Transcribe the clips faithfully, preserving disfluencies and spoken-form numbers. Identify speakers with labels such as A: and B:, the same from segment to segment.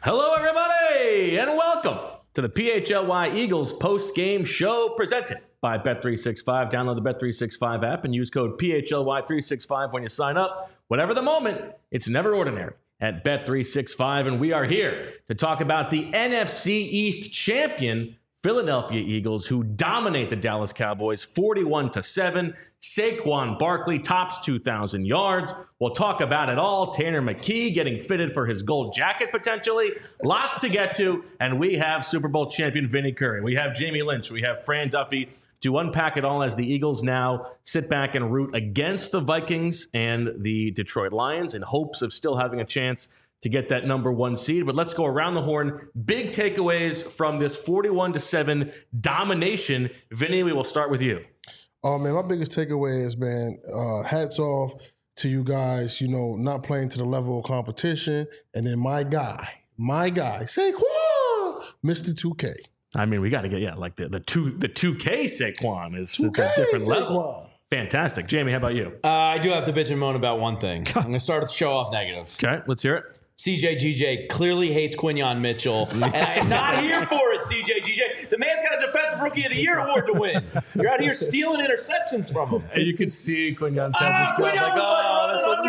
A: Hello, everybody, and welcome to the P H L Y Eagles post-game show presented by Bet three sixty-five. Download the Bet three sixty-five app and use code P H L Y three sixty-five when you sign up. Whatever the moment, it's never ordinary at Bet three sixty-five, and we are here to talk about the N F C East champion Philadelphia Eagles, who dominate the Dallas Cowboys forty-one to seven. Saquon Barkley tops two thousand yards. We'll talk about it all. Tanner McKee getting fitted for his gold jacket potentially. Lots to get to. And we have Super Bowl champion Vinny Curry. We have Jamie Lynch. We have Fran Duffy to unpack it all as the Eagles now sit back and root against the Vikings and the Detroit Lions in hopes of still having a chance to get that number one seed. But let's go around the horn. Big takeaways from this forty-one to seven domination. Vinny, we will start with you.
B: Oh, man, my biggest takeaway is, man, uh, hats off to you guys, you know, not playing to the level of competition. And then my guy, my guy, Saquon, Mister two K.
A: I mean, we got to get, yeah, like the, the, two, the two K Saquon is
B: two K
A: a different
B: Saquon.
A: level. Fantastic. Jamie, how about you?
C: Uh, I do have to bitch and moan about one thing. I'm going to start with the show off negative.
A: Okay, let's hear it.
C: C J G J clearly hates Quinyon Mitchell, and I am not here for it, C J G J. The man's got a Defensive Rookie of the Year award to win. You're out here stealing interceptions from him.
A: And you could see Quinyon
C: Ah,
A: Sanders
C: Quinyon
A: like,
C: was
A: oh,
C: like
A: this was
C: running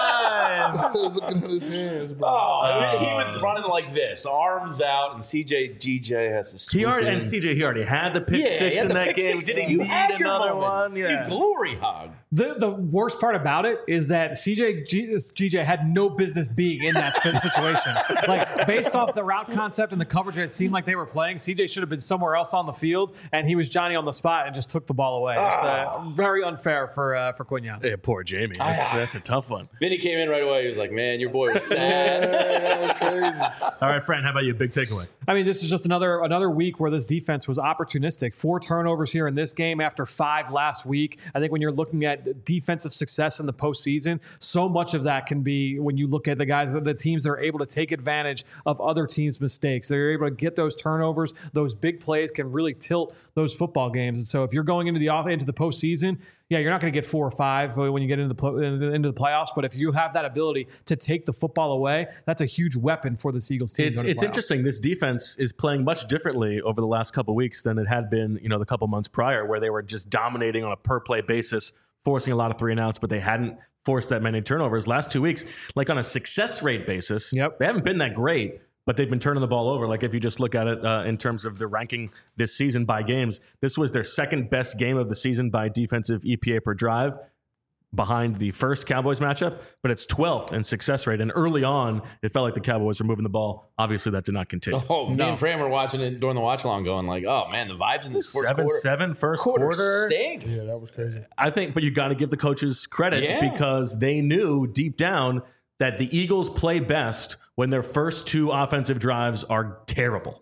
A: mine.
B: Looking at his hands, bro.
C: Oh, he was running like this, arms out, and C J G J has to swoop
A: He already,
C: in.
A: and C J, he already had the pick
C: yeah,
A: six
C: he had
A: in
C: the
A: that
C: pick
A: game.
C: six.
A: Did he
C: You
A: need
C: had your
A: another
C: moment.
A: one? Yeah.
C: You glory hog.
D: The the worst part about it is that C J G J had no business being in that situation. Like, based off the route concept and the coverage that it seemed like they were playing, C J should have been somewhere else on the field, and he was Johnny on the spot and just took the ball away. Just, uh, very unfair for uh, for Quinyon.
A: Yeah, poor Jamie. That's, that's a tough one.
C: Vinny came in right away. He was like, man, your boy was sad.
B: That was crazy.
A: All right, Fran, how about you? Big takeaway.
D: I mean, this is just another another week where this defense was opportunistic. Four turnovers here in this game after five last week. I think when you're looking at defensive success in the postseason, so much of that can be when you look at the guys, the teams that are able to take advantage of other teams' mistakes. They're able to get those turnovers. Those big plays can really tilt those football games. And so if you're going into the off into the postseason, yeah, you're not going to get four or five when you get into the pl- into the playoffs. But if you have that ability to take the football away, that's a huge weapon for the Eagles team.
A: It's
D: going to
A: it's
D: playoffs.
A: interesting. This defense is playing much differently over the last couple of weeks than it had been, you know, the couple months prior, where they were just dominating on a per play basis, forcing a lot of three and outs, but they hadn't forced that many turnovers. Last two weeks, like on a success rate basis,
D: Yep.
A: they haven't been that great, but they've been turning the ball over. Like if you just look at it uh, in terms of the ranking this season by games, this was their second best game of the season by defensive E P A per drive, behind the first Cowboys matchup, but it's twelfth in success rate. And early on, it felt like the Cowboys were moving the ball. Obviously, that did not continue.
C: Oh, me and Fran were watching it during the watch along going like, oh, man, the vibes in this first
A: Seven,
C: quarter.
A: seven, first
C: quarter,
A: quarter.
C: stink.
B: Yeah, that was crazy.
A: I think, but you got to give the coaches credit
C: Yeah.
A: because they knew deep down that the Eagles play best when their first two offensive drives are terrible.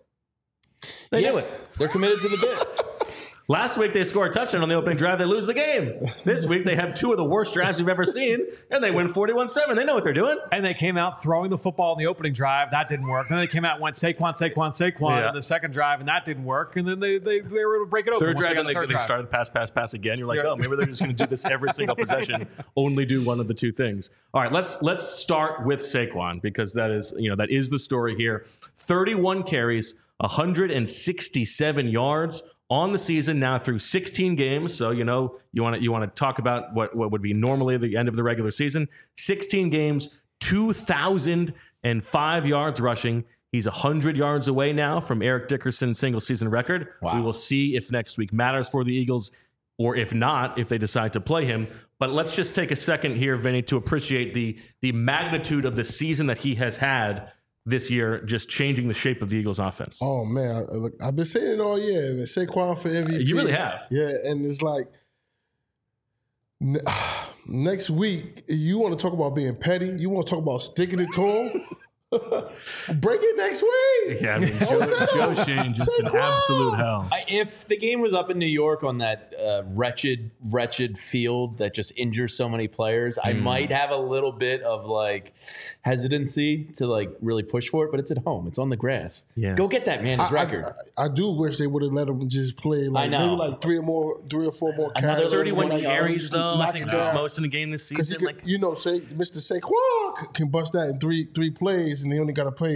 A: They
C: Yeah,
A: knew it.
C: They're committed to the bit.
A: Last week, they score a touchdown on the opening drive. They lose the game. This week, they have two of the worst drives you've ever seen, and they win forty-one seven. They know what they're doing.
D: And they came out throwing the football in the opening drive. That didn't work. Then they came out and went Saquon, Saquon, Saquon
A: Yeah.
D: in the second drive, and that didn't work. And then they they, they were able to break it open.
A: Third
D: once
A: drive,
D: got
A: and
D: the
A: they,
D: third
A: they
D: drive.
A: started pass, pass, pass again. You're like,
D: Yeah.
A: oh, maybe they're just going to do this every single possession, only do one of the two things. All right, let's let's start with Saquon because that is you know that is the story here. thirty-one carries, one hundred sixty-seven yards on the season now through sixteen games. So you know you want to you want to talk about what what would be normally the end of the regular season. sixteen games, two thousand five yards rushing. He's one hundred yards away now from Eric Dickerson's single season record.
C: Wow.
A: We will see if next week matters for the Eagles or if not, if they decide to play him. But let's just take a second here, Vinny, to appreciate the the magnitude of the season that he has had this year, just changing the shape of the Eagles offense.
B: Oh, man. I- Look, I've been saying it all year. Man. Saquon for M V P.
A: You really have.
B: Yeah, and it's like n- next week, you want to talk about being petty? You want to talk about sticking it to him? Break it next week.
A: Yeah, I mean,
B: Don't
A: Joe,
B: say
A: Joe
B: that.
A: Shane just
B: Say
A: an
B: what?
A: absolute hell.
C: I, if the game was up in New York on that uh, wretched, wretched field that just injures so many players, I might have a little bit of like hesitancy to like really push for it. But it's at home; it's on the grass.
A: Yeah.
C: Go get that man his
B: I,
C: record.
B: I, I do wish they would have let him just play like
C: I know.
B: maybe like three or more, three or four more
C: Another
B: carries.
A: thirty-one
B: Like,
A: carries,
B: just
A: though. I
B: knock
A: think
B: it
A: this is
B: down.
A: most in the game this
B: Because he
A: season.
B: could,
A: Like,
B: you know, say Mister Saquon can bust that in three three plays, and they only got to play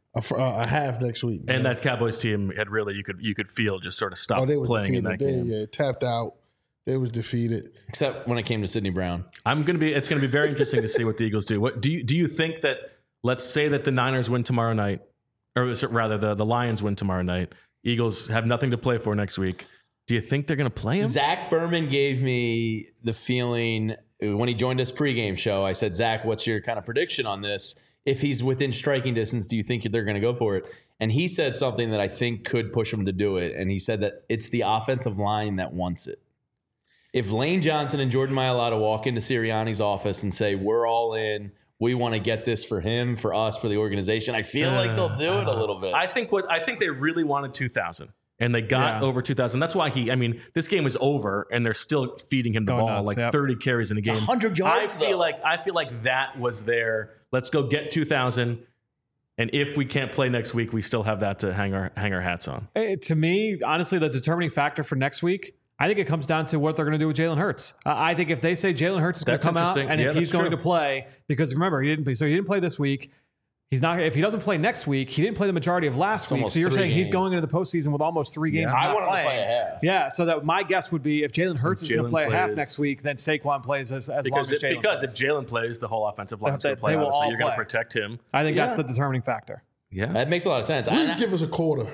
B: a, a half next week.
A: And
B: know?
A: that Cowboys team had really you could you could feel just sort of stop
B: oh, they
A: playing in that
B: they,
A: game.
B: Yeah, tapped out. They was defeated.
C: Except when it came to Sidney Brown.
A: I'm gonna be. It's gonna be very interesting to see what the Eagles do. What do you do? You think that? Let's say that the Niners win tomorrow night, or rather, the the Lions win tomorrow night. Eagles have nothing to play for next week. Do you think they're gonna play him?
C: Zach Berman gave me the feeling when he joined us pregame show. I said, Zach, what's your kind of prediction on this? If he's within striking distance, do you think they're going to go for it? And he said something that I think could push him to do it. And he said that it's the offensive line that wants it. If Lane Johnson and Jordan Mailata walk into Sirianni's office and say, we're all in, we want to get this for him, for us, for the organization, I feel uh, like they'll do it a little bit.
A: I think what I think they really wanted two thousand. And they got
D: yeah.
A: over two thousand. That's why he, I mean, this game was over and they're still feeding him the
D: Going
A: ball,
D: nuts,
A: like
D: yep.
A: thirty carries in a game.
C: one hundred yards,
A: I feel
C: though.
A: like I feel like that was their, let's go get two thousand. And if we can't play next week, we still have that to hang our hang our hats on.
D: Hey, to me, honestly, the determining factor for next week, I think it comes down to what they're going to do with Jalen Hurts. Uh, I think if they say Jalen Hurts is going to come out and
A: yeah,
D: if he's going
A: true.
D: to play, because remember, he didn't play, so he didn't play this week. He's not. If he doesn't play next week, he didn't play the majority of last
C: It's
D: week. So you're saying
C: games.
D: he's going into the postseason with almost three games.
C: Yeah.
D: Of
C: I
D: not
C: want him to
D: playing.
C: play a half.
D: Yeah. So that my guess would be if Jalen Hurts is going to
A: Jalen
D: play a half
A: plays-
D: next week, then Saquon plays as, as long
A: Because,
D: as
A: it,
D: Jalen
A: because
D: plays.
A: if Jalen plays, the whole offensive line's
D: They-
A: going to play
D: they will
A: out. So
D: all
A: you're going to
D: play.
A: protect him.
D: I think
A: Yeah.
D: that's the determining factor.
A: Yeah.
C: That makes a lot of sense.
B: At least
C: I,
B: give us a quarter.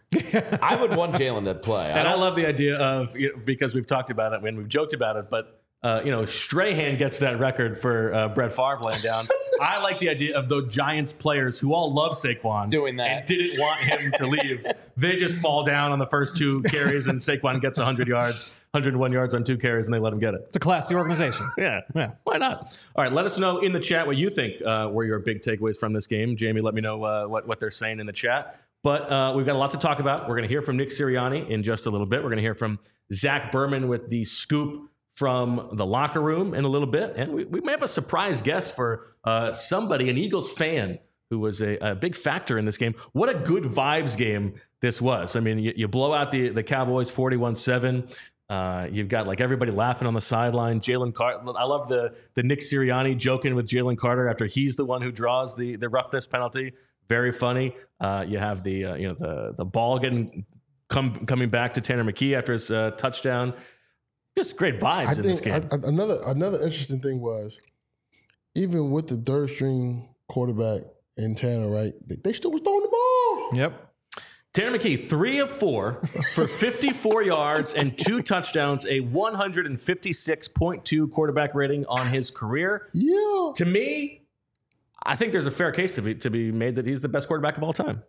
C: I would want Jalen to play.
A: And I
C: don't-
A: love the idea of, you know, because we've talked about it and we've joked about it, but uh, you know, Strahan gets that record for uh, Brett Favre laying down. I like the idea of the Giants players who all love Saquon
C: Doing that.
A: and didn't want him to leave. They just fall down on the first two carries and Saquon gets one hundred yards, one hundred one yards on two carries, and they let him get it.
D: It's a classy organization.
A: Yeah, yeah. Why not? All right, let us know in the chat what you think uh, were your big takeaways from this game. Jamie, let me know uh, what, what they're saying in the chat. But uh, we've got a lot to talk about. We're going to hear from Nick Sirianni in just a little bit. We're going to hear from Zach Berman with the scoop from the locker room in a little bit. And we, we may have a surprise guest for uh, somebody, an Eagles fan, who was a, a big factor in this game. What a good vibes game this was. I mean, you, you blow out the, the Cowboys forty-one seven. Uh, you've got like everybody laughing on the sideline. Jalen Carter. I love the the Nick Sirianni joking with Jalen Carter after he's the one who draws the the roughness penalty. Very funny. Uh, you have the uh, you know the the ball getting come coming back to Tanner McKee after his uh, touchdown. Just great vibes
B: I
A: in this
B: think
A: game.
B: I, another another interesting thing was even with the third string quarterback in Tanner, right? They, they still was throwing the ball.
D: Yep.
A: Tanner McKee, three of four for fifty-four yards and two touchdowns, a one fifty-six point two quarterback rating on his career.
B: Yeah.
A: To me, I think there's a fair case to be to be made that he's the best quarterback of all time.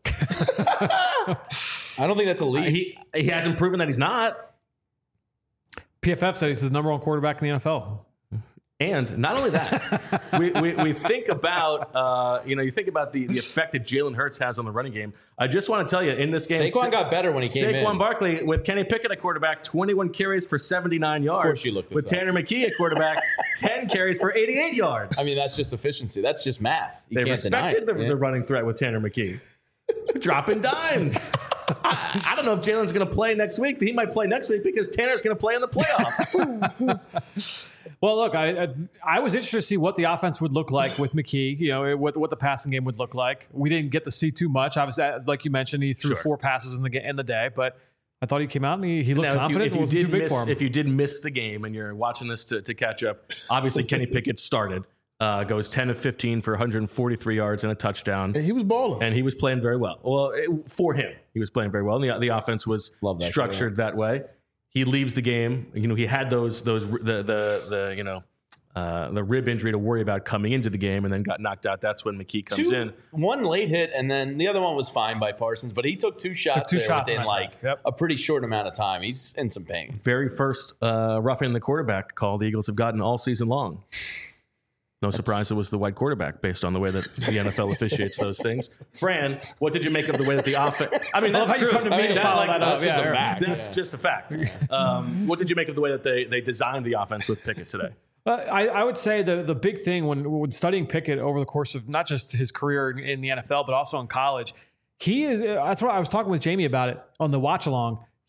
C: I don't think that's elite.
A: He he hasn't proven that he's not.
D: P F F said he's the number one quarterback in the N F L.
A: And not only that, we, we we think about uh, you know you think about the, the effect that Jalen Hurts has on the running game. I just want to tell you in this game,
C: Saquon got better when he came in.
A: Saquon Barkley with Kenny Pickett at quarterback, twenty-one carries for seventy-nine yards.
C: Of course you looked this
A: with
C: up.
A: Tanner McKee at quarterback, ten carries for eighty-eight yards.
C: I mean, that's just efficiency. That's just math. You
A: they
C: can't deny
A: respected
C: it.
A: the,
C: Yeah.
A: the running threat with Tanner McKee, dropping dimes. I, I don't know if Jalen's going to play next week. He might play next week because Tanner's going to play in the playoffs.
D: Well, look, I, I I was interested to see what the offense would look like with McKee. You know, what what the passing game would look like. We didn't get to see too much. Obviously, as- like you mentioned, he threw
A: Sure.
D: four passes in the ga- in the day, but I thought he came out and he, he looked
A: Now,
D: confident.
A: If you,
D: It
A: if, you
D: wasn't too
A: did
D: big
A: miss,
D: for him.
A: if you did miss the game and you're watching this to, to catch up, obviously Kenny Pickett started, uh, goes ten of fifteen for one forty-three yards and a touchdown.
B: And he was balling.
A: And he was playing very well. Well, it, for him, he was playing very well. And the, the offense was
C: Love that
A: structured that way. He leaves the game. You know, he had those those the the the you know uh, the rib injury to worry about coming into the game, and then got knocked out. That's when McKee comes
C: Two,
A: in.
C: one late hit, and then the other one was fine by Parsons, but he took two shots
D: two
C: there
D: shots in
C: within
D: that
C: like
D: drive. Yep.
C: a pretty short amount of time. He's in some pain.
A: Very first uh, roughing the quarterback call the Eagles have gotten all season long. No surprise it was the white quarterback based on the way that the N F L officiates those things. Fran, what did you make of the way that the offense? I mean,
D: I love
A: that's
D: how you
A: true.
D: come to me
A: I mean,
D: to
A: that,
D: follow
A: like,
D: that up.
A: that's just
D: Yeah,
A: a
D: yeah.
A: fact. That's just a fact. Um, what did you make of the way that they they designed the offense with Pickett today?
D: Uh, I, I would say the the big thing when when studying Pickett over the course of not just his career in, in the N F L but also in college, he is. That's what I was talking with Jamie about it on the watch along.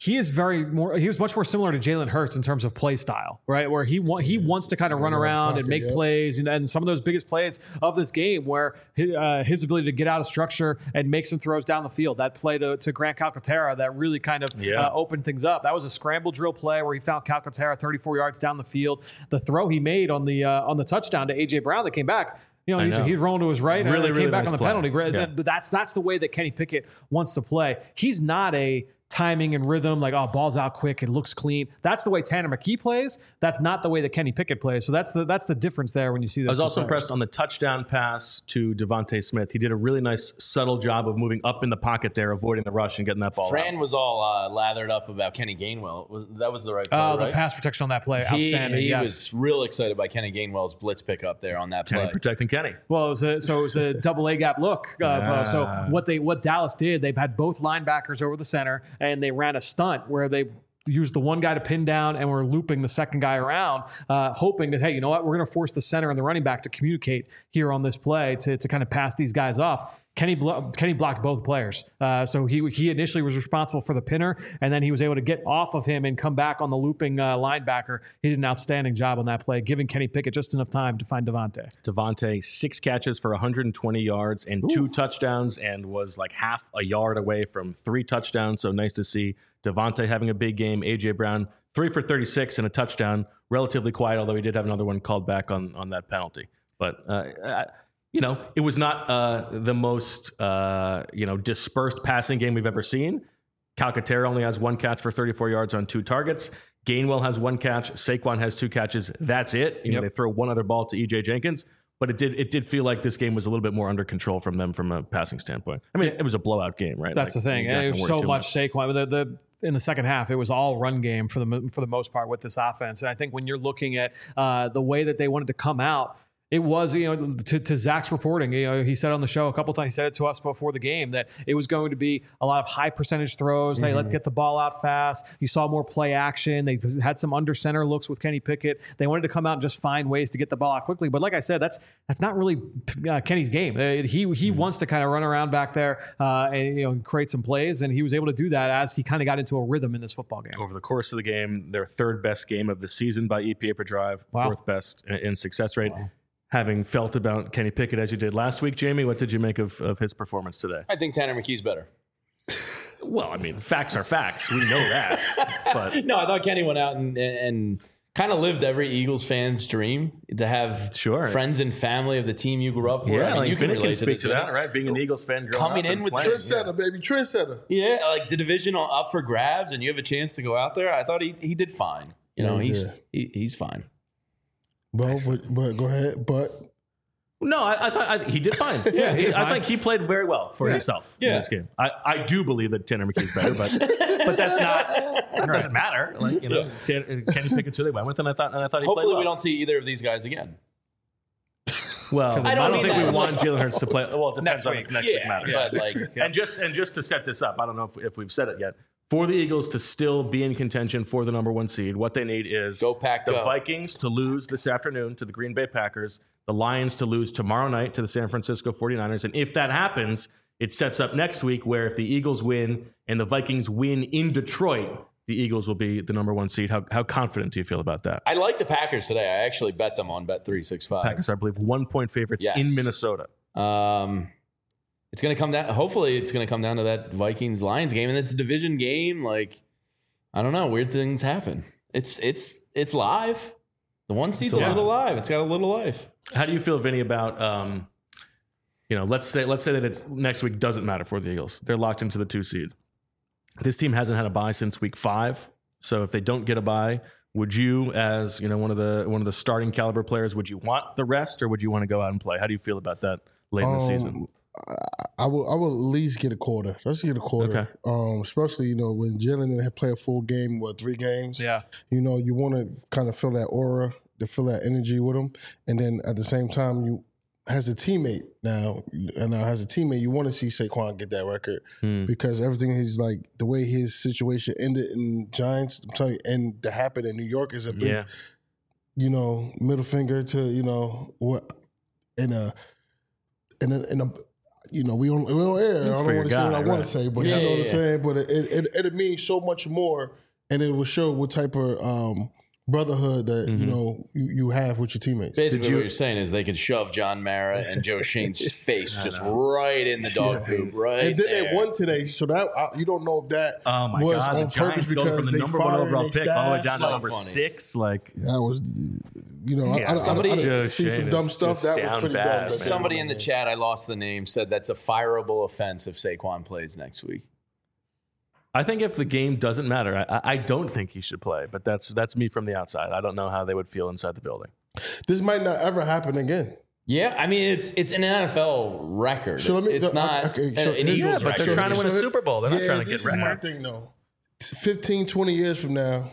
D: he is very more. He was much more similar to Jalen Hurts in terms of play style, right? Where he wa- he wants to kind of run around and make plays, and, and some of those biggest plays of this game, where his, uh, his ability to get out of structure and make some throws down the field. That play to, to Grant Calcaterra that really kind of
A: Yeah.
D: uh, opened things up. That was a scramble drill play where he found Calcaterra thirty-four yards down the field. The throw he made on the uh, on the touchdown to A J Brown that came back. You know, he's,
A: know.
D: he's rolling to his right
A: Really,
D: and then
A: really
D: came back
A: nice
D: on the
A: play.
D: penalty.
A: Yeah.
D: That's that's the way that Kenny Pickett wants to play. He's not a timing and rhythm, like, oh, ball's out quick, it looks clean. That's the way Tanner McKee plays. That's not the way that Kenny Pickett plays. So that's the that's the difference there when you see those.
A: I was
D: two
A: also
D: players.
A: impressed on the touchdown pass to Devontae Smith. He did a really nice, subtle job of moving up in the pocket there, avoiding the rush and getting that ball
C: Fran
A: out.
C: was all uh, lathered up about Kenny Gainwell. Was that was the right play,
D: Oh, the
C: right?
D: pass protection on that play,
C: He,
D: outstanding.
C: he
D: yes.
C: was real excited by Kenny Gainwell's blitz pickup there on that
A: Kenny
C: play.
A: protecting Kenny.
D: Well, it was a, so it was a double A gap look. Uh,
A: Yeah.
D: So what they what Dallas did, they had both linebackers over the center, and they ran a stunt where they used the one guy to pin down and were looping the second guy around, uh, hoping that, hey, you know what, we're going to force the center and the running back to communicate here on this play to, to kind of pass these guys off. Kenny blo- Kenny blocked both players. Uh, so he he initially was responsible for the pinner, and then he was able to get off of him and come back on the looping uh, linebacker. He did an outstanding job on that play, giving Kenny Pickett just enough time to find Devontae.
A: Devontae, six catches for one hundred twenty yards and two touchdowns, and was like half a yard away from three touchdowns. So nice to see Devontae having a big game. A J Brown, three for thirty-six and a touchdown. Relatively quiet, although he did have another one called back on, on that penalty. But, uh, I, you know, it was not uh, the most, uh, you know, dispersed passing game we've ever seen. Calcaterra only has one catch for thirty-four yards on two targets. Gainwell has one catch. Saquon has two catches. That's it. You know,
D: Yep.
A: they throw one other ball to E J Jenkins. But it did it did feel like this game was a little bit more under control from them from a passing standpoint. I mean, it was a blowout game, right?
D: That's
A: Like,
D: the thing.
A: you're not
D: And it
A: gonna
D: was
A: worry
D: so
A: too
D: much Saquon. The, the in the second half, it was all run game for the mo- for the most part with this offense. And I think when you're looking at uh, the way that they wanted to come out, it was, you know, to, to Zach's reporting, you know, he said on the show a couple times, he said it to us before the game, that it was going to be a lot of high percentage throws.
A: Mm-hmm.
D: Hey, let's get the ball out fast. You saw more play action. They had some under center looks with Kenny Pickett. They wanted to come out and just find ways to get the ball out quickly. But like I said, that's that's not really uh, Kenny's game. Uh, he he
A: Mm-hmm.
D: wants to kind of run around back there uh, and, you know, create some plays. And he was able to do that as he kind of got into a rhythm in this football game.
A: Over the course of the game, their third best game of the season by E P A per drive,
D: Wow.
A: fourth best in, in success rate. Having felt about Kenny Pickett as you did last week, Jamie, what did you make of, of his performance today?
C: I think Tanner McKee's better.
A: Well, I mean, facts are facts. We know that. But
C: No, I thought Kenny went out and and kind of lived every Eagles fan's dream to have
A: Sure.
C: friends and family of the team you grew up for.
A: yeah,
C: I mean,
A: like
C: you can
A: Vinny
C: relate
A: can
C: to
A: speak
C: this,
A: to
C: Vinny.
A: that, right? Being an Eagles fan, growing
C: Coming
A: up
C: in
A: and
C: with the
A: playing.
B: Trendsetter, baby, trendsetter.
C: Yeah, like the division up for grabs, and you have a chance to go out there. I thought he he did fine. You know,
B: Yeah, he
C: he's
B: did.
C: he, he's fine.
B: But, but but go ahead. But
A: No, I, I thought I, he did fine. Yeah, he, I think he played very well for himself in
C: Yeah.
A: this game. I, I do believe that Tanner McKee's better, but but that's not. That doesn't matter. Like you know, Tan, Kenny Pickett's who they went with, and I thought and I thought he
C: Hopefully,
A: played well.
C: we don't see either of these guys again.
A: Well, I
C: I
A: don't,
C: don't mean
A: think
C: that.
A: we want Jalen Hurts to play. Well, it depends
D: Next
A: on
D: week.
A: if next week matters.
C: but like,
A: And just and just to set this up, I don't know if, if we've said it yet. For the Eagles to still be in contention for the number one seed, what they need is
C: Go Pack,
A: the
C: go.
A: Vikings to lose this afternoon to the Green Bay Packers, the Lions to lose tomorrow night to the San Francisco forty-niners. And if that happens, it sets up next week where if the Eagles win and the Vikings win in Detroit, the Eagles will be the number one seed. How, how confident do you feel about that?
C: I like the Packers today. I actually bet them on Bet three sixty-five.
A: Packers, I believe, one-point favorites
C: Yes.
A: in Minnesota.
C: Um, it's going to come down. Hopefully, it's going to come down to that Vikings Lions game, and it's a division game. Like, I don't know, weird things happen. It's it's it's live. The one seed's a
A: Yeah.
C: little live. It's got a little life.
A: How do you feel, Vinny, about um, you know, let's say let's say that it's next week doesn't matter for the Eagles. They're locked into the two seed. This team hasn't had a bye since week five. So if they don't get a bye, would you, as you know, one of the one of the starting caliber players, would you want the rest or would you want to go out and play? How do you feel about that late in the season?
B: um, I, I will I will at least get a quarter. Let's get a quarter.
A: Okay.
B: Um, especially you know when Jalen had played a full game, what three games?
D: Yeah.
B: You know you want to kind of feel that aura, to feel that energy with him, and then at the same time you. As a teammate now, and now as a teammate, you want to see Saquon get that record
A: Hmm.
B: because everything he's like the way his situation ended in Giants, I'm telling you, and to happen in New York is a big,
A: Yeah.
B: you know, middle finger to you know what in a in a in a you know, we on we on air.
A: It's
B: I
A: for
B: don't
A: your
B: want to say
A: guy,
B: what I want
A: right.
B: to say, but
C: Yeah,
B: you know
C: yeah,
B: what I'm
C: yeah.
B: saying. But it it, it it means so much more, and it will show what type of um, brotherhood that
A: Mm-hmm.
B: you know you, you have with your teammates.
C: Basically,
A: you-
C: what you're saying is they could shove John Mara and Joe Shane's face just right in the dog poop, right
B: And then
C: there.
B: they won today, so that uh, you don't know if that
A: Oh my
B: was
A: God!
B: on
A: The
B: purpose
A: Giants going
B: because
A: from the
B: they
A: number one
B: fired
A: overall
B: their
A: pick all the way
B: stats.
A: down to
C: So
A: number
C: funny.
A: six. Like,
B: That was, you know,
A: Yeah,
B: I, I,
C: somebody-
B: I, I, I
A: Joe
B: see some
A: Shane
B: dumb
A: is
B: stuff
A: just
B: that was
A: down
B: pretty
A: bad,
B: dumb.
A: man.
B: that they
C: Somebody
B: won
C: in the
B: there.
C: chat, I lost the name, said that's a fireable offense if Saquon plays next week.
A: I think if the game doesn't matter, I, I- I don't think he should play. But that's that's me from the outside. I don't know how they would feel inside the building.
B: This might not ever happen again.
C: Yeah, I mean it's it's an N F L record.
B: So let me-
C: it's
B: uh,
C: not
B: okay,
C: an,
B: so
C: an
B: here's-
C: Eagles
A: Yeah, but
C: record.
A: they're trying to win a
B: So it-
A: Super Bowl. They're not
B: yeah,
A: trying to
B: this
A: get
B: is my
A: records.
B: thing, though. fifteen, twenty years from now,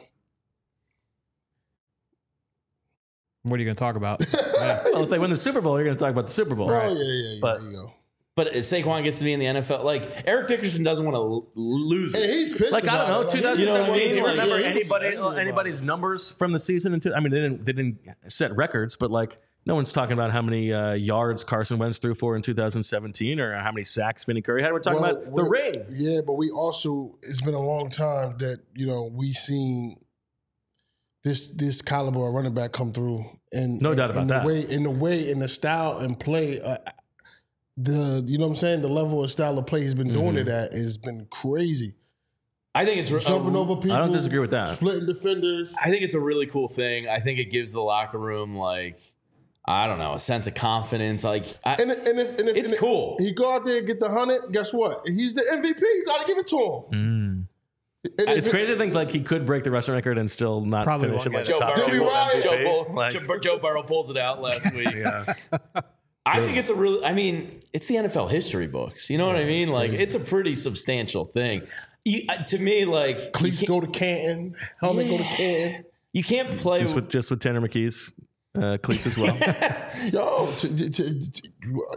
D: What are you going to talk about? Yeah.
A: Well, if they win the Super Bowl, you're going to talk about the Super Bowl.
B: oh yeah, yeah, yeah.
A: But-
B: there you go.
C: But if Saquon gets to be in the N F L, like Eric Dickerson doesn't want to l- lose
B: And
C: it.
B: he's pissed.
A: Like, I don't know,
B: about it. Like,
A: twenty seventeen.
C: You know what I mean?
A: Do you
C: Like,
A: remember
B: yeah, he was
A: anybody
B: angry about
A: anybody's
B: it.
A: numbers from the season? Into, I mean, they didn't they didn't set records, but like no one's talking about how many uh, yards Carson Wentz threw for in two thousand seventeen or how many sacks Vinny Curry had. We're talking
B: Well,
A: about the
B: we're-
A: ring.
B: Yeah, but we also it's been a long time that you know we seen this this caliber of running back come through, and
A: No
B: and,
A: doubt about
B: and
A: that.
B: The way in the way in the style and play, uh, the you know what I'm saying, the level and style of play he's been doing
A: Mm-hmm.
B: it at has been crazy.
C: I think it's re-
B: Jumping
C: a-
B: over people.
A: I don't disagree with that.
B: Splitting defenders.
C: I think it's a really cool thing. I think it gives the locker room like I don't know a sense of confidence. Like I,
B: And, if- and if, and if
C: It's
B: and if
C: cool.
B: he go out there and get the hundred, guess what? He's the M V P. You got to give it to him. And if
A: Mm. It's
B: it-
A: crazy to think like he could break the rushing record and still not
D: Probably
A: finish
D: won't
A: in like
D: get
A: the
C: Joe
A: top
C: Burrow,
B: Did we
A: two.
B: ride?
C: Joe,
A: M V P.
C: Bull,
A: Like,
C: Joe, Joe Burrow pulls it out last week.
A: yeah.
C: I think it's a really, I mean, it's the N F L history books. You know what I mean? Like, it's a pretty substantial thing. You, uh, to me, like,
B: Cleats
C: you
B: go to Canton, helmet go to Canton.
C: you can't play
A: Just with just with Tanner McKee's uh, cleats as well.
B: Yo, t- t- t- t-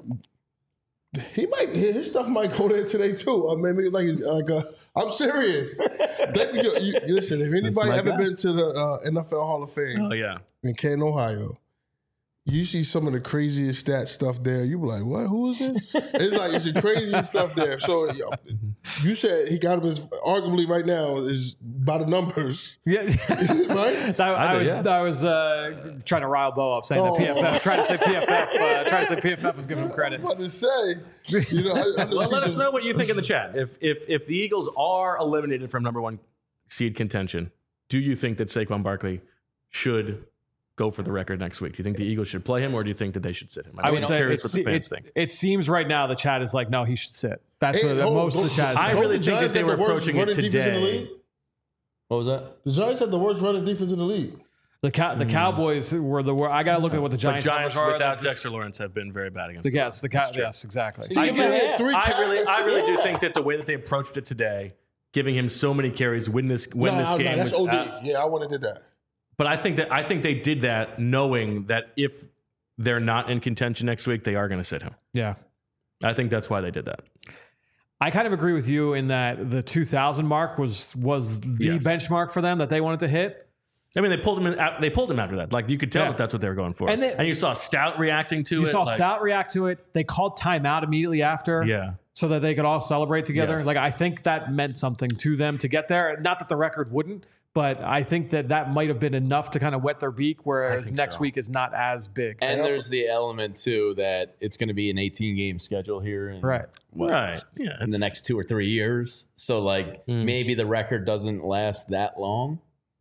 B: he might his stuff might go there today too. Or maybe like like uh, I'm serious. That, you, you, listen, if anybody
A: my
B: ever
A: guy.
B: been to the uh, N F L Hall of Fame
A: Oh yeah.
B: in Canton, Ohio, you see some of the craziest stat stuff there. You be like, what? Who is this? It's like it's the craziest stuff there. So yo, you said he got him as arguably right now is by the numbers,
D: Yeah.
B: right?
D: I, I
A: do,
D: was,
A: yeah.
D: I was uh, trying to rile Bo up, saying
B: Oh.
D: that P F F, trying to say P F F, uh, trying to say P F F was giving him
B: I'm
D: credit.
B: about to say, you know, I, I just
A: Well,
B: see
A: let us
B: some-
A: know what you think in the chat. If if if the Eagles are eliminated from number one seed contention, do you think that Saquon Barkley should go for the record next week? Do you think the Eagles should play him, or do you think that they should sit him?
D: I
A: I'm
D: would say
A: curious
D: it,
A: what the
D: se-
A: fans
D: it,
A: think.
D: it seems right now the chat is like, no, he should sit. That's
B: Hey,
D: what
B: hold-
D: most of the
B: hold-
D: chat is
A: I
D: saying.
B: Don't
A: really
B: the
A: think
B: Giants
A: that they
B: got
A: were
B: the worst
A: approaching it
B: running defense in the
A: today.
B: league?
C: What was that?
B: The Giants have the worst running defense in the league.
D: The cow, the Cowboys were the. wor- I got to look at what the
A: But
D: Giants,
A: Giants
D: numbers are.
A: without
D: the,
A: Dexter Lawrence have been very bad against
D: the
A: them.
D: yes, the cow, yes, exactly.
B: He
C: I
B: just
C: give him
B: had
C: half.
B: three
A: I really, I really do
B: yeah.
A: think that the way that they approached it today, giving him so many carries, win this, win
B: Nah,
A: this
B: nah,
A: game.
B: that's
A: was,
B: O D.
A: uh,
B: yeah, I would have did that.
A: but I think that I think they did that knowing that if they're not in contention next week, they are going to sit him.
D: Yeah.
A: I think that's why they did that.
D: I kind of agree with you in that the two thousand mark was was the
A: Yes.
D: benchmark for them that they wanted to hit.
A: I mean, they pulled him. In, they pulled him after that. Like you could tell
D: Yeah.
A: that that's what they were going for.
D: And
A: And,
D: they-
A: you saw Stout reacting to
D: You
A: it.
D: saw
A: like,
D: Stout react to it. They called timeout immediately after.
A: Yeah.
D: So that they could all celebrate together.
A: Yes.
D: Like I think that meant something to them to get there. Not that the record wouldn't, but I think that that might have been enough to kind of wet their beak. Whereas
A: think
D: next
A: so.
D: week is not as big.
C: And there's the element too that it's going to be an eighteen game schedule here, in,
D: Right.
C: what,
A: Right. Yeah.
C: in the
A: it's-
C: next two or three years. So like
A: Mm.
C: maybe the record doesn't last that long.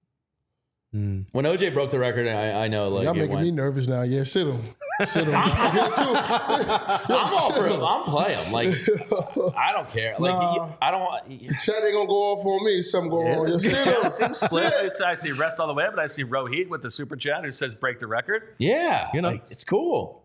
A: Mm.
C: When O J broke the record, I, I know like
B: Y'all
C: it
B: making
C: went,
B: me nervous now. Yeah, sit him. Sit him. Yeah, too.
C: I'm all for it. I'm playing. Like I don't care. Like
B: Nah.
C: you- I don't.
B: Chat ain't gonna go off on me. Something go wrong. Yeah, sit him.
A: It seems split.
B: Sit.
A: I see rest all the way up, but I see Rohit with the super chat who says break the record.
C: Yeah,
A: You know.
C: like, it's cool.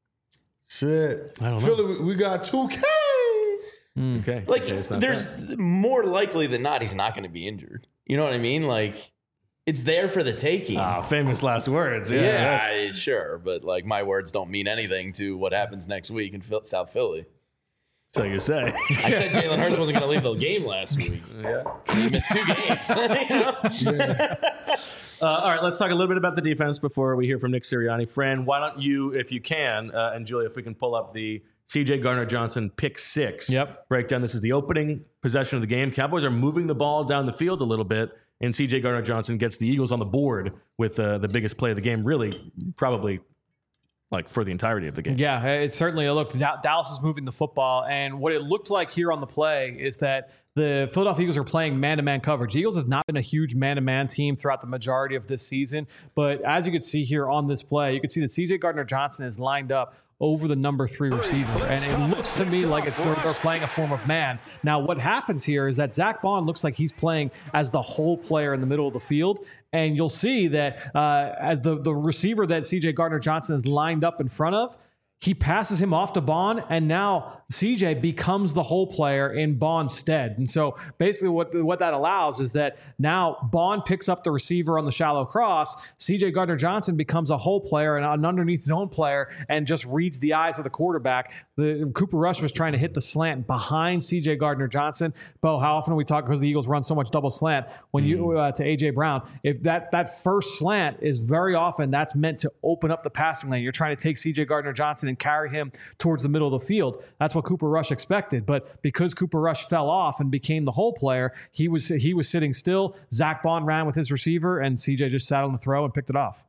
B: Shit.
A: I don't know.
B: Philly, we- we got two K.
A: Okay.
C: Like
A: Okay, it's not
C: there's
A: bad.
C: more likely than not he's not going to be injured. You know what I mean? Like it's there for the taking.
A: Ah, famous last words. Yeah.
C: yeah,
A: that's-
C: I- sure, but like my words don't mean anything to what happens next week in Phil- South Philly.
A: so you say.
C: I said Jalen Hurts wasn't going to leave the game last week.
A: yeah.
C: He missed two games.
B: Yeah.
A: Uh, all right, let's talk a little bit about the defense before we hear from Nick Sirianni. Fran, why don't you, if you can, uh, and Julia, if we can pull up the C J Gardner-Johnson, pick six.
D: Yep.
A: Breakdown. This is the opening possession of the game. Cowboys are moving the ball down the field a little bit, and C J Gardner-Johnson gets the Eagles on the board with uh, the biggest play of the game, really, probably like for the entirety of the game.
D: Yeah, it certainly looked. Dallas is moving the football, and what it looked like here on the play is that the Philadelphia Eagles are playing man-to-man coverage. The Eagles have not been a huge man-to-man team throughout the majority of this season, but as you can see here on this play, you can see that C J Gardner-Johnson is lined up over the number three receiver. And it looks to me like it's they're, they're playing a form of man. Now, what happens here is that Zach Bond looks like he's playing as the whole player in the middle of the field. And you'll see that uh, as the, the receiver that C J Gardner-Johnson is lined up in front of, he passes him off to Bond, and now C J becomes the whole player in Bond's stead. And so basically what, what that allows is that now Bond picks up the receiver on the shallow cross, C J Gardner-Johnson becomes a whole player and an underneath zone player and just reads the eyes of the quarterback. The Cooper Rush was trying to hit the slant behind C J Gardner-Johnson. Bo, how often do we talk, because the Eagles run so much double slant when mm. you uh, to A J Brown, if that, that first slant is very often that's meant to open up the passing lane. You're trying to take C J Gardner-Johnson and carry him towards the middle of the field. That's what Cooper Rush expected. But because Cooper Rush fell off and became the whole player, he was he was sitting still. Zach Bond ran with his receiver, and C J just sat on the throw and picked it off.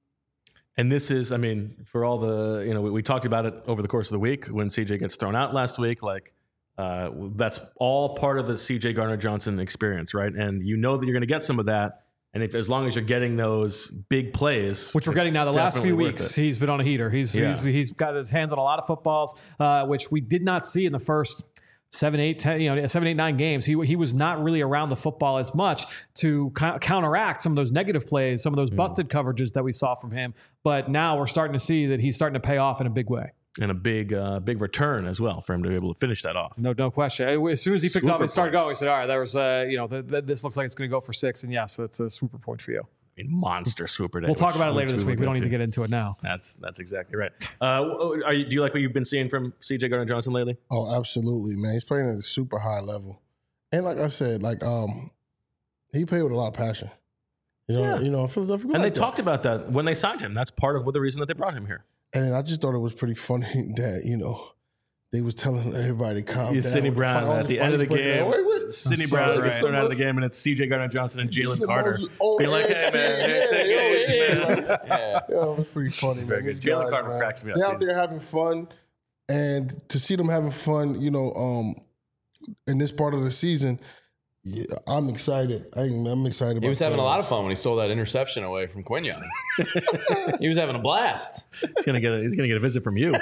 A: And this is, I mean, for all the, you know, we, we talked about it over the course of the week when C J gets thrown out last week. Like, uh, that's all part of the C J Gardner-Johnson experience, right? And you know that you're going to get some of that. And if, as long as you're getting those big plays,
D: which we're getting now, the last few weeks,
A: it.
D: he's been on a heater. He's,
A: yeah.
D: he's he's got his hands on a lot of footballs, uh, which we did not see in the first seven, eight, ten, you know, seven, eight, nine games. He he was not really around the football as much to co- counteract some of those negative plays, some of those busted mm. coverages that we saw from him. But now we're starting to see that he's starting to pay off in a big way.
A: And a big, uh, big return as well for him to be able to finish that off.
D: No, no question. As soon as he picked
A: Swooper
D: up and started
A: points.
D: going, he said, "All right, there was, uh, you know, th- th- this looks like it's going to go for six." And yes, it's a swooper point for you.
A: I mean, monster swooper day.
D: We'll talk
A: which,
D: about it later this
A: we
D: week. We don't need to get into it now.
A: That's that's exactly right. Uh, are you, do you like what you've been seeing from C J Gardner-Johnson lately?
B: Oh, absolutely, man. He's playing at a super high level, and like I said, like um, he played with a lot of passion. You know,
A: Yeah.
B: you know, Philadelphia.
A: And
B: like
A: they
B: that.
A: talked about that when they signed him. That's part of what the reason that they brought him here.
B: And then I just thought it was pretty funny that, you know, they was telling everybody to calm
A: Yeah,
B: down.
A: Sidney
B: with
A: Brown
B: the,
A: at the end of the game.
B: Wait, wait.
A: Sidney
D: so
A: Brown
D: right.
A: gets thrown out of the game, and it's C J Gardner-Johnson and Jalen Carter.
B: Oh,
A: Be like, hey, man, hey, take it easy, man.
C: Yeah.
B: Yeah, it was pretty funny.
A: Very
B: man.
A: good.
B: These
A: Jalen
B: guys,
A: Carter
B: man,
A: cracks me up.
B: They're out
A: He's-
B: there having fun, and to see them having fun, you know, um, in this part of the season, yeah, I'm excited. I'm, I'm excited. About
C: He was having a
B: that.
C: lot of fun when he stole that interception away from Quinyon. He was having a blast.
A: He's gonna get a, he's gonna get a visit from you.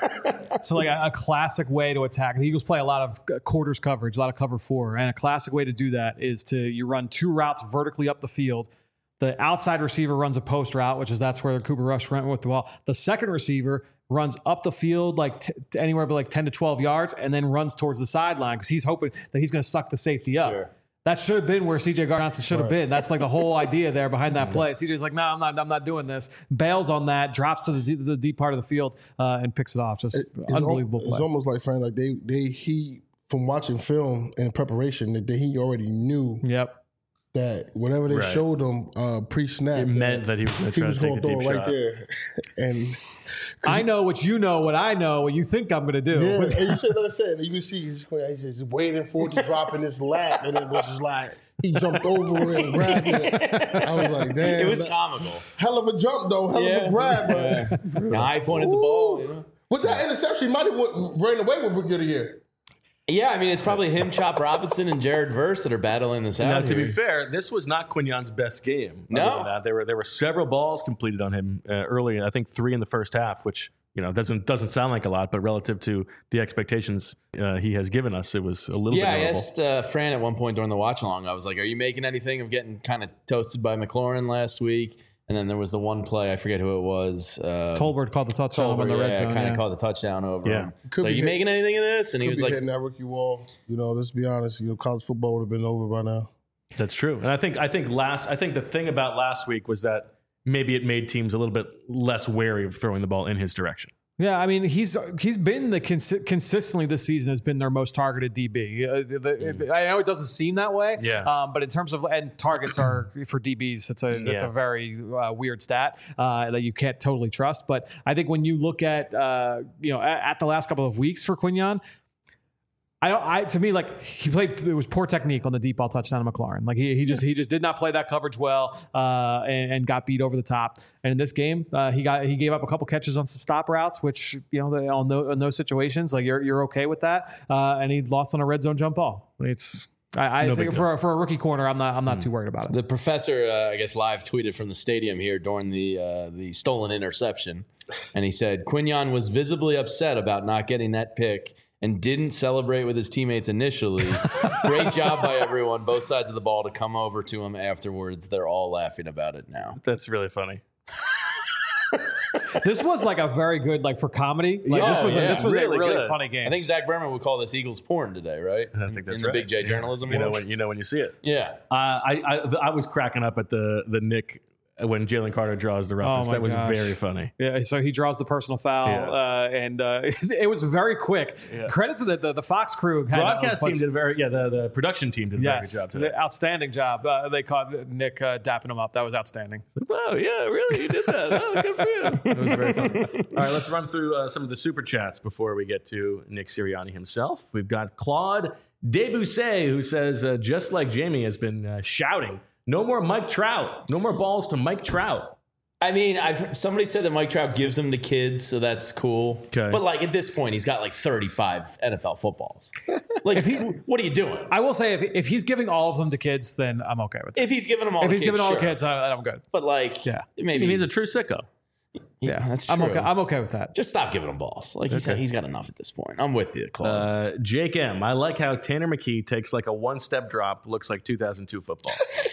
D: So like a, a classic way to attack. The Eagles play a lot of quarters coverage, a lot of cover four. And a classic way to do that is to you run two routes vertically up the field. The outside receiver runs a post route, which is that's where Cooper Rush went with the ball. The second receiver runs up the field like t- anywhere but like ten to twelve yards and then runs towards the sideline because he's hoping that he's going to suck the safety up.
C: Sure.
D: That should have been where C J Gardner-Johnson should have
B: Right.
D: been. That's like the whole idea there behind that play. C J's like, no, I'm not. I'm not doing this. Bails on that, drops to the, deep- the deep part of the field, uh, and picks it off. Just
B: It's
D: unbelievable
B: al-
D: play.
B: It's almost like, Frank, like they, they, he, from watching film and preparation, that they, he already knew
D: Yep.
B: that whatever they
A: Right.
B: showed him uh, pre-snap,
A: It meant that he was going to
B: he
A: try
B: was
A: to take
B: going
A: a
B: to throw
A: deep
B: it right
A: shot.
B: there. And
D: I know what you know, what I know, what you think I'm going to do.
B: yeah, and you said, like I said, you can see he's, he's just waiting for it to drop in his lap, and it was just like he jumped over it and grabbed it. I was like, damn,
C: It was
B: that-
C: comical.
B: hell of a jump though, hell of a grab, man.
C: Yeah, I pointed the ball, you know.
B: With that interception, he might have went, ran away with Rookie of the Year.
C: Yeah, I mean, it's probably him, Chop Robinson, and Jared Verse that are battling this out.
A: Now, to
C: here.
A: be fair, this was not Quinyon's best game.
C: No.
A: Other than that, there were there were several balls completed on him uh, early. I think three in the first half, which you know doesn't doesn't sound like a lot, but relative to the expectations uh, he has given us, it was a little
C: Yeah, I
A: bit notable.
C: asked uh, Fran at one point during the watch along. I was like, "Are you making anything of getting kind of toasted by McLaurin last week?" And then there was the one play, I forget who it was. Uh,
D: Tolbert called the touchdown on the red
C: yeah,
D: zone.
C: kind of
D: yeah.
C: called the touchdown over
A: Yeah.
C: him.
B: Could
C: so are
B: be
C: you
B: hit-
C: making anything of this? And he
B: Could
C: was
B: be
C: like,
B: hitting that rookie wall. You know, let's be honest. You know, college football would have been over by now.
A: That's true. And I think I think last I think the thing about last week was that maybe it made teams a little bit less wary of throwing the ball in his direction.
D: Yeah, I mean he's he's been the consi- consistently this season has been their most targeted D B. Uh, the, mm. I know it doesn't seem that way,
A: yeah.
D: Um, but in terms of and targets are for D Bs, it's a it's
A: yeah.
D: a very uh, weird stat uh, that you can't totally trust. But I think when you look at uh, you know at, at the last couple of weeks for Quinyon. I, I, to me, like he played, it was poor technique on the deep ball touchdown to McLaurin. Like he, he just, he just did not play that coverage well, uh, and, and got beat over the top. And in this game, uh, he got, he gave up a couple catches on some stop routes, which you know, on those, in those situations, like you're, you're okay with that. Uh, and he lost on a red zone jump ball. It's, I, I no think for for a rookie corner, I'm not, I'm not mm. too worried about it.
C: The professor, uh, I guess, live tweeted from the stadium here during the uh, the stolen interception, and he said Quinyon was visibly upset about not getting that pick. And didn't celebrate with his teammates initially. Great job by everyone, both sides of the ball, to come over to him afterwards. They're all laughing about it now.
A: That's really funny.
D: This was like a very good, like for comedy. Like,
C: oh,
D: this was,
C: yeah.
D: a, this was
A: really
D: a really
A: good.
D: funny game.
C: I think Zach Berman would call this Eagles porn today, right?
A: I think that's
C: in
A: right.
C: the Big J
A: yeah.
C: journalism.
A: You know
C: world.
A: when you know when you see it.
C: Yeah,
A: uh, I, I I was cracking up at the the Nick. When Jalen Carter draws the roughness.
D: Oh
A: that was
D: gosh.
A: very funny.
D: Yeah, so he draws the personal foul,
A: yeah.
D: uh, and uh, it was very quick. Yeah. Credit to the, the the Fox crew. Had
A: Broadcast team did a very yeah. The, the production team did a
D: yes,
A: very good job today.
D: Outstanding job. Uh, they caught Nick uh, dapping him up. That was outstanding.
A: Wow, yeah, really, you did that. Oh, good for you. It was very fun. All right, let's run through uh, some of the super chats before we get to Nick Sirianni himself. We've got Claude Debussy, who says, uh, just like Jamie has been uh, shouting, no more Mike Trout. No more balls to Mike Trout.
C: I mean, I've somebody said that Mike Trout gives them to kids, so that's cool.
A: Okay.
C: But like at this point, he's got like thirty-five N F L footballs. Like, if he, what are you doing?
D: I will say, if, if he's giving all of them to kids, then I'm okay with it.
C: If he's giving them all,
D: if
C: the
D: he's
C: kids,
D: giving all
C: sure.
D: the kids, I, I'm good.
C: But like,
D: yeah,
C: maybe
A: he's a true sicko.
C: Yeah, that's true.
D: I'm okay. I'm okay with that.
C: Just stop giving him balls. Like he's
A: okay.
C: he's got enough at this point. I'm with you, Claude.
A: Uh, Jake M. I like how Tanner McKee takes like a one-step drop, looks like two thousand two football.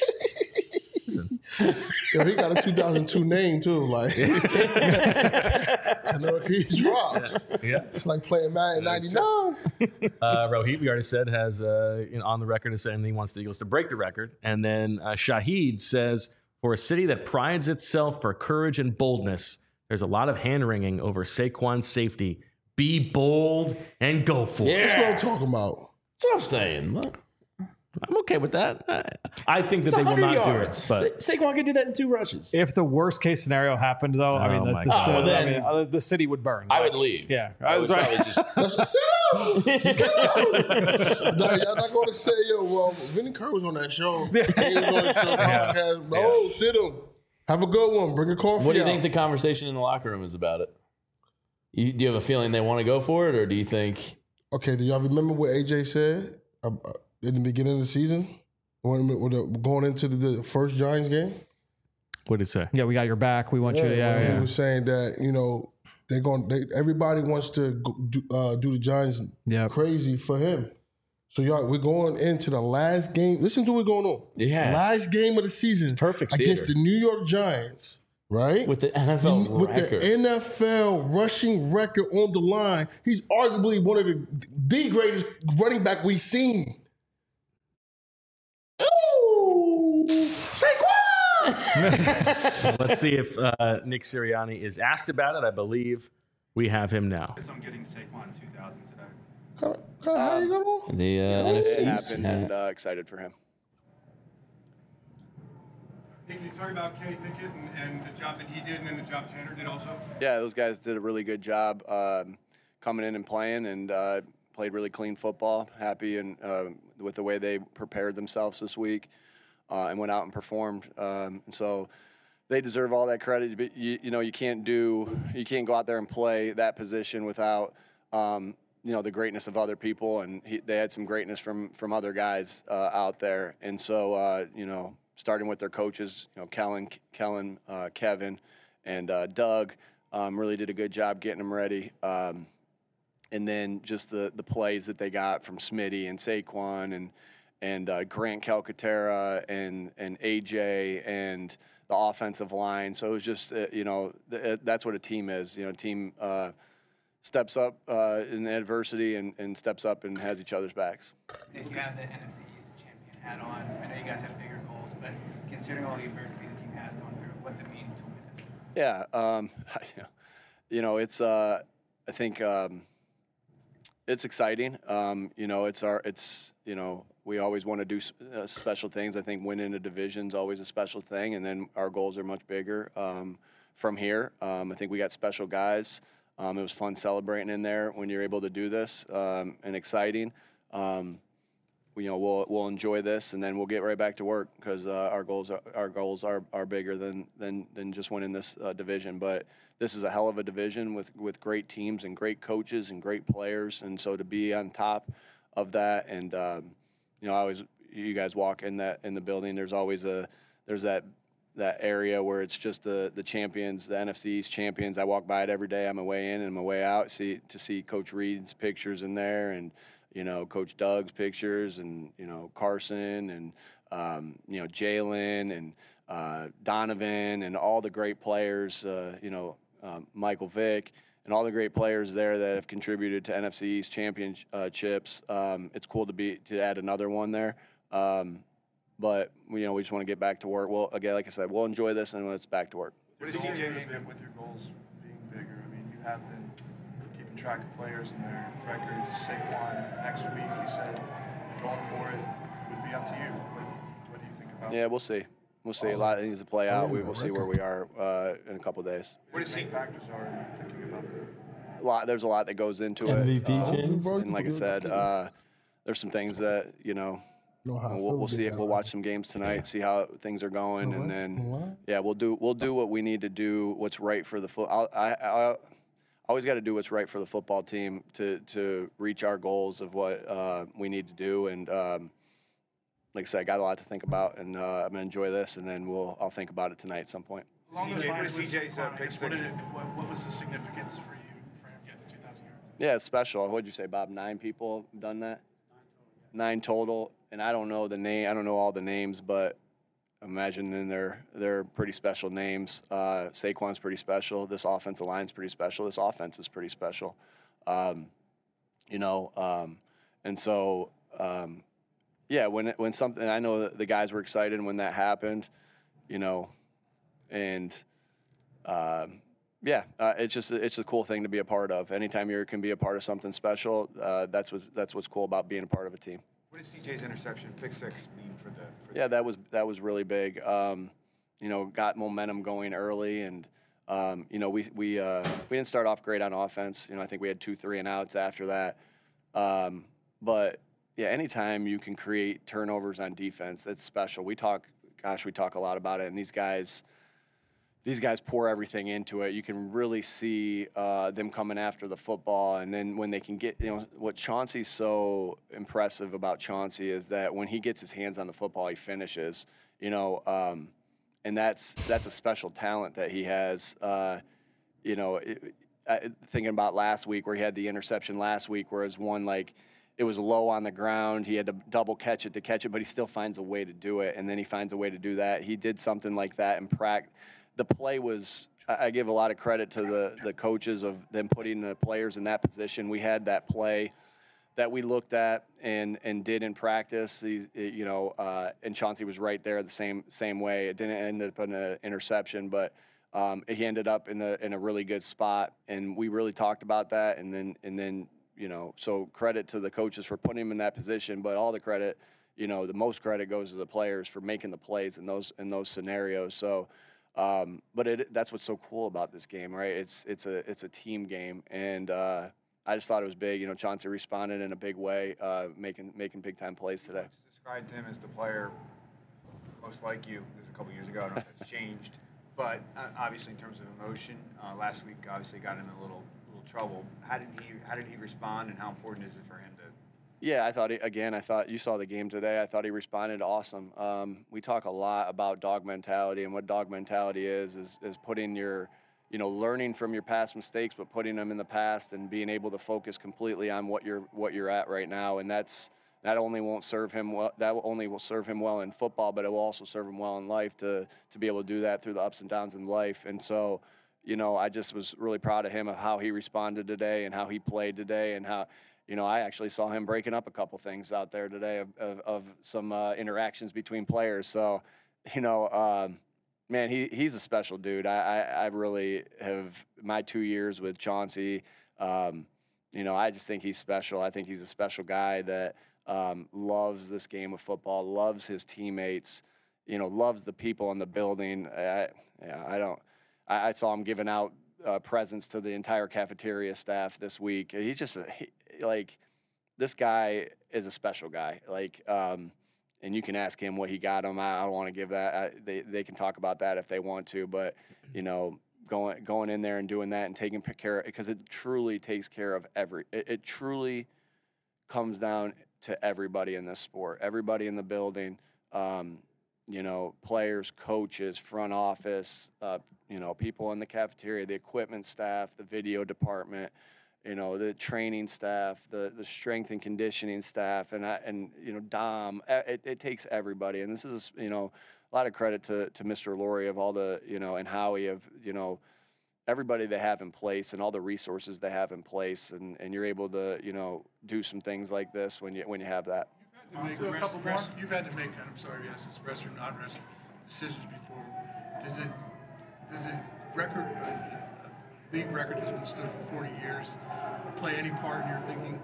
B: Yo, he got a two thousand two name too. Like Tanner McKee drops.
A: Yeah,
B: it's like playing Madden ninety-nine.
A: Uh, Rohit, we already said, has uh, you know, on the record as saying he wants the Eagles to break the record. And then uh, Shahid says, for a city that prides itself for courage and boldness, there's a lot of hand-wringing over Saquon's safety. Be bold and go for
C: Yeah.
A: it.
B: That's what I'm talking about.
C: That's what I'm saying. Look,
A: I'm okay with that. I, I think that
C: it's
A: they will not
C: yards.
A: do it. But
C: Sa- Saquon could do that in two rushes.
D: If the worst case scenario happened, though, I
A: Oh
D: mean, the,
A: my
D: the,
A: God.
D: the,
C: Oh, well, then-
D: I mean uh, the city would burn.
C: I
D: Like,
C: would leave.
D: Yeah,
C: I would
D: That's right.
C: probably just.
B: That's sit down. Sit down. No, y'all not going to say, yo, well, Vinny Kerr was on that show. He was on the show podcast. Yeah. Oh, sit him. Have a good one. Bring a coffee
C: What do you
B: out.
C: think the conversation in the locker room is about it? You, do you have a feeling they want to go for it, or do you think?
B: Okay, do y'all remember what A J said uh, uh, in the beginning of the season? When, when the, going into the, the first Giants game?
A: what did he say?
D: Yeah, we got your back. We want you. To, yeah,
B: when
D: yeah.
B: He was saying that, you know, they're going. They, everybody wants to go, do, uh, do the Giants
D: Yep.
B: crazy for him. So y'all, we're going into the last game. Listen to what's going on.
C: Yeah,
B: last game of the season,
C: it's perfect
B: against
C: theater.
B: the New York Giants, right?
C: With the N F L
B: with
C: record.
B: the N F L rushing record on the line. He's arguably one of the the greatest running back we've seen. Ooh, Saquon!
A: Let's see if uh, Nick Sirianni is asked about it. I believe we have him now.
E: I'm getting Saquon two thousand today.
B: Kinda, kinda how you going?
C: the uh, N F C
F: It
C: East.
F: happened, and uh, excited for him.
E: Hey, can you talk about Kenny Pickett and, and the job that he did and then the job Tanner did also?
F: Yeah, those guys did a really good job um, coming in and playing, and uh, played really clean football. Happy and uh, with the way they prepared themselves this week uh, and went out and performed. Um, and so they deserve all that credit. But you, you know, you can't do, you can't go out there and play that position without, um, you know, the greatness of other people. And he, they had some greatness from from other guys uh, out there. And so, uh, you know, starting with their coaches, you know, Kellen, Kellen, uh, Kevin, and uh, Doug, um, really did a good job getting them ready. Um, and then just the the plays that they got from Smitty and Saquon and and uh, Grant Calcaterra and and A J and the offensive line. So it was just uh, you know th- that's what a team is. You know, a team uh, steps up uh, in adversity and, and steps up and has each other's backs.
G: Nick, you have the N F C East champion hat on. I know you guys have bigger goals, but considering all the adversity the team has gone through, what's it mean to win it?
F: Yeah, um, you know, it's uh, I think um, it's exciting. Um, you know, it's our, it's, you know, we always want to do uh, special things. I think winning a division is always a special thing, and then our goals are much bigger um, from here. Um, I think we got special guys. Um, it was fun celebrating in there when you're able to do this um, and exciting. Um, you know, we'll we'll enjoy this, and then we'll get right back to work because uh, our goals are, our goals are, are bigger than than than just winning this uh, division. But this is a hell of a division with with great teams and great coaches and great players, and so to be on top of that, and um, you know, I always you guys walk in that in the building. There's always a there's that that area where it's just the the champions, the N F C East champions. I walk by it every day on my way in and my way out. See to see Coach Reed's pictures in there, and you know, Coach Doug's pictures, and, you know, Carson, and, um, you know, Jalen, and uh, Donovan, and all the great players, uh, you know, um, Michael Vick, and all the great players there that have contributed to N F C East championships. Um, it's cool to be to add another one there. Um, but, you know, we just want to get back to work. Well, again, like I said, we'll enjoy this, and then it's back to work.
H: What is C J been with your goals being bigger? I mean, you have been keeping track of players and their records. Saquon, next week, he said going for it would be up to you. What, what do you think about
F: Yeah, we'll see. We'll see. A lot needs to play out. We will see where we are uh, in a couple of days.
H: What do you think factors are in thinking about that?
F: A lot. There's a lot that goes into
I: M V
F: it.
I: P
F: Uh,
I: chance?
F: and like I said, uh, there's some things that, you know,
B: Know how I
F: we'll,
B: feel
F: we'll see.
B: about
F: We'll
B: that.
F: watch some games tonight, see how things are going, and then
B: Alright.
F: yeah, we'll do we'll do what we need to do. What's right for the foot. I I, I always got to do what's right for the football team to to reach our goals of what uh, we need to do. And um, like I said, I got a lot to think about, and uh, I'm gonna enjoy this, and then we'll I'll think about it tonight at some point.
E: Along those
H: C J,
E: lines,
H: what is C J's, uh,
E: Saquon,
H: pick
E: I guess, what,
H: six?
E: did it, what, what was the significance for you for him getting two thousand yards?
F: Yeah, it's special. What'd you say, Bob? Nine people have done that? Nine total. And I don't know the name. I don't know all the names, but imagine then they're they're pretty special names. Uh, Saquon's pretty special. This offensive line's pretty special. This offense is pretty special. Um, you know, um, and so um, yeah, when it, when something, I know that the guys were excited when that happened. You know, and. Um, Yeah, uh, it's just it's a cool thing to be a part of. Anytime you can be a part of something special, uh, that's what that's what's cool about being a part of a team.
H: What does C J's interception, pick six, mean for the? For
F: Yeah, that was that was really big. Um, you know, got momentum going early, and um, you know we we uh, we didn't start off great on offense. You know, I think we had two three and outs after that. Um, but yeah, anytime you can create turnovers on defense, that's special. We talk, gosh, we talk a lot about it, and these guys. These guys pour everything into it. You can really see uh, them coming after the football, and then when they can get, you know, what Chauncey's so impressive about Chauncey is that when he gets his hands on the football, he finishes. You know, um, and that's that's a special talent that he has. Uh, you know, it, I, thinking about last week where he had the interception last week, where it was one like it was low on the ground, he had to double catch it to catch it, but he still finds a way to do it, and then he finds a way to do that. He did something like that in practice. The play was, I give a lot of credit to the, the coaches of them putting the players in that position. We had that play that we looked at and, and did in practice. These, you know, uh, and Chauncey was right there the same same way. It didn't end up in an interception, but um, he ended up in a in a really good spot. And we really talked about that. And then and then you know, so credit to the coaches for putting him in that position, but all the credit, you know, the most credit goes to the players for making the plays in those in those scenarios. So. Um, but it, that's what's so cool about this game, right? It's it's a it's a team game, and uh, I just thought it was big. You know, Chauncey responded in a big way, uh, making making big time plays today.
H: Described him as the player most like you. This was a couple years ago. I don't know if that's changed, but uh, obviously in terms of emotion, uh, last week obviously got him in a little little trouble. How did he how did he respond, and how important is it for him to?
F: Yeah, I thought, he, again, I thought you saw the game today. I thought he responded awesome. Um, we talk a lot about dog mentality, and what dog mentality is, is, is putting your, you know, learning from your past mistakes, but putting them in the past and being able to focus completely on what you're, what you're at right now. And that's, that only won't serve him well, that only will serve him well in football, but it will also serve him well in life to, to be able to do that through the ups and downs in life. And so, you know, I just was really proud of him of how he responded today and how he played today and how, you know, I actually saw him breaking up a couple things out there today of, of, of some uh, interactions between players. So, you know, um, man, he he's a special dude. I, I, I really have, my two years with Chauncey, um, you know, I just think he's special. I think he's a special guy that um, loves this game of football, loves his teammates, you know, loves the people in the building. I, yeah, I don't. I, I saw him giving out uh, presents to the entire cafeteria staff this week. He just he, like this guy is a special guy. Like, um, and you can ask him what he got him. I, I don't want to give that. I, they they can talk about that if they want to, but you know. Going going in there and doing that and taking care of it, because it truly takes care of every. It, it truly comes down to everybody in this sport, everybody in the building, um, you know, players, coaches, front office, uh, you know, people in the cafeteria, the equipment staff, the video department, you know, the training staff, the the strength and conditioning staff, and I, and you know, Dom. It, it takes everybody, and this is you know. A lot of credit to, to Mister Laurie of all the, you know, and Howie of, you know, everybody they have in place and all the resources they have in place. And, and you're able to, you know, do some things like this when you when you have that.
I: You've had to make, rest, rest, you've had to make I'm sorry, yes, it's rest or not rest decisions before. Does it, does it record, a, a league record that's been stood for forty years, play any part in your thinking?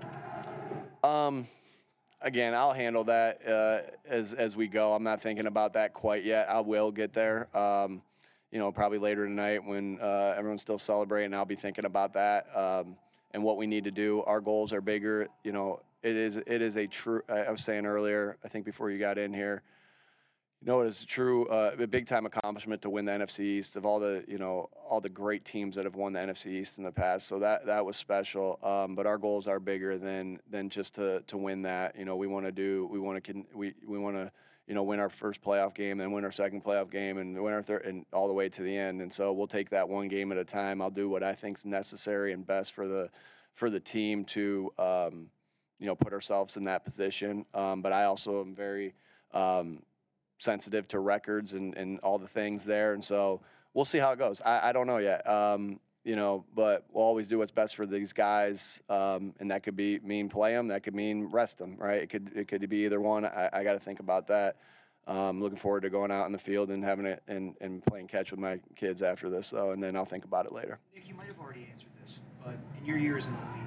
F: Um. Again, I'll handle that uh, as as we go. I'm not thinking about that quite yet. I will get there. Um, you know, probably later tonight when uh, everyone's still celebrating. I'll be thinking about that um, and what we need to do. Our goals are bigger. You know, it is it is a true. I was saying earlier, I think before you got in here. You know, it is a true, uh, a big time accomplishment to win the N F C East of all the, you know, all the great teams that have won the N F C East in the past. So that that was special. Um, but our goals are bigger than than just to to win that. You know, we want to do, we want to, we we want to, you know, win our first playoff game, then win our second playoff game, and win our third, and all the way to the end. And so we'll take that one game at a time. I'll do what I think is necessary and best for the for the team to, um, you know, put ourselves in that position. Um, but I also am very um, sensitive to records and, and all the things there. And so we'll see how it goes. I, I don't know yet, um, you know, but we'll always do what's best for these guys. Um, and that could be mean play them. That could mean rest them, right? It could, it could be either one. I, I got to think about that. Um, looking forward to going out in the field and having it and, and playing catch with my kids after this, though. And then I'll think about it later.
G: Nick, you might have already answered this, but in your years in the league,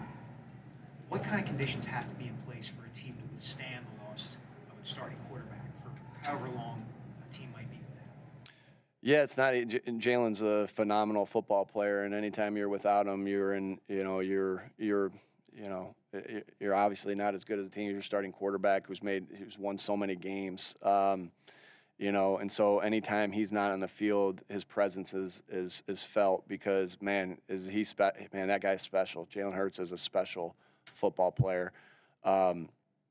G: what kind of conditions have to be in place for a team to withstand the loss of its starting quarterback for however long a team might be without?
F: Yeah, it's not. Jalen's a phenomenal football player, and anytime you're without him, you're in. You know, you're you're you know you're obviously not as good as the team. You're starting quarterback who's made who's won so many games. Um, you know, and so anytime he's not on the field, his presence is is is felt because man, is he spe- man that guy's special. Jalen Hurts is a special football player, um,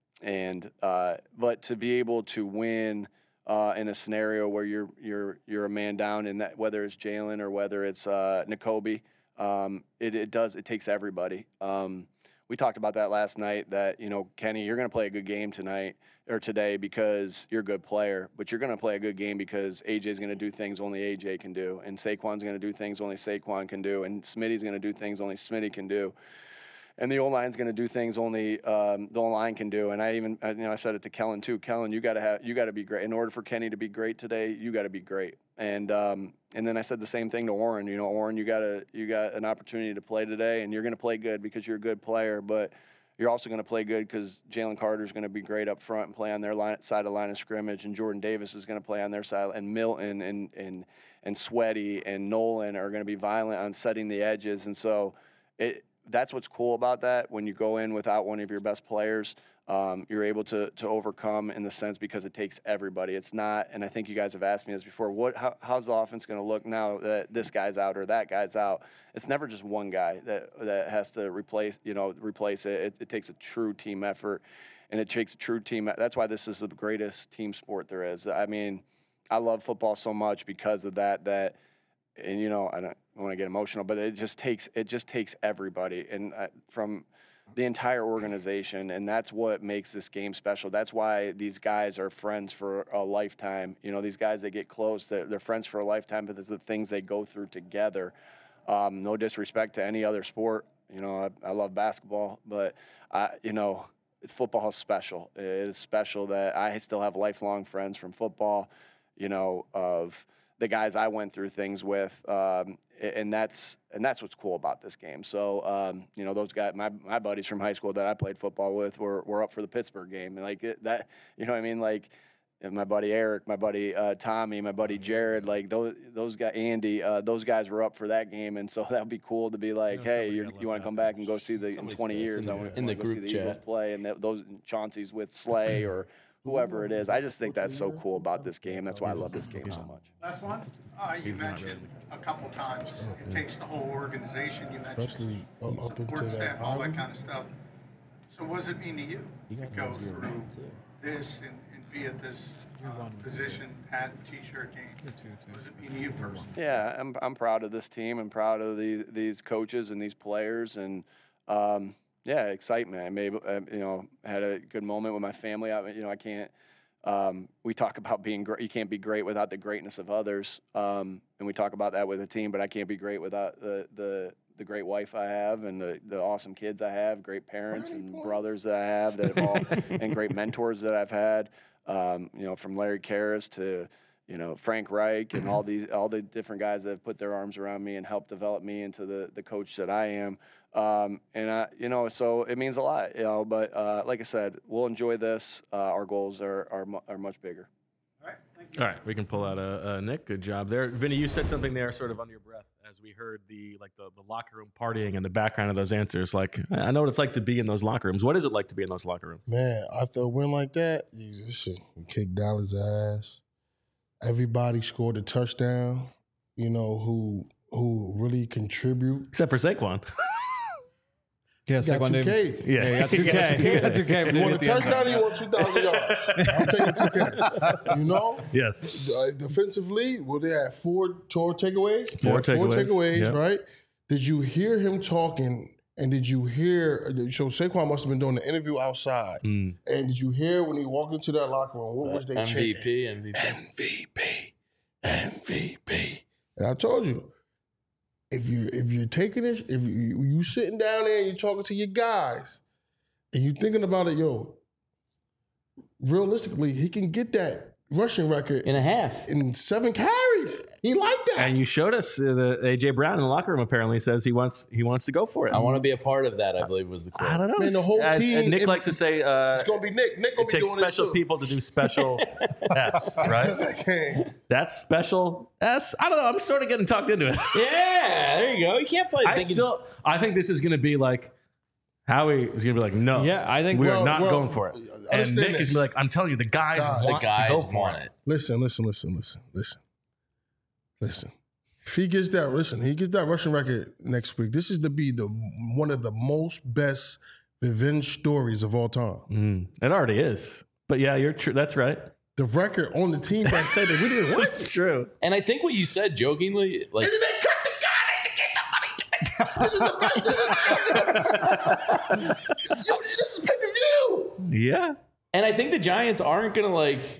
F: and uh, but to be able to win uh, in a scenario where you're you're you're a man down, in that whether it's Jalen or whether it's uh, Nakobe, um, it it does it takes everybody. Um, we talked about that last night. That you know, Kenny, you're going to play a good game tonight or today because you're a good player, but you're going to play a good game because A J's going to do things only A J can do, and Saquon's going to do things only Saquon can do, and Smitty's going to do things only Smitty can do. And the O-line's going to do things only um, the O-line can do. And I even, you know, I said it to Kellen too. Kellen, you got to have, you got to be great. In order for Kenny to be great today, you got to be great. And um, and then I said the same thing to Oren. You know, Oren, you got to, you got an opportunity to play today, and you're going to play good because you're a good player. But you're also going to play good because Jalen Carter's going to be great up front and play on their line, side of the line of scrimmage, and Jordan Davis is going to play on their side, and Milton and and and Sweaty and Nolan are going to be violent on setting the edges. And so it. That's what's cool about that. When you go in without one of your best players, um, you're able to to overcome in the sense because it takes everybody. It's not, and I think you guys have asked me this before. What? How, how's the offense going to look now that this guy's out or that guy's out? It's never just one guy that that has to replace. You know, replace it. It, it takes a true team effort, and it takes a true team. That's why this is the greatest team sport there is. I mean, I love football so much because of that. That. And you know, I don't want to get emotional, but it just takes it just takes everybody, and uh, from the entire organization, and that's what makes this game special. That's why these guys are friends for a lifetime. You know, these guys that get close, they're, they're friends for a lifetime because of the things they go through together. Um, no disrespect to any other sport. You know, I, I love basketball, but I, you know, football is special. It is special that I still have lifelong friends from football. You know, of the guys I went through things with, um, and that's and that's what's cool about this game. So um, you know, those guys, my my buddies from high school that I played football with, were were up for the Pittsburgh game, and like it, that, you know what I mean, like. And my buddy Eric, my buddy uh, Tommy, my buddy Jared, like those those guys, Andy, uh, those guys were up for that game, and so that would be cool to be like, hey, you're, you want to come back and go see the in twenty years
C: in the,
F: I wanna,
C: in the
F: I wanna go
C: group
F: see the
C: chat
F: Eagles play, and that, those Chauncey's with Slay or whoever it is. I just think that's so cool about this game. That's why I love this game so much.
I: Last one. Uh, you mentioned a couple times it takes the whole organization. You mentioned
B: Especially up up into
I: support
B: that
I: staff, all that
B: bottom.
I: kind of stuff. So what does it mean to you to go through this and, and be at this uh, position, hat, t-shirt game? What does it mean to you personally?
F: Yeah, I'm I'm proud of this team. I'm proud of the, these coaches and these players, and um, yeah, excitement. I made uh, you know had a good moment with my family. I, you know, I can't. Um, we talk about being great. You can't be great without the greatness of others, um, and we talk about that with a team. But I can't be great without the the the great wife I have and the, the awesome kids I have, great parents and brothers that I have that have all, and great mentors that I've had. Um, you know, from Larry Karras to you know Frank Reich and all these all the different guys that have put their arms around me and helped develop me into the the coach that I am. Um, and I, you know, so it means a lot, you know, but, uh, like I said, we'll enjoy this. Uh, our goals are, are, mu- are much bigger.
A: All right. We can pull out a, a Nick. Good job there. Vinny, you said something there sort of under your breath as we heard the, like the, the locker room partying in the background of those answers. Like, I know what it's like to be in those locker rooms. What is it like to be in those locker rooms?
B: Man, after a win like that, you just you kick Dallas' ass. Everybody scored a touchdown, you know, who, who really contribute.
A: Except for Saquon.
D: Yeah,
B: Got
D: Saquon
B: two K.
D: Davis. Yeah, you got two K. You got two K.
B: You want a touchdown, you want two thousand yards. I'm taking two K. You know?
A: Yes.
B: Uh, defensively, well, they had four tour takeaways.
A: Four
B: Yeah,
A: takeaways.
B: Four takeaways,
A: Yep.
B: right? Did you hear him talking? And did you hear? So Saquon must have been doing the interview outside.
A: Mm.
B: And did you hear when he walked into that locker room? What was they
C: M V
B: chanting?
C: P, M V P.
B: M V P, M V P. And I told you, if you if you're taking it, if you you sitting down there and you're talking to your guys, and you're thinking about it, yo, realistically, he can get that rushing record
C: In a half.
B: in seven carries. He liked that.
A: And you showed us uh, the A J Brown in the locker room apparently says he wants he wants to go for it.
C: I want to be a part of that, I believe was the quote.
A: I don't know.
B: Man, the whole
A: As-
B: team-
A: and Nick
B: it-
A: likes to say uh,
B: It's gonna be Nick. Nick gonna
A: it
B: be
A: takes
B: doing this
A: special
B: too.
A: people to do special S, right?
B: Okay.
A: That's special S. I don't know. I'm sort of getting talked into it.
C: Yeah, there you go. You can't play
A: I
C: thinking.
A: still, I think this is going to be like Howie is going to be like, no,
D: Yeah, I think
A: we
B: well-
A: are not
B: well,
A: going for it. And
B: understand
A: Nick
B: this.
A: is gonna be like, I'm telling you, the guys
B: Guys.
A: want
C: the guys
A: to go for
C: want
A: it.
C: it.
B: Listen, listen, listen, listen, listen, listen. If he gets that, listen, he gets that rushing record next week. This is to be the one of the most best revenge stories of all time.
A: Mm, it already is. But yeah, you're true. That's right.
B: The record on the team that said that we didn't win.
A: It's true.
C: And I think what you said jokingly, like,
B: And then they cut the guy to get the money. This is the best. This is, Yo, this is pay per view.
A: Yeah.
C: and I think the Giants aren't going to like.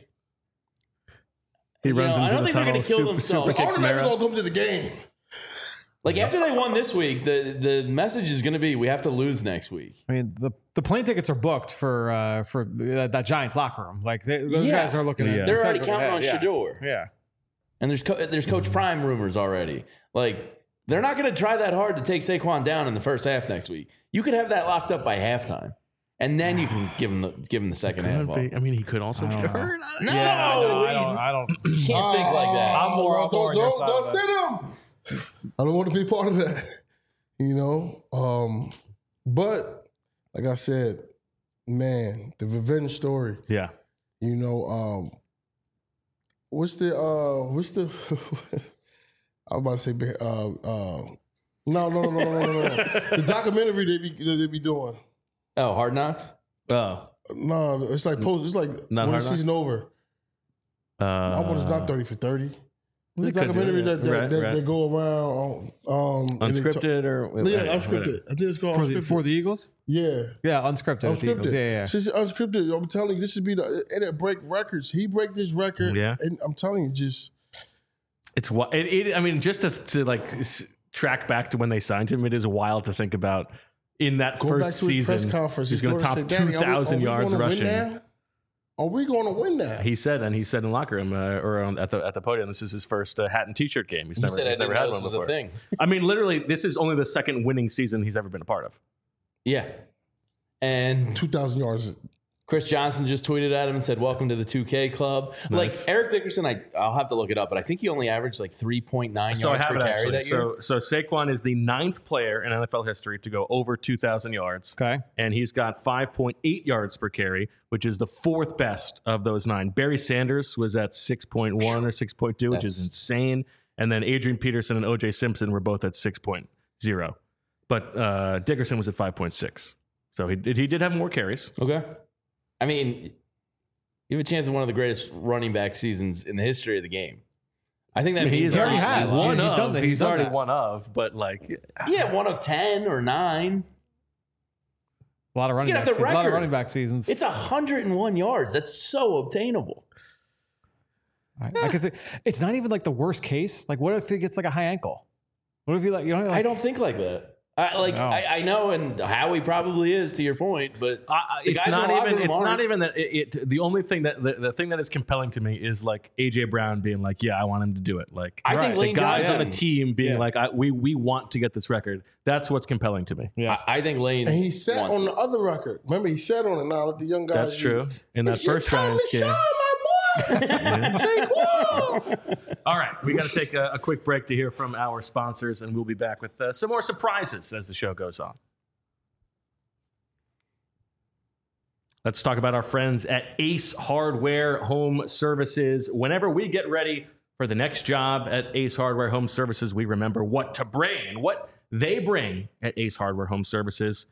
A: He
C: You
A: runs
C: know, I
A: into
C: don't
A: the
C: think they're
A: tunnel.
C: gonna kill
A: super,
C: themselves.
A: super kicks
B: Automatically
A: Mara.
B: gonna come to the game.
C: Like after they won this week, the the message is going to be we have to lose next week.
D: I mean, the, the plane tickets are booked for uh, for that, that Giants locker room. Like they, those
C: Yeah.
D: guys are looking at.
A: Yeah.
D: those
C: They're
D: guys
C: already
D: are
C: counting on
D: looking at-
C: Shador,
D: Yeah. yeah.
C: and there's co- there's Coach Prime rumors already. Like they're not going to try that hard to take Saquon down in the first half next week. You could have that locked up by halftime, and then you can give him the give him the second half.
A: Could
C: off.
A: be. I mean, he could also
D: I don't
A: get
D: know.
A: hurt.
C: No,
D: Yeah, I, know, I don't. I don't.
C: you can't think like that.
D: I'm more- I'm more
B: don't
D: on your
B: don't,
D: side
B: don't
D: of
B: send him. I don't want to be part of that. You know, um, but like I said, man, the revenge story.
A: Yeah.
B: You know, um, what's the uh, what's the? I was about to say, uh, uh, no, no, no, no, no, no, no. The documentary they be they be doing.
C: Oh, Hard Knocks.
A: Oh.
B: No, it's like post. It's like
A: Not
B: when
A: Hard
B: the season over.
A: Uh,
B: I want it's not thirty for thirty.
A: They
B: This
A: could do
B: documentary
A: it,
B: that that,
A: right,
B: that,
A: right.
B: that go around um, and they talk-
A: unscripted or
B: Yeah,
A: anyway,
B: unscripted.
A: whatever.
B: I think it's called
D: For the,
B: unscripted.
D: for the Eagles?
B: yeah.
D: Yeah, unscripted. with the Eagles.
B: Unscripted.
D: Yeah, yeah.
B: Since it's unscripted, I'm telling you, this should be the and it break records. He break this record.
A: Yeah.
B: And I'm telling you, just
A: It's what it, it. I mean, just to, to like s- track back to when they signed him, it is wild to think about. In that
B: go
A: first
B: back to his
A: season,
B: press conference.
A: he's
B: His
A: going to
B: daughter
A: top
B: said, "Daddy,
A: two
B: are we-
A: thousand
B: are we
A: yards
B: gonna win
A: rushing.
B: now?" Are we going to win that?
A: He said, and he said in the locker room uh, or on, at the at the podium, this is his first uh, hat and T-shirt game. He's
C: He
A: never,
C: said,
A: he's
C: "I
A: never
C: didn't
A: had
C: know
A: one
C: this was a
A: before.
C: thing."
A: I mean, literally, this is only the second winning season he's ever been a part of.
C: Yeah. And
B: two thousand yards.
C: Chris Johnson just tweeted at him and said, "Welcome to the two K club."
A: Nice.
C: Like Eric Dickerson, I, I'll have to look it up, but I think he only averaged like three point nine
A: So I
C: yards
A: have
C: per
A: it
C: carry
A: actually.
C: that year.
A: So, so Saquon is the ninth player in N F L history to go over two thousand yards.
D: Okay.
A: And he's got five point eight yards per carry, which is the fourth best of those nine. Barry Sanders was at six point one or six point two, which is
C: That's-
A: insane. And then Adrian Peterson and O J Simpson were both at six point oh. But uh, Dickerson was at five point six. So he, he did have more carries.
C: Okay. I mean, you have a chance of one of the greatest running back seasons in the history of the game. I think that means
A: He's
C: a
A: already
C: lot.
A: had
D: He's-
A: one
D: he's
A: of.
D: done that.
A: He's,
D: He's done
A: already
D: that.
A: one of, but like,
C: Yeah, one of ten or nine.
D: A lot of running
C: You
D: back
C: get off the
D: seasons. A lot of
C: record.
D: running back seasons.
C: It's one hundred one yards. That's so obtainable.
D: I, I could think it's not even like the worst case. Like, what if he gets like a high ankle? What if you like you know? Like,
C: I don't think like that. I, like
D: No.
C: I, I know, and Howie probably is, to your point, but
A: I, I-
C: the
A: it's
C: guys in
A: not
C: the locker
A: even.
C: room
A: It's
C: aren't.
A: not even that. It, it. The only thing that the, the thing that is compelling to me is like A J Brown being like, "Yeah, I want him to do it." Like,
C: I think
A: the
C: Lane
A: guys on the
C: Johnson-
A: team being
D: Yeah.
A: like, I, "We we want to get this record." That's what's compelling to me.
D: Yeah.
C: I, I think Lane.
B: And he sat
C: wants
B: on
C: it.
B: the other record. Remember, he sat on it. Now let the young guys.
A: That's true. In that
B: It's your
A: first
B: time
A: Giants
B: to
A: game.
B: shine, my boy. Saquon.
A: All right, we got to take a, a quick break to hear from our sponsors, and we'll be back with uh, some more surprises as the show goes on. Let's talk about our friends at Ace Hardware Home Services. Whenever we get ready for the next job at Ace Hardware Home Services, we remember what to bring. And what they bring at Ace Hardware Home Services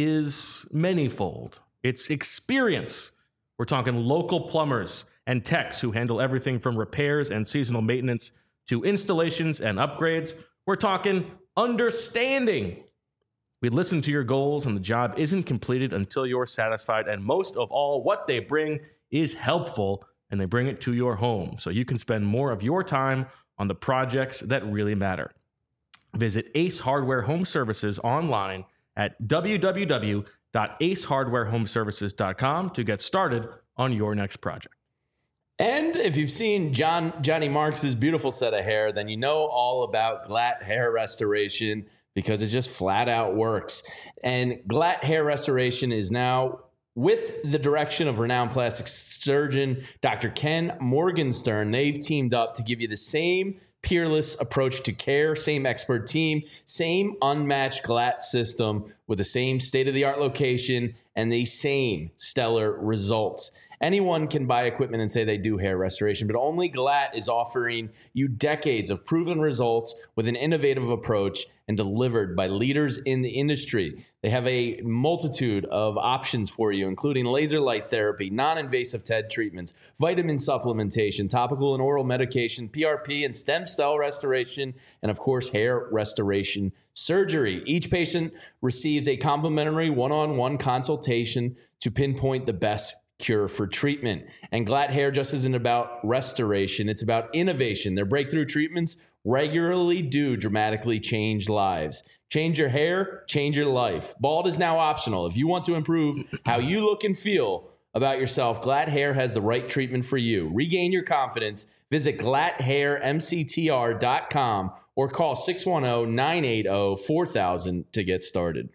A: is manyfold. It's experience. We're talking local plumbers and techs who handle everything from repairs and seasonal maintenance to installations and upgrades. We're talking understanding. We listen to your goals, and the job isn't completed until you're satisfied. And most of all, what they bring is helpful, and they bring it to your home so you can spend more of your time on the projects that really matter. Visit Ace Hardware Home Services online at w w w dot ace hardware home services dot com to get started on your next project.
C: And if you've seen John Johnny Marks' beautiful set of hair, then you know all about Glatt Hair Restoration because it just flat out works. And Glatt Hair Restoration is now with the direction of renowned plastic surgeon Doctor Ken Morgenstern. They've teamed up to give you the same peerless approach to care, same expert team, same unmatched Glatt system with the same state-of-the-art location and the same stellar results. Anyone can buy equipment and say they do hair restoration, but only Glatt is offering you decades of proven results with an innovative approach and delivered by leaders in the industry. They have a multitude of options for you, including laser light therapy, non-invasive T E D treatments, vitamin supplementation, topical and oral medication, P R P and stem cell restoration, and of course, hair restoration surgery. Each patient receives a complimentary one-on-one consultation to pinpoint the best cure for treatment. And Glatt Hair just isn't about restoration, it's about innovation. Their breakthrough treatments regularly do dramatically change lives. Change your hair, change your life. Bald is now optional. If you want to improve how you look and feel about yourself, Glatt Hair has the right treatment for you. Regain your confidence. Visit glatt hair m c t r dot com or call six one zero, nine eight zero, four thousand to get started.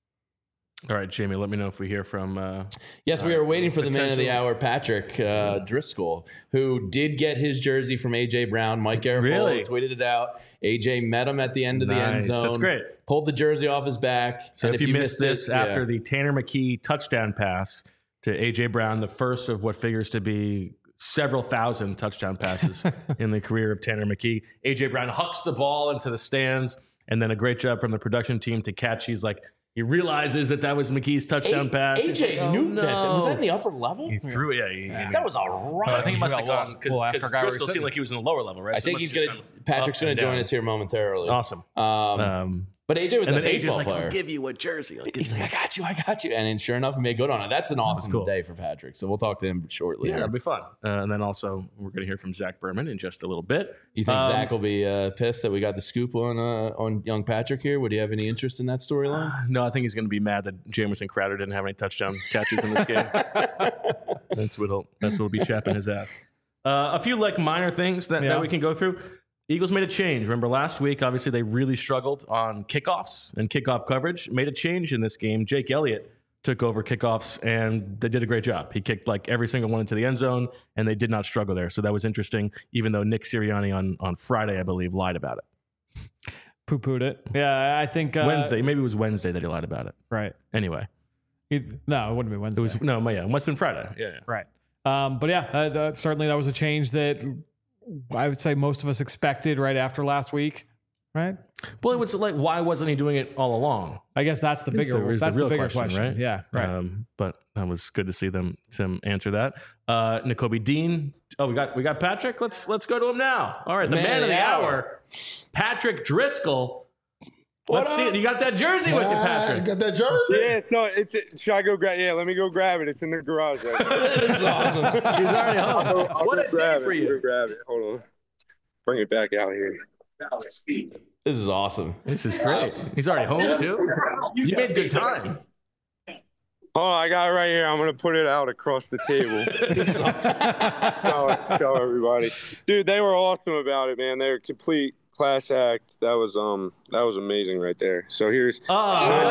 A: All right, Jamie, let me know if we hear from... Uh,
C: Yes, we are waiting for the man of the
A: potential-
C: hour, Patrick uh, Driscoll, who did get his jersey from A J Brown. Mike Garofalo
A: Really?
C: tweeted it out. A J met him at the end of the end
A: Nice.
C: zone.
A: That's great.
C: Pulled the jersey off his back.
A: So
C: and
A: if, you missed this
C: it,
A: after
C: yeah.
A: the Tanner McKee touchdown pass to A J Brown, the first of what figures to be several thousand touchdown passes in the career of Tanner McKee, A J Brown hucks the ball into the stands, and then a great job from the production team to catch. He's like, he realizes that that was McKee's touchdown
C: A-
A: pass. He's
C: A J
A: like, oh,
C: knew that.
A: no.
C: Was that in the upper level?
A: He threw it. Yeah, he,
D: Yeah.
A: he-
C: That was a
A: But I
C: rock.
A: think he must have
D: We'll-
A: gone because
D: we'll ask our guy where he's
A: Driscoll seemed
D: sitting.
A: like he was in the lower level, right?
C: I
A: So
C: think
A: it
C: he's
A: must have
C: going to,
A: just gone
C: Patrick's
A: up
C: going
A: and
C: to join
A: down.
C: us here momentarily.
A: Awesome.
C: Um,
A: Um,
C: But A J was
A: and
C: that
A: then A J's
C: baseball
A: like,
C: player.
A: I'll give you a jersey. I'll give
C: He's
A: you
C: like, I got you, I got you. And then sure enough, he made good on it. That's an awesome
A: cool.
C: day for Patrick. So we'll talk to him shortly.
A: Yeah,
C: here.
A: it'll be fun. Uh, and then also, we're going to hear from Zach Berman in just a little bit.
C: You think
A: Um,
C: Zach will be uh, pissed that we got the scoop on uh, on young Patrick here? Would you have any interest in that storyline?
A: No, I think he's going to be mad that Jamison Crowder didn't have any touchdown catches in this game. That's what'll that's what'll be chapping his ass. Uh, a few like minor things that,
D: Yeah.
A: that we can go through. Eagles made a change. Remember last week, obviously they really struggled on kickoffs and kickoff coverage. Made a change in this game. Jake Elliott took over kickoffs and they did a great job. He kicked like every single one into the end zone and they did not struggle there. So that was interesting, even though Nick Sirianni on, on Friday, I believe, lied about it.
D: Poo-pooed it. Yeah, I think uh,
A: Wednesday, maybe it was Wednesday that he lied about it.
D: Right.
A: Anyway,
D: It, no, it wouldn't be Wednesday.
A: it was no, yeah, it must have been Friday. Yeah, yeah.
D: Right. Um, but yeah, uh, that, certainly that was a change that I would say most of us expected right after last week. Right.
A: Well, it was like, why wasn't he doing it all along?
D: I guess that's the
A: Is
D: bigger.
A: the- is the
D: that's the,
A: real
D: bigger
A: question,
D: question,
A: right?
D: Yeah. Right.
A: Um, but that was good to see them them answer that. Uh, N'Kobe Dean. Oh, we got we got Patrick. Let's let's go to him now. All right, the man, of the hour, Patrick Driscoll. Let's see it. You got that jersey with you,
B: Ah,
A: Patrick.
B: got that jersey?
J: Yeah, so it's should I go grab? Yeah, let me go grab it. It's in the garage. Right now.
A: This is awesome. He's already home.
J: I'll go, I'll
A: What
J: go
A: a day
J: grab
A: for
J: it.
A: you.
J: Go grab it. Hold on. Bring it back out here.
C: This is awesome.
A: This is great. He's already home too. You made good time.
J: Oh, I got it right here. I'm gonna put it out across the table. show, show everybody, dude. They were awesome about it, man. They were complete class act. That was um, that was amazing right there. So here's
A: Oh,
J: sign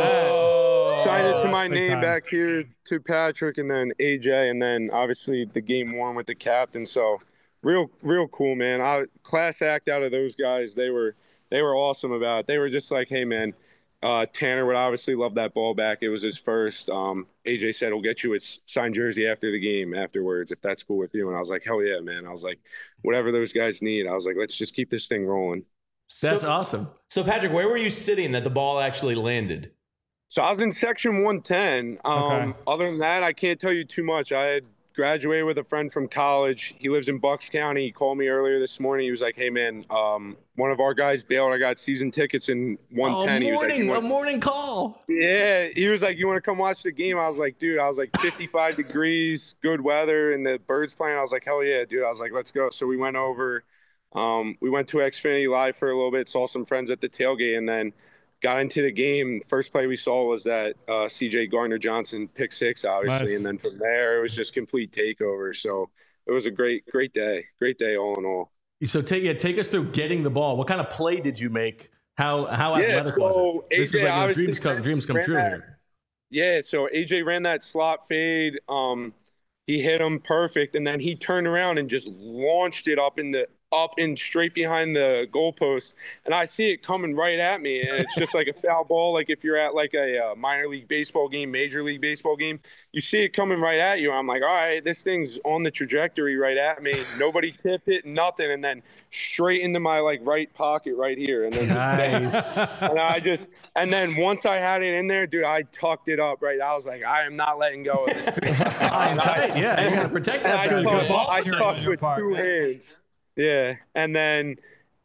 J: it, sign it to my
D: that's big
J: name
D: time.
J: back here to Patrick, and then A J, and then obviously the game one with the captain. So real, real cool, man. I class act out of those guys. They were they were awesome about it. They were just like, hey, man. Uh, Tanner would obviously love that ball back. It was his first. Um, A J said, we'll get you its signed jersey after the game afterwards, if that's cool with you. And I was like, hell yeah, man. I was like, whatever those guys need. I was like, let's just keep this thing rolling.
A: That's
C: so,
A: awesome.
C: So, Patrick, where were you sitting that the ball actually landed?
J: So I was in section one ten. Um,
D: Okay.
J: Other than that, I can't tell you too much. I had graduated with a friend from college. He lives in Bucks County. He called me earlier this morning. He was like, hey, man, um, one of our guys bailed. I got season tickets in one ten.
A: Oh,
J: He was like,
A: morning,
J: "You
A: a
J: want-"
A: morning call.
J: Yeah, he was like, you want to come watch the game? I was like, dude, I was like fifty-five degrees, good weather, and the birds playing. I was like, hell yeah, dude. I was like, let's go. So we went over. Um, we went to Xfinity Live for a little bit, saw some friends at the tailgate, and then got into the game. First play we saw was that uh, C J Gardner-Johnson pick six, obviously,
D: Nice.
J: and then from there it was just complete takeover. So it was a great, great day. Great day all in all.
A: So take yeah, take us through getting the ball. What kind of play did you make? How how
J: Yeah,
A: athletic was
J: so
A: it? This
J: A J
A: is like your
J: obviously
A: dreams come
J: ran-
A: dreams come
J: ran
A: true
J: that-
A: here.
J: Yeah, so A J ran that slot fade. Um, he hit him perfect, and then he turned around and just launched it up in the up and straight behind the goalpost. And I see it coming right at me, and it's just like a foul ball. Like if you're at like a, uh minor league baseball game, major league baseball game, you see it coming right at you. I'm like, all right, this thing's on the trajectory right at me. Nobody tip it, nothing, and then straight into my like right pocket right here, and then
A: Nice.
J: and I just, and then once I had it in there, dude, I tucked it up, right? I was like, I am not letting go of this thing.
A: Fine, tight, yeah, you gotta protect
J: And
A: that
J: I
A: thing.
J: tucked,
D: ball
J: I
D: security on
J: tucked
D: your
J: with
D: part,
J: two
D: man.
J: hands. Yeah. And then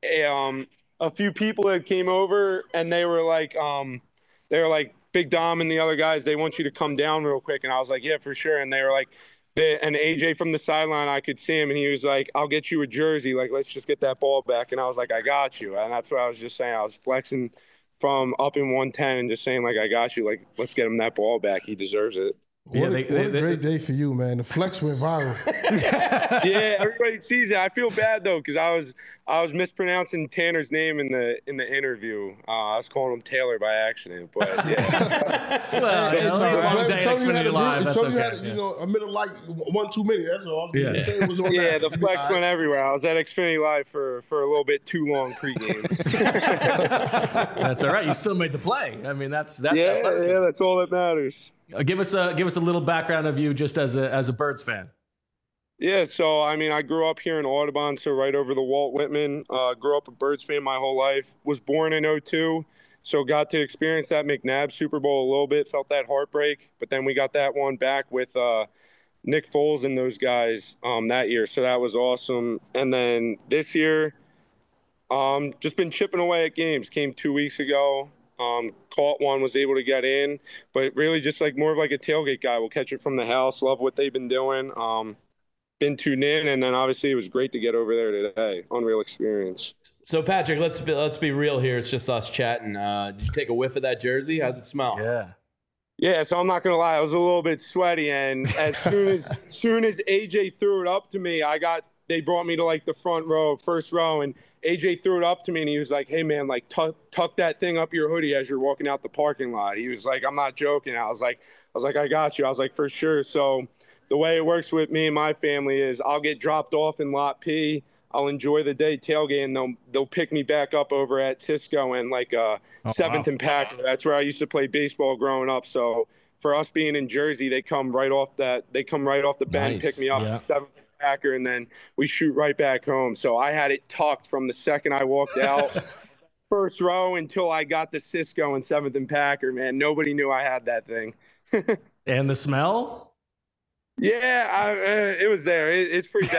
J: um, a few people that came over and they were like, um, they were like, Big Dom and the other guys, they want you to come down real quick. And I was like, yeah, for sure. And they were like, they, and A J from the sideline, I could see him, and he was like, I'll get you a jersey. Like, let's just get that ball back. And I was like, I got you. And that's what I was just saying. I was flexing from up in one ten and just saying, like, I got you. Like, let's get him that ball back. He deserves it.
B: What,
A: Yeah,
B: a,
A: they-
B: what
A: they-
B: a
A: they-
B: great day for you, man. The flex went viral.
J: Yeah, everybody sees it. I feel bad though, because I was I was mispronouncing Tanner's name in the in the interview. Uh, I was calling him Taylor by accident, but yeah.
A: Well,
B: Hey,
A: you know,
B: Tony-
A: long
B: Tony
A: day at
B: had
A: Xfinity
B: a-
A: Live. That's
B: Tony had,
A: okay.
B: you
A: yeah.
B: know, a middle like one too many. That's all.
A: Yeah.
B: It was on
J: yeah,
B: that.
J: the flex went everywhere. I was at Xfinity Live for for a little bit too long pregame.
A: That's all right. You still made the play. I mean, that's that's
J: yeah,
A: athleticism.
J: yeah, that's all that matters.
A: Uh, give us a give us a little background of you, just as a as a Birds fan.
J: Yeah, so I mean, I grew up here in Audubon, so right over the Walt Whitman. Uh, grew up a Birds fan my whole life. Was born in oh two, so got to experience that McNabb Super Bowl a little bit. Felt that heartbreak, but then we got that one back with uh, Nick Foles and those guys um, that year, so that was awesome. And then this year, Um, just been chipping away at games. Came two weeks ago. Um, caught one, was able to get in, but really just like more of like a tailgate guy. We'll catch it from the house. Love what they've been doing. Um, been tuned in, and then obviously it was great to get over there today. Unreal experience.
C: So Patrick, let's be, let's be real here. It's just us chatting. Uh, did you take a whiff of that jersey? How's it smell?
A: Yeah.
J: Yeah, so I'm not gonna lie, I was a little bit sweaty, and as soon as, as soon as A J threw it up to me, I got. They brought me to like the front row, first row, and A J threw it up to me, and he was like, "Hey man, like tuck tuck that thing up your hoodie as you're walking out the parking lot." He was like, "I'm not joking." I was like, "I was like, I got you." I was like, "For sure." So the way it works with me and my family is I'll get dropped off in Lot P. I'll enjoy the day tailgate, and they'll they'll pick me back up over at Cisco and like uh,
A: oh,
J: Seventh
A: wow.
J: and Packer. That's where I used to play baseball growing up. So for us being in Jersey, they come right off that they come right off the bench,
C: Nice.
J: pick me up
A: Yeah.
J: at Seventh and Packer, and then we shoot right back home. So I had it tucked from the second I walked out, first row until I got to Cisco and Seventh and Packer. Man, nobody knew I had that thing.
A: And the smell?
J: Yeah, I, uh, it was there. It, it's pretty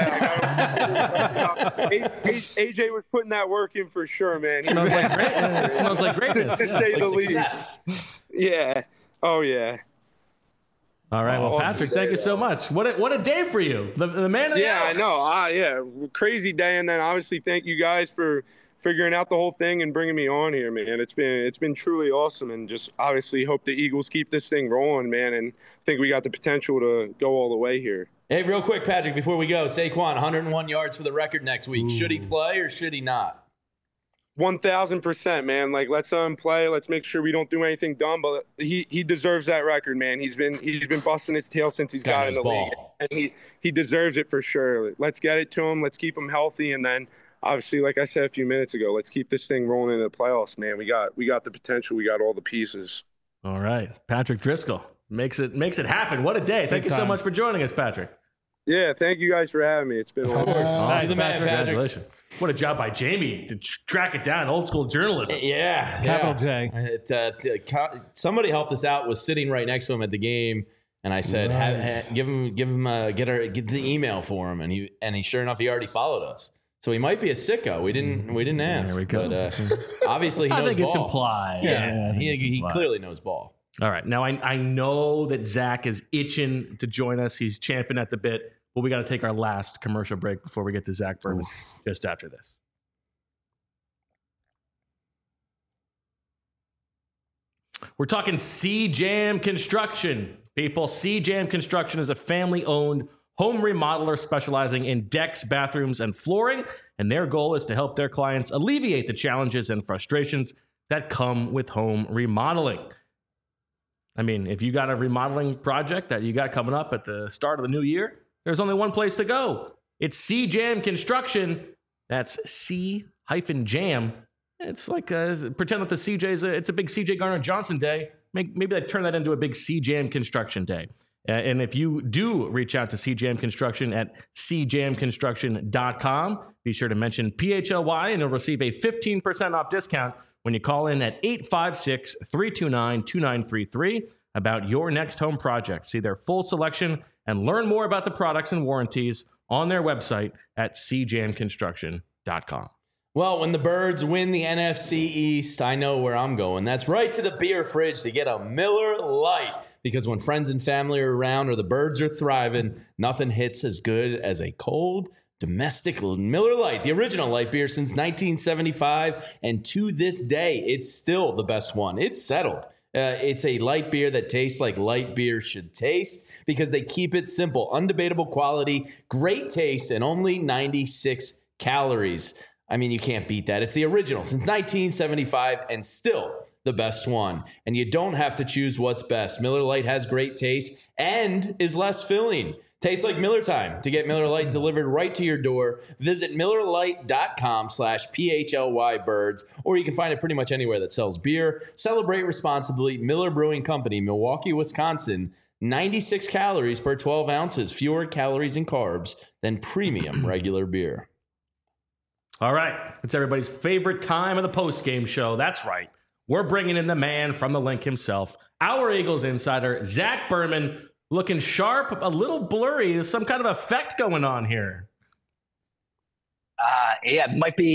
J: bad. A J was putting that work in for sure, man. He
A: Smells
J: was-
A: like great. It smells like greatness.
J: to
A: Yeah.
J: say the
C: Like success.
J: least. Yeah. Oh yeah.
A: All right. Well,
J: Awesome
A: Patrick,
J: day,
A: thank you so
J: though.
A: much. What a, what a day for you. The, the man of the
J: Yeah,
A: hour.
J: I know. Uh, yeah, crazy day, and then obviously thank you guys for figuring out the whole thing and bringing me on here, man. It's been it's been truly awesome, and just obviously hope the Eagles keep this thing rolling, man. And I think we got the potential to go all the way here.
C: Hey, real quick, Patrick, before we go, Saquon, one hundred one yards for the record next week. Should he play or should he not?
J: One thousand percent, man. Like, let's let him play. Let's make sure we don't do anything dumb. But he he deserves that record, man. He's been he's been busting his tail since he's
C: Guy
J: got in
C: knows
J: the league,
C: ball.
J: and he he deserves it for sure. Let's get it to him. Let's keep him healthy, and then obviously, like I said a few minutes ago, let's keep this thing rolling into the playoffs, man. We got we got the potential. We got all the pieces.
A: All right. Patrick Driscoll makes it makes it happen. What a day. Thank
D: Big
A: you so
D: time.
A: much for joining us, Patrick.
J: Yeah, thank you guys for having me. It's been a long time.
A: Nice,
C: the man, Patrick.
A: Congratulations. What a job by Jamie to tr- track it down. Old school journalism.
C: Yeah.
D: Capital
C: yeah.
D: J.
C: It, uh, the co- somebody helped us out, was sitting right next to him at the game. And I said, have,
B: Nice.
C: ha- give him, give him, uh, get our, get the email for him. And he, and he, sure enough, he already followed us. So he might be a sicko. We didn't, we didn't ask.
A: There we go.
C: But uh, obviously he
A: I
C: knows
A: think it's
C: ball.
A: implied.
C: Yeah,
A: I think
C: he,
A: it's
C: he
A: implied.
C: clearly knows ball.
A: All right. Now, I, I know that Zach is itching to join us. He's champing at the bit. But we got to take our last commercial break before we get to Zach Berman just after this. We're talking C-Jam Construction. People, C-Jam Construction is a family-owned home remodeler specializing in decks, bathrooms, and flooring, and their goal is to help their clients alleviate the challenges and frustrations that come with home remodeling. I mean, if you got a remodeling project that you got coming up at the start of the new year, there's only one place to go. It's C-Jam Construction. That's C-Jam. It's like, uh, pretend that the C J's, a, it's a big C J Garner Johnson day. Make, maybe they turn that into a big C-Jam Construction day. Uh, and if you do reach out to C-Jam Construction at c jam construction dot com, be sure to mention P H L Y and you'll receive a fifteen percent off discount when you call in at eight five six, three two nine, two nine three three about your next home project. See their full selection and learn more about the products and warranties on their website at c jam construction dot com.
C: Well, when the Birds win the N F C East, I know where I'm going. That's right to the beer fridge to get a Miller Lite. Because when friends and family are around or the Birds are thriving, nothing hits as good as a cold domestic Miller Lite, the original light beer since nineteen seventy-five. And to this day, it's still the best one. It's settled. Uh, it's a light beer that tastes like light beer should taste because they keep it simple, undebatable quality, great taste, and only ninety-six calories. I mean, you can't beat that. It's the original since nineteen seventy-five and still the best one. And you don't have to choose what's best. Miller Lite has great taste and is less filling. Tastes like Miller time. To get Miller Lite delivered right to your door, visit miller lite dot com slash P H L Y birds, or you can find it pretty much anywhere that sells beer. Celebrate responsibly. Miller Brewing Company, Milwaukee, Wisconsin. ninety-six calories per twelve ounces. Fewer calories and carbs than premium regular beer.
A: All right. It's everybody's favorite time of the post-game show. That's right. We're bringing in the man from the link himself, our Eagles insider, Zach Berman, looking sharp, a little blurry. There's some kind of effect going on here.
K: Uh, yeah, it might be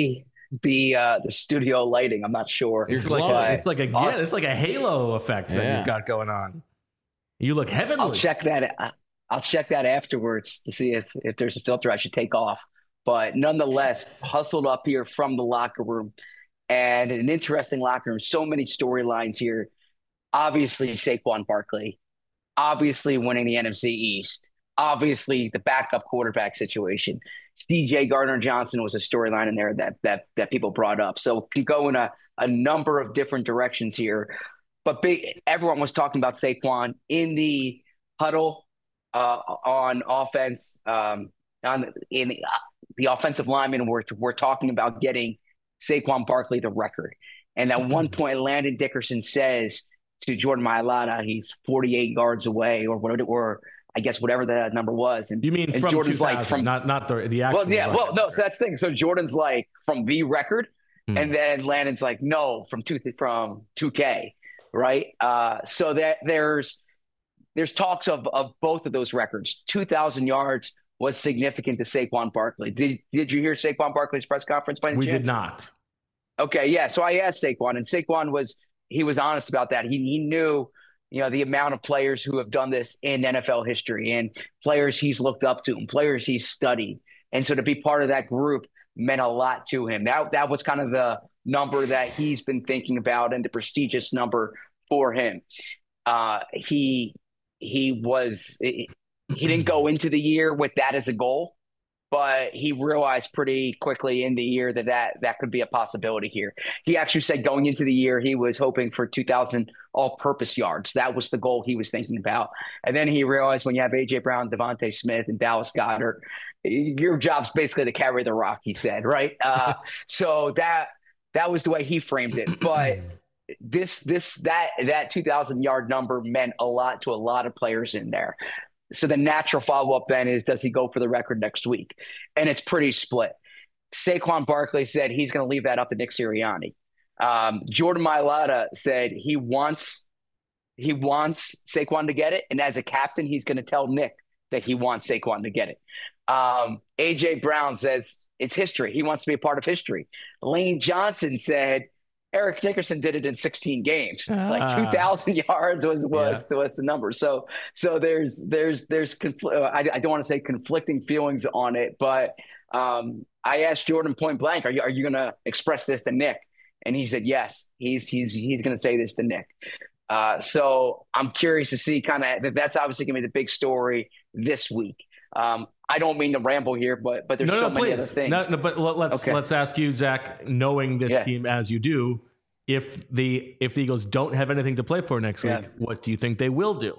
K: the uh, the studio lighting. I'm not sure.
A: It's like a, it's like a yeah, it's like a halo effect that
C: Yeah.
A: you've got going on. You look heavenly.
K: I'll check that. I'll check that afterwards to see if if there's a filter I should take off. But nonetheless, hustled up here from the locker room, and an interesting locker room. So many storylines here. Obviously, Saquon Barkley. Obviously, winning the N F C East. Obviously, the backup quarterback situation. C J Gardner-Johnson was a storyline in there that that that people brought up. So it can go in a, a number of different directions here. But big, everyone was talking about Saquon in the huddle uh, on offense. Um, on in the, the offensive linemen were were talking about getting Saquon Barkley the record. And at one point, Landon Dickerson says to Jordan Mailata, he's forty-eight yards away, or whatever, or I guess whatever the number was. And
A: You mean
K: and
A: from
K: Jordan's
A: two thousand,
K: like from
A: not not the the actual.
K: well, yeah, well,
A: record.
K: no. So that's the thing. So Jordan's like from the record,
A: Hmm.
K: and then Landon's like no from two from two K, right? Uh, so that there's there's talks of of both of those records. Two thousand yards was significant to Saquon Barkley. Did did you hear Saquon Barkley's press conference by any
A: We
K: chance?
A: did not.
K: Okay, yeah. So I asked Saquon, and Saquon was he was honest about that. He he knew, you know, the amount of players who have done this in N F L history, and players he's looked up to, and players he's studied, and so to be part of that group meant a lot to him. That that was kind of the number that he's been thinking about, and the prestigious number for him. Uh, he he was he didn't go into the year with that as a goal, but he realized pretty quickly in the year that that, that could be a possibility here. He actually said going into the year, he was hoping for two thousand all-purpose yards. That was the goal he was thinking about. And then he realized when you have A J Brown, Devontae Smith, and Dallas Goedert, your job's basically to carry the rock, he said, right? Uh, so that that was the way he framed it. But this this that that two thousand yard number meant a lot to a lot of players in there. So the natural follow-up then is, does he go for the record next week? And it's pretty split. Saquon Barkley said he's going to leave that up to Nick Sirianni. Um, Jordan Mailata said he wants he wants Saquon to get it, and as a captain, he's going to tell Nick that he wants Saquon to get it. Um, A J Brown says it's history. He wants to be a part of history. Lane Johnson said Eric Dickerson did it in sixteen games. Like
A: Ah.
K: two thousand yards was was, was the number. So so there's there's there's confl- uh, I, I don't want to say conflicting feelings on it, but um, I asked Jordan point blank, "Are you are you going to express this to Nick?" And he said yes. He's he's he's going to say this to Nick. Uh, so I'm curious to see kind of that. That's obviously going to be the big story this week. Um, I don't mean to ramble here, but but there's
A: No,
K: so
A: no,
K: many
A: please.
K: other things.
A: No, no, but let- let's
K: Okay.
A: let's ask you, Zach, knowing this
K: Yeah.
A: team as you do, if the if the Eagles don't have anything to play for next
K: Yeah.
A: week, what do you think they will do?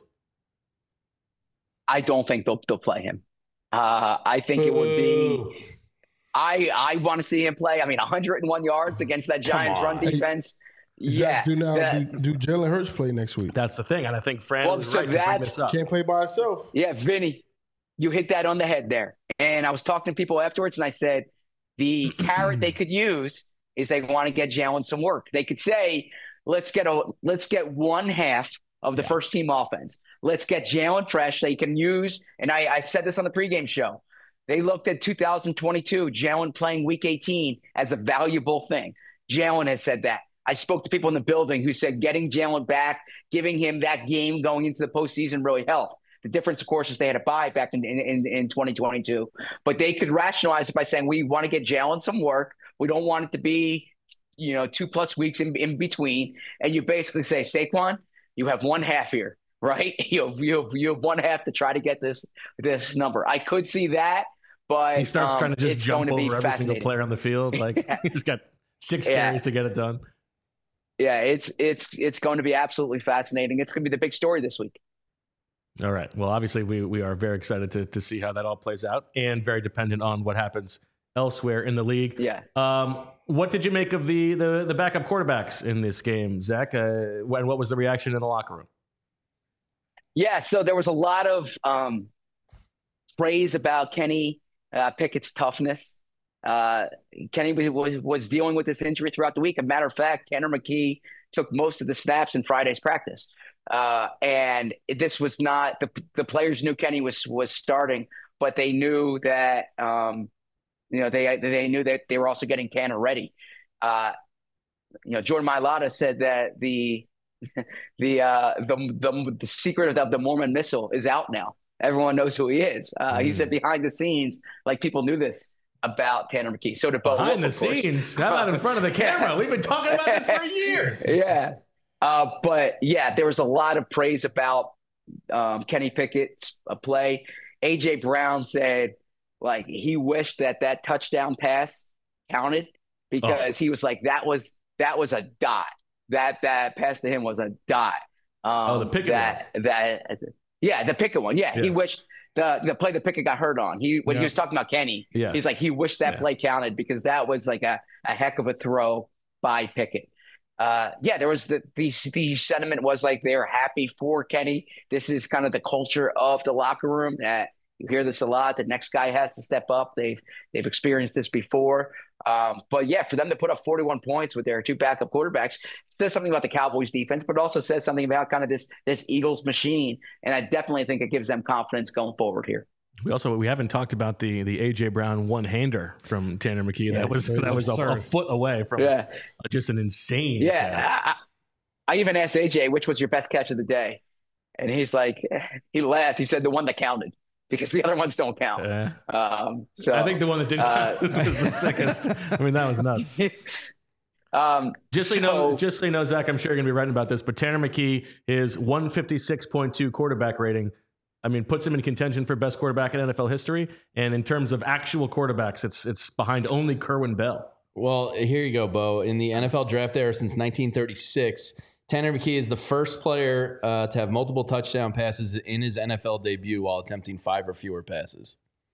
K: I don't think they'll they'll play him. Uh, I think it would be. I I want to see him play. I mean, one hundred one yards against that Giants
A: on.
K: run defense.
B: Zach,
K: Yeah,
B: do now
K: that-
B: do, do Jalen Hurts play next week?
A: That's the thing, and I think Fran
K: Well,
A: is
K: so
A: right to bring
K: that's-
A: this up.
B: Can't play by himself.
K: Yeah, Vinny, you hit that on the head there. And I was talking to people afterwards, and I said the carrot they could use is they want to get Jalen some work. They could say, let's get a let's get one half of the first team offense. Let's get Jalen fresh. They can use, and I, I said this on the pregame show. They looked at two thousand twenty-two, Jalen playing week eighteen as a valuable thing. Jalen has said that. I spoke to people in the building who said getting Jalen back, giving him that game going into the postseason really helped. The difference, of course, is they had a bye back in, in, in twenty twenty-two. But they could rationalize it by saying, we want to get Jalen some work. We don't want it to be, you know, two plus weeks in, in between. And you basically say, Saquon, you have one half here, right? You have, you have, you have one half to try to get this this number. I could see that, but
A: He starts
K: um,
A: trying to just
K: it's
A: jump
K: going to be
A: over every single
K: fascinating.
A: player on the field. Like he's got six
K: Yeah.
A: carries to get it done.
K: Yeah, it's it's it's going to be absolutely fascinating. It's going to be the big story this week.
A: All right. Well, obviously, we we are very excited to to see how that all plays out, and very dependent on what happens elsewhere in the league.
K: Yeah.
A: Um, what did you make of the the, the backup quarterbacks in this game, Zach? Uh, and what was the reaction in the locker room?
K: Yeah, so there was a lot of um, praise about Kenny uh, Pickett's toughness. Uh, Kenny was, was was dealing with this injury throughout the week. As a matter of fact, Tanner McKee took most of the snaps in Friday's practice, uh, and this was not the the players knew Kenny was was starting, but they knew that um, you know, they they knew that they were also getting Tanner ready. Uh, you know, Jordan Mailata said that the the uh, the, the the secret of the Mormon missile is out now. Everyone knows who he is. Uh, mm. He said behind the scenes, like people knew this about Tanner McKee. So did Bo
A: behind
K: Wolf,
A: the scenes. How about in front of the camera? We've been talking about this for years.
K: Yeah, uh, but yeah, there was a lot of praise about um, Kenny Pickett's uh, play. A J Brown said like he wished that that touchdown pass counted because oh. he was like that was that was a dot. That that pass to him was a dot. Um,
A: oh, the Pickett
K: that,
A: one.
K: That yeah, the Pickett one. Yeah, yes. He wished the the play that Pickett got hurt on. He when yeah. he was talking about Kenny, yes. he's like he wished that yeah. play counted because that was like a, a heck of a throw by Pickett. Uh, yeah, there was the, the the sentiment was like they're happy for Kenny. This is kind of the culture of the locker room. That you hear this a lot. The next guy has to step up. They've they've experienced this before. Um, but yeah, for them to put up forty-one points with their two backup quarterbacks says something about the Cowboys defense, but also says something about kind of this this Eagles machine. And I definitely think it gives them confidence going forward here.
A: We also we haven't talked about the the A J Brown one hander from Tanner McKee. Yeah, that was that was a, a foot away from yeah. just an insane.
K: Yeah, I, I even asked A J which was your best catch of the day, and he's like he laughed. He said the one that counted. Because the other ones don't count. Yeah. Um, so
A: I think the one that didn't count uh, was the sickest. I mean, that was nuts. Um, just so, so you know, just so you know, Zach, I'm sure you're gonna be writing about this, but Tanner McKee is one fifty-six point two quarterback rating. I mean, puts him in contention for best quarterback in N F L history. And in terms of actual quarterbacks, it's it's behind only Kerwin Bell.
C: Well, here you go, Bo. In the N F L draft era since nineteen thirty-six. Tanner McKee is the first player uh, to have multiple touchdown passes in his N F L debut while attempting five or fewer passes.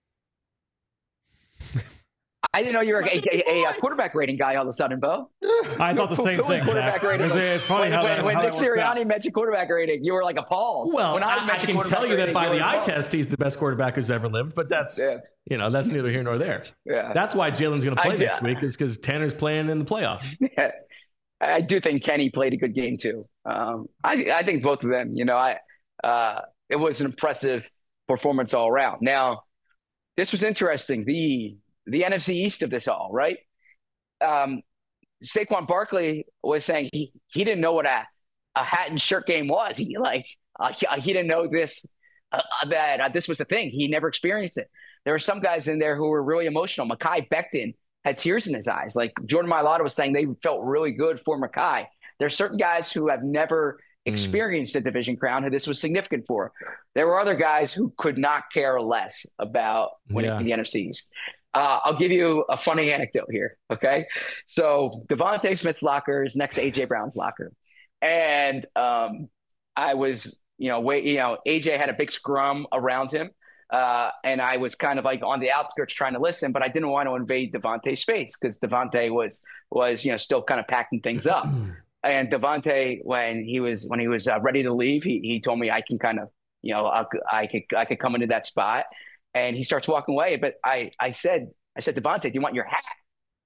K: I didn't know you were a, a, a quarterback rating guy all of a sudden, Bo.
D: I thought the same
K: cool,
D: thing.
K: Quarterback rating.
D: It's, it's funny
K: when,
D: how
K: when,
D: that,
K: when
D: how
K: Nick
D: that works
K: Sirianni
D: out.
K: mentioned quarterback rating, you were like appalled.
A: Well,
K: when I,
A: I, I can tell you that by the eye test, he's the best quarterback who's ever lived. But that's yeah. you know that's neither here nor there. Yeah. That's why Jalen's going to play I, next week is because Tanner's playing in the playoff.
K: Yeah. I do think Kenny played a good game too. Um, I, I think both of them, you know, I uh, it was an impressive performance all around. Now, this was interesting. The the N F C East of this all, right? Um, Saquon Barkley was saying he he didn't know what a, a hat and shirt game was. He like uh, he, he didn't know this uh, that uh, this was a thing. He never experienced it. There were some guys in there who were really emotional. Mekhi Becton had tears in his eyes. Like Jordan Mailata was saying, they felt really good for Mekhi. There's certain guys who have never experienced mm. a division crown who this was significant for. There were other guys who could not care less about winning yeah. the N F C East. Uh, I'll give you a funny anecdote here, okay? So Devontae Smith's locker is next to A J Brown's locker. And um, I was, you know, wait, you know, A J had a big scrum around him. Uh, and I was kind of like on the outskirts trying to listen, but I didn't want to invade Devontae's space because Devontae was was you know still kind of packing things up. And Devontae, when he was when he was uh, ready to leave, he he told me I can kind of you know I, I could I could come into that spot. And he starts walking away, but I I said I said Devontae, do you want your hat?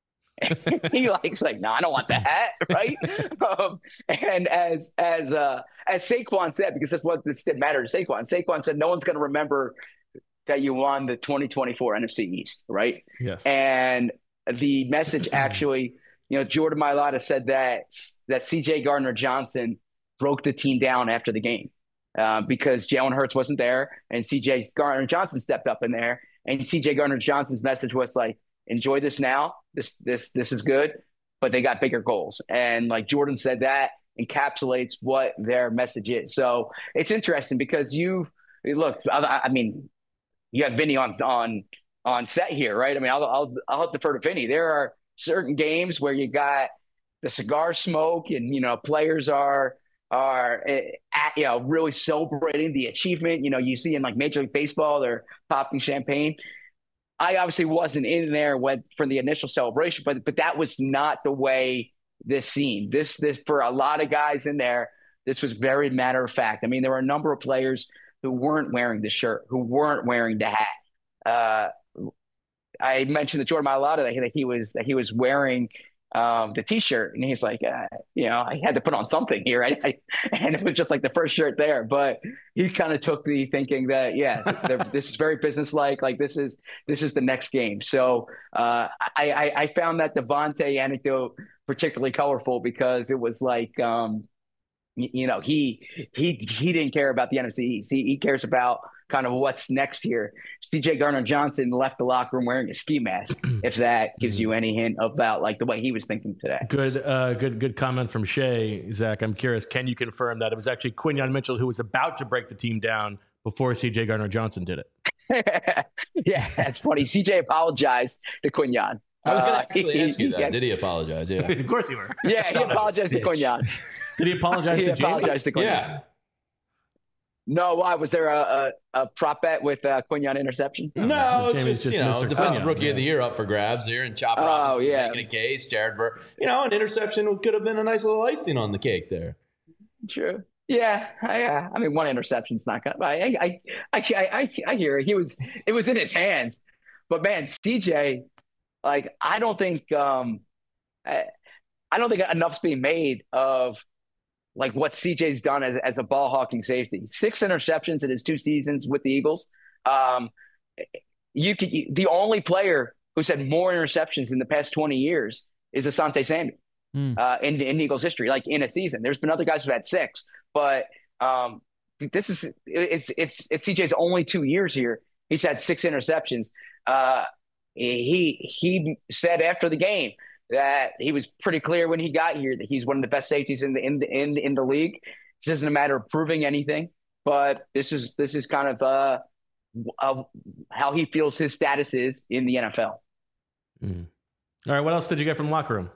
K: And he likes like no, I don't want the hat, right? um, and as as uh, as Saquon said, because that's what this didn't matter to Saquon. Saquon said no one's going to remember that you won the twenty twenty-four N F C East, right?
A: Yes.
K: And the message actually, you know, Jordan Mailata said that that C J Gardner-Johnson broke the team down after the game uh, because Jalen Hurts wasn't there and C J Gardner-Johnson stepped up in there. And C J Gardner-Johnson's message was like, enjoy this now. This, this, this is good, but they got bigger goals. And like Jordan said, that encapsulates what their message is. So it's interesting because you look, I, I mean, you have Vinny on on on set here, right? I mean, I'll I'll I'll defer to Vinny. There are certain games where you got the cigar smoke, and you know, players are are at, you know really celebrating the achievement. You know, you see in like Major League Baseball, they're popping champagne. I obviously wasn't in there when for the initial celebration, but but that was not the way this seemed. This this for a lot of guys in there, this was very matter of fact. I mean, there were a number of players who weren't wearing the shirt, who weren't wearing the hat. Uh, I mentioned to Jordan Mailata that he, that he was that he was wearing um, the T-shirt, and he's like, uh, you know, I had to put on something here. I, I, and it was just like the first shirt there. But he kind of took me thinking that, yeah, this is very businesslike. Like this is this is the next game. So uh, I, I, I found that Devontae anecdote particularly colorful because it was like, um, you, you know, he he he didn't care about the N F C East. He, he cares about kind of what's next here. C J Gardner-Johnson left the locker room wearing a ski mask, if that gives you any hint about like the way he was thinking today.
A: Good, uh, good, good comment from Shay. Zach, I'm curious, can you confirm that it was actually Quinyon Mitchell who was about to break the team down before C J Gardner-Johnson did it?
K: Yeah, that's funny. C J apologized to Quinyon.
C: I was going to
K: uh,
C: actually
K: he,
C: ask you that.
K: Yeah.
C: Did he apologize? Yeah.
A: Of course you were.
K: Yeah, he apologized to Quinyon.
A: Did he apologize
K: he
A: to Jamie?
K: apologized to Quinyon.
C: Yeah.
K: No, why? Was there a, a, a prop bet with uh, Quinyon interception?
C: No, it's
A: Jamie's
C: just,
A: just
C: you know,
A: Mister
C: defensive
A: Quinyon,
C: rookie
A: yeah.
C: of the year up for grabs here, and Chop
K: Oh,
C: Robinson's
K: yeah.
C: making a case. Jared Burr, you know, an interception could have been a nice little icing on the cake there.
K: True. Yeah, I, uh, I mean, one interception's not gonna. I, I, I, I, I hear it. He was. It was in his hands, but man, C J, like, I don't think, um, I, I don't think enough's being made of like what C J's done as as a ball hawking safety. Six interceptions in his two seasons with the Eagles. Um, you could the only player who's had more interceptions in the past twenty years is Asante Samuel.
D: Mm.
K: Uh, in, in Eagles history, like in a season. There's been other guys who've had six, but um, this is it's it's it's C J's only two years here. He's had six interceptions. Uh, he he said after the game that he was pretty clear when he got here that he's one of the best safeties in the in the in, in the league. This isn't a matter of proving anything, but this is this is kind of uh, uh how he feels his status is in the N F L.
A: Mm. All right, what else did you get from the locker room?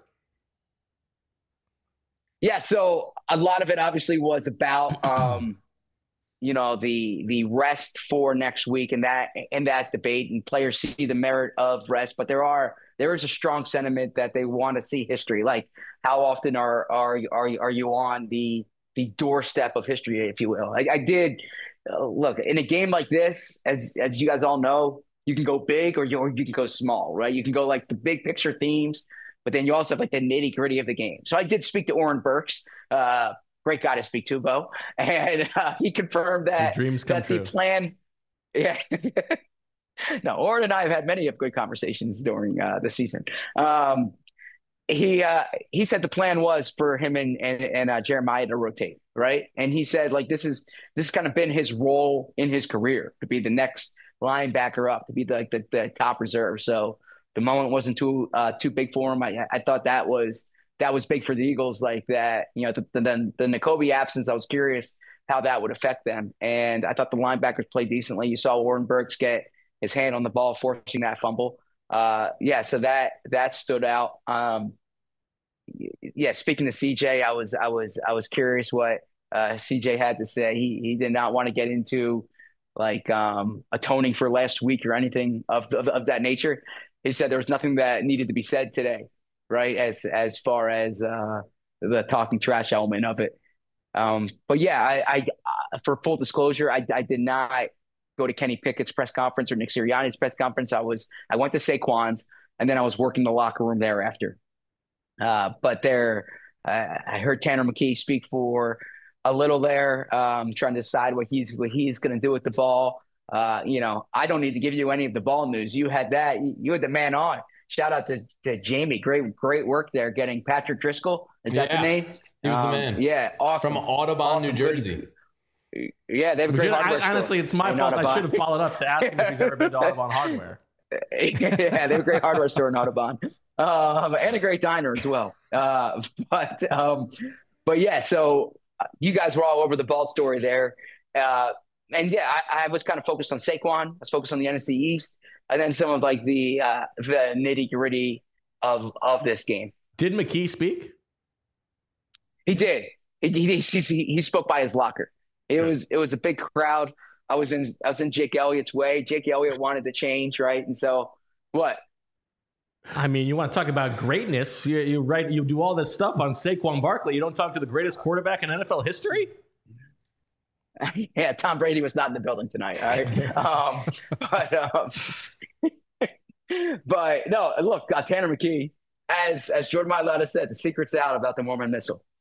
K: Yeah, so a lot of it obviously was about, um, you know, the the rest for next week and that and that debate, and players see the merit of rest, but there are there is a strong sentiment that they want to see history. Like, how often are are are are you on the the doorstep of history, if you will? I, I did uh, look in a game like this, as as you guys all know, you can go big or you or you can go small, right? You can go like the big picture themes. But then you also have like the nitty gritty of the game. So I did speak to Oren Burks, uh, great guy to speak to, Bo, and uh, he confirmed that,
A: dreams come
K: that
A: true.
K: the plan. Yeah, no, Oren and I have had many of good conversations during uh, the season. Um, he uh, he said the plan was for him and and, and uh, Jeremiah to rotate, right? And he said like this is this has kind of been his role in his career to be the next linebacker up, to be the, like the, the top reserve. So the moment wasn't too uh, too big for him. I, I thought that was that was big for the Eagles, like that. You know, the the, the Nakobe absence. I was curious how that would affect them, and I thought the linebackers played decently. You saw Warren Burks get his hand on the ball, forcing that fumble. Uh, yeah, so that that stood out. Um, yeah, speaking to C J, I was I was I was curious what uh, C J had to say. He he did not want to get into like um, atoning for last week or anything of, of of that nature. He said there was nothing that needed to be said today, right? As as far as uh, the talking trash element of it. Um, but yeah, I, I uh, for full disclosure, I, I did not go to Kenny Pickett's press conference or Nick Sirianni's press conference. I was I went to Saquon's, and then I was working the locker room thereafter. Uh, but there, uh, I heard Tanner McKee speak for a little there, um, trying to decide what he's what he's going to do with the ball. Uh, you know, I don't need to give you any of the ball news. You had that. You had the man on. Shout out to, to Jamie. Great, great work there getting Patrick Driscoll. Is that
C: Yeah,
K: the name?
C: he was the
K: Um,
C: man.
K: Yeah, awesome.
C: From Audubon,
K: Awesome.
C: New Jersey.
K: Yeah, they have a
A: We
K: great
A: should-
K: hardware
A: I,
K: store
A: honestly, it's my
K: in
A: fault. I
K: Audubon.
A: should have followed up to ask him if he's ever been to Audubon Hardware.
K: Yeah, they have a great hardware store in Audubon, um, and a great diner as well. Uh, but um, but yeah, so you guys were all over the ball story there, uh, and yeah, I, I was kind of focused on Saquon. I was focused on the N F C East, and then some of like the uh, the nitty gritty of of this game.
A: Did McKee speak?
K: He did. He he, he, he spoke by his locker. It was it was a big crowd. I was in I was in Jake Elliott's way. Jake Elliott wanted to change, right? And so what?
A: I mean, you want to talk about greatness? You, you write, you do all this stuff on Saquon Barkley. You don't talk to the greatest quarterback in N F L history.
K: Yeah, Tom Brady was not in the building tonight. All right, um, but um, but no, look, uh, Tanner McKee, as as Jordan Mailata said, the secret's out about the Mormon Missile.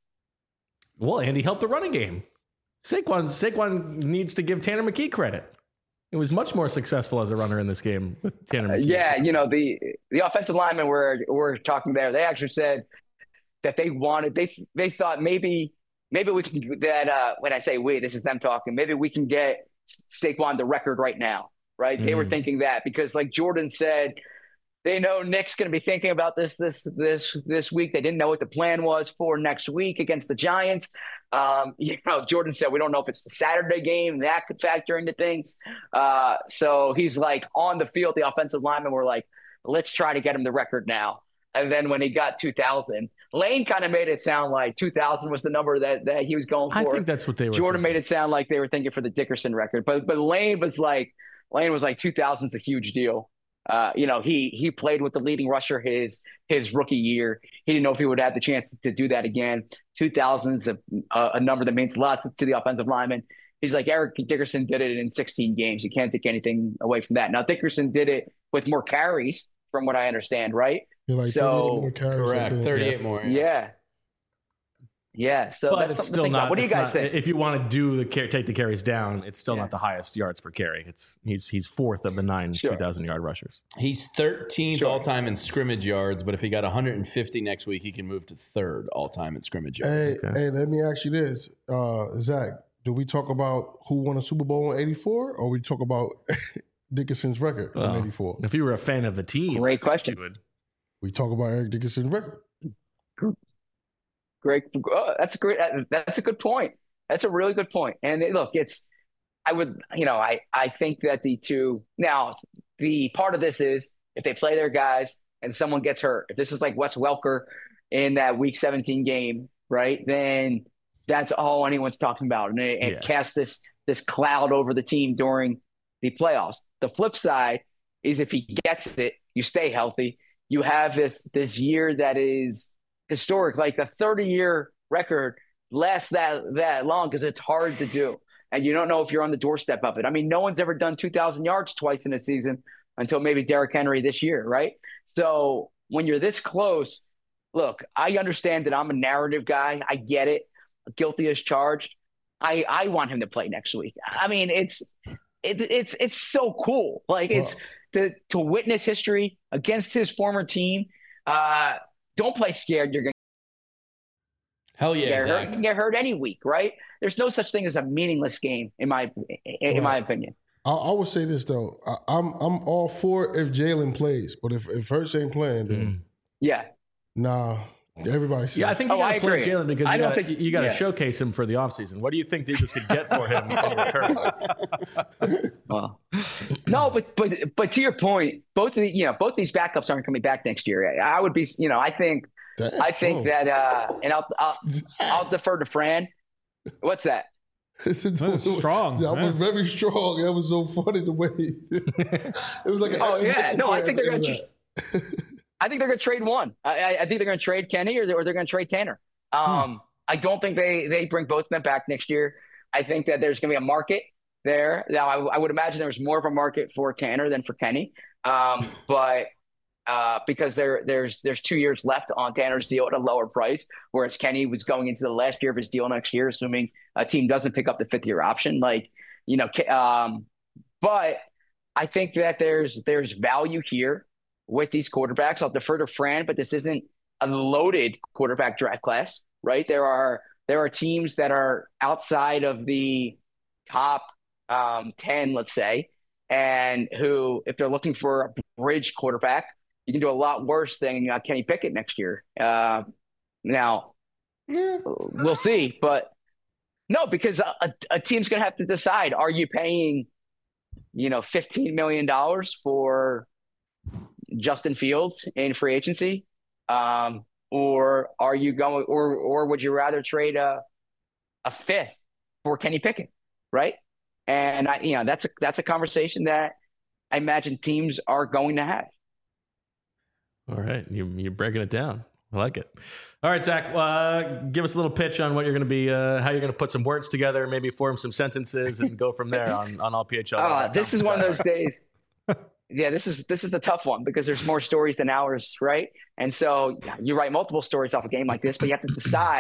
A: Well, and he helped the running game. Saquon, Saquon needs to give Tanner McKee credit. It was much more successful as a runner in this game with Tanner McKee.
K: Uh, yeah, you know, the the offensive linemen were were talking there. They actually said that they wanted they they thought maybe maybe we can that uh, when I say we, this is them talking. Maybe we can get Saquon the record right now, right? Mm. They were thinking that because, like Jordan said, they know Nick's going to be thinking about this this this this week. They didn't know what the plan was for next week against the Giants. Um, you know, Jordan said we don't know if it's the Saturday game. That could factor into things. Uh, so he's like on the field. The offensive linemen were like, let's try to get him the record now. And then when he got two thousand, Lane kind of made it sound like two thousand was the number that, that he was going for.
A: I think that's what they were.
K: Jordan
A: thinking.
K: made it sound like they were thinking for the Dickerson record, but but Lane was like Lane was like two thousand is a huge deal. Uh, you know, he he played with the leading rusher his his rookie year. He didn't know if he would have the chance to do that again. two thousand is a, a number that means a lot to, to the offensive lineman. He's like, Eric Dickerson did it in sixteen games. You can't take anything away from that. Now, Dickerson did it with more carries, from what I understand, right?
B: Like
K: so
C: correct, thirty-eight
K: yes.
C: more.
K: Yeah. yeah. Yeah, so
A: but
K: that's
A: it's still not.
K: What do you guys
A: not,
K: think?
A: If you want to do the take the carries down, it's still
K: yeah.
A: not the highest yards per carry. It's he's he's fourth of the nine
K: sure.
A: two thousand yard rushers.
C: He's thirteenth
K: sure.
C: all time in scrimmage yards, but if he got one hundred fifty next week, he can move to third all time in scrimmage yards.
B: Hey,
A: okay.
B: hey, let me ask you this, uh, Zach. Do we talk about who won a Super Bowl in eighty-four, or we talk about Dickerson's record
A: well,
B: in eighty-four?
A: If you were a fan of the team,
K: great question.
A: Would.
B: We talk about Eric Dickerson's record.
K: Great. Oh, that's a great. That's a good point. That's a really good point. And look, it's. I would, you know, I I think that the two now the part of this is if they play their guys and someone gets hurt. If this is like Wes Welker in that Week seventeen game, right? Then that's all anyone's talking about, and it, it yeah. casts this this cloud over the team during the playoffs. The flip side is if he gets it, you stay healthy. You have this this year that is historic, like a thirty-year record lasts that that long because it's hard to do, and you don't know if you're on the doorstep of it. I mean, no one's ever done two thousand yards twice in a season until maybe Derrick Henry this year, right? So when you're this close, look, I understand that I'm a narrative guy. I get it. Guilty as charged. I I want him to play next week. I mean, it's it, it's it's so cool. Like it's to to witness history against his former team. Uh, Don't play scared. You're going
C: hell yeah,
K: to get
C: Zach.
K: hurt. You can get hurt any week, right? There's no such thing as a meaningless game, in my in right. my opinion.
B: I, I would say this though. I, I'm I'm all for if Jalen plays, but if if Hurts ain't playing, then
K: mm. yeah,
B: nah. Everybody says.
A: Yeah, I think you
K: oh,
A: got to play Jalen because
K: I
A: you
K: don't
A: gotta,
K: think
A: you got to
K: yeah.
A: showcase him for the offseason. What do you think the Eagles could get for him in return?
K: Well, no, but but but to your point, both of the, you know both of these backups aren't coming back next year. I would be, you know, I think Damn. I think that, uh, and I'll I'll, I'll defer to Fran. What's that?
D: That was strong.
B: That was very strong. That was so funny the way it was like. An
K: oh yeah, no, I think they're going to. I think they're going to trade one. I, I think they're going to trade Kenny or they're, or they're going to trade Tanner. Um, hmm. I don't think they they bring both of them back next year. I think that there's going to be a market there. Now, I, I would imagine there's more of a market for Tanner than for Kenny, um, but uh, because there there's there's two years left on Tanner's deal at a lower price, whereas Kenny was going into the last year of his deal next year, assuming a team doesn't pick up the fifth year option. Like you know, um, but I think that there's there's value here with these quarterbacks. I'll defer to Fran, but this isn't a loaded quarterback draft class, right? There are there are teams that are outside of the top um, ten, let's say, and who, if they're looking for a bridge quarterback, you can do a lot worse than uh, Kenny Pickett next year. Uh, now, we'll see, but no, because a, a team's going to have to decide: are you paying, you know, fifteen million dollars for Justin Fields in free agency, um, or are you going, or or would you rather trade a a fifth for Kenny Pickett, right? And I, you know, that's a that's a conversation that I imagine teams are going to have.
A: All right, you, you're breaking it down. I like it. All right, Zach, uh, give us a little pitch on what you're going to be, uh, how you're going to put some words together, maybe form some sentences, and go from there on on all P H L.
K: Uh, this is one of those days. Yeah, this is this is the tough one because there's more stories than hours, right? And so you write multiple stories off a game like this, but you have to decide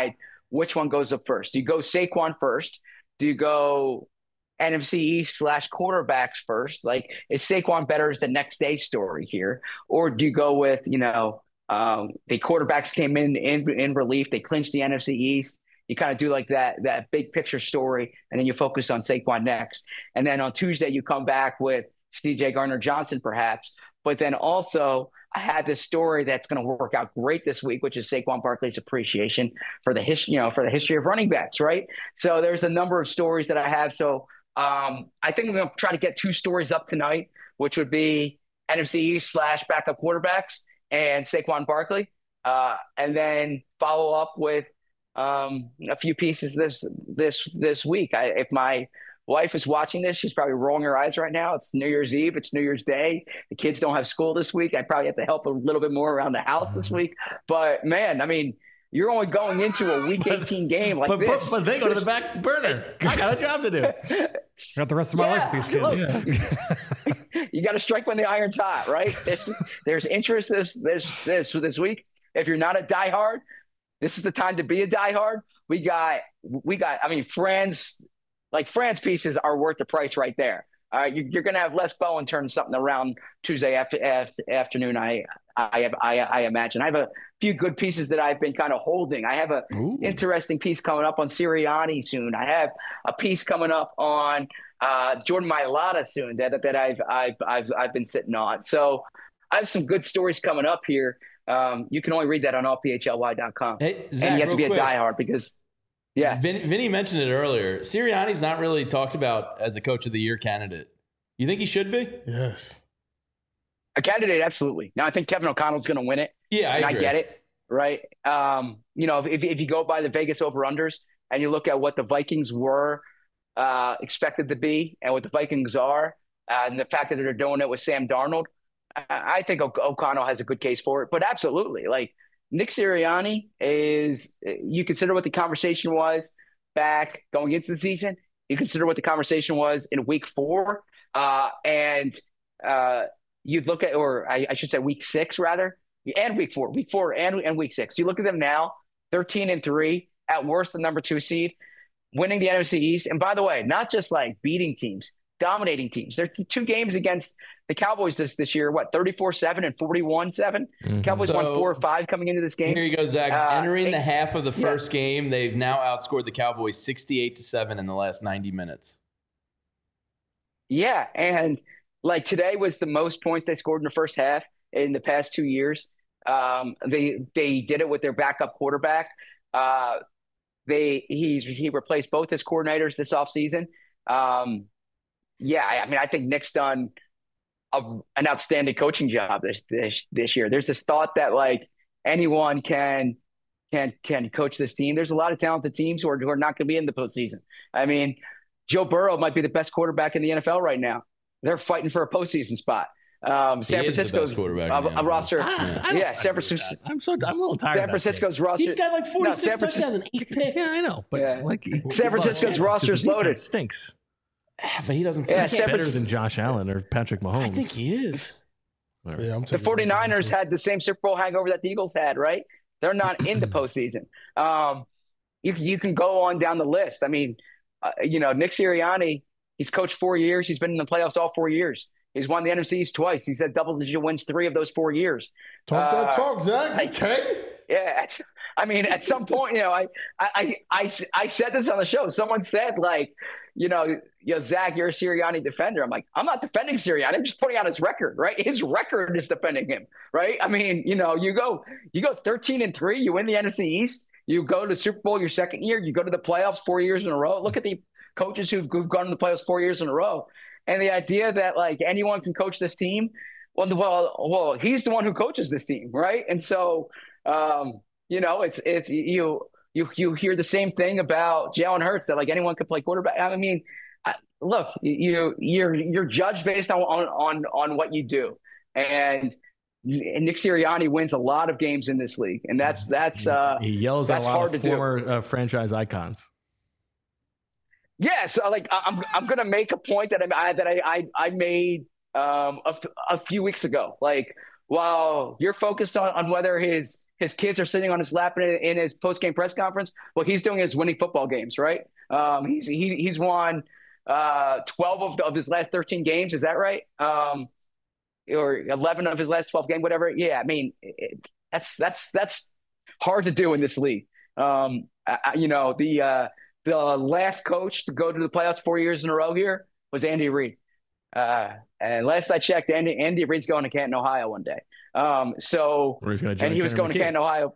K: which one goes up first? Do you go Saquon first? Do you go N F C East slash quarterbacks first? Like, is Saquon better as the next day story here? Or do you go with, you know, um, the quarterbacks came in, in in relief, they clinched the N F C East. You kind of do like that that big picture story, and then you focus on Saquon next. And then on Tuesday, you come back with C J Gardner-Johnson, perhaps. But then also, I had this story that's going to work out great this week, which is Saquon Barkley's appreciation for the history, you know, for the history of running backs, right? So there's a number of stories that I have. So um, I think I'm going to try to get two stories up tonight, which would be N F C East slash backup quarterbacks and Saquon Barkley, uh, and then follow up with um, a few pieces this this this week. I, if my wife is watching this, she's probably rolling her eyes right now. It's New Year's Eve. It's New Year's Day. The kids don't have school this week. I probably have to help a little bit more around the house this week. But, man, I mean, you're only going into a Week eighteen game like
A: but,
K: this.
A: But, but they go to the back burner. I got a job to do.
D: Got the rest of my
K: Yeah,
D: life with these kids.
K: look, you got to strike when the iron's hot, right? There's, there's interest this this this this week. If you're not a diehard, this is the time to be a diehard. We got we got. I mean, friends like friends pieces are worth the price right there. Uh, you, you're going to have Les Bowen turn something around Tuesday after, after, afternoon. I I, have, I I imagine I have a few good pieces that I've been kind of holding. I have a Ooh. interesting piece coming up on Sirianni soon. I have a piece coming up on uh, Jordan Mailata soon that that I've I've I've I've been sitting on. So I have some good stories coming up here. Um, you can only read that on all P H L Y dot com.
C: Hey, Zach,
K: and you have to be
C: quick.
K: a diehard because. Yeah,
C: Vin, Vinny mentioned it earlier. Sirianni's not really talked about as a coach of the year candidate. You think he should be?
B: Yes.
K: A candidate, absolutely. Now, I think Kevin O'Connell's going to win it.
C: Yeah, I
K: and
C: agree.
K: I get it, right? Um, you know, if, if you go by the Vegas over-unders and you look at what the Vikings were uh, expected to be and what the Vikings are, uh, and the fact that they're doing it with Sam Darnold, I, I think o- O'Connell has a good case for it. But absolutely, like, Nick Sirianni is, you consider what the conversation was back going into the season. You consider what the conversation was in week four. Uh, and uh, you'd look at, or I, I should say week six rather, and week four, week four and, and week six. You look at them now, thirteen and three, at worst, the number two seed, winning the N F C East. And by the way, not just like beating teams, dominating teams. There's two games against the Cowboys this this year, what, thirty-four seven and forty-one seven? Mm-hmm. Cowboys
C: so,
K: won four or five coming into this game.
C: Here you go, Zach.
K: Uh,
C: Entering
K: eight,
C: the half of the first
K: yeah.
C: game, they've now outscored the Cowboys sixty-eight to seven in the last ninety minutes.
K: Yeah, and like today was the most points they scored in the first half in the past two years. Um, they they did it with their backup quarterback. Uh, they he's he replaced both his coordinators this offseason. Um, yeah, I, I mean, I think Nick's done a, an outstanding coaching job this, this this year. There's this thought that like anyone can can can coach this team. There's a lot of talented teams who are who are not going to be in the postseason. I mean, Joe Burrow might be the best quarterback in the N F L right now. They're fighting for a postseason spot. Um, San Francisco's a, a roster.
A: I, I
K: yeah, San Francisco.
A: I'm so I'm a little tired.
K: San Francisco's roster.
C: He's got like forty-six
K: no,
C: touchdowns and eight picks.
A: Yeah, I know, but
K: yeah.
A: like
K: San Francisco's roster is loaded.
A: Stinks.
C: But he doesn't.
K: Yeah,
A: He's better than Josh Allen or Patrick Mahomes.
C: I think he is.
B: Yeah, I'm
K: the 49ers had the same Super Bowl hangover that the Eagles had, right? They're not in the postseason. Um, you you can go on down the list. I mean, uh, you know, Nick Sirianni. He's coached four years. He's been in the playoffs all four years. He's won the N F C East twice. He's had double-digit wins three of those four years.
B: Talk that
K: uh,
B: talk, Zach. Okay.
K: Yeah. I mean, at some point, you know, I, I, I, I said this on the show. Someone said, like, you know, you know, Zach, you're a Sirianni defender. I'm like, I'm not defending Sirianni. I'm just putting out his record, right? His record is defending him, right? I mean, you know, you go, you go thirteen and three. You win the N F C East. You go to Super Bowl your second year. You go to the playoffs four years in a row. Look at the coaches who've, who've gone to the playoffs four years in a row. And the idea that like anyone can coach this team, well, well, well, he's the one who coaches this team, right? And so, um, you know, it's it's you you you hear the same thing about Jalen Hurts that like anyone could play quarterback. I mean, I, look, you you're you're judged based on on on on what you do, and Nick Sirianni wins a lot of games in this league, and that's that's uh,
A: he yells
K: that's
A: at a lot
K: hard
A: of
K: to
A: former
K: do.
A: Uh, franchise icons.
K: Yeah, so like I'm I'm gonna make a point that I that I I, I made um, a, a few weeks ago. Like while you're focused on, on whether his his kids are sitting on his lap in, in his post-game press conference. What he's doing is winning football games, right? Um, he's he, he's won uh, twelve of, of his last thirteen games. Is that right? Um, or eleven of his last twelve games, whatever. Yeah, I mean, it, that's that's that's hard to do in this league. Um, I, you know, the uh, the last coach to go to the playoffs four years in a row here was Andy Reid. Uh, and last I checked, Andy Andy Reid's going to Canton, Ohio one day. Um, so, and he was going to Canton, Ohio.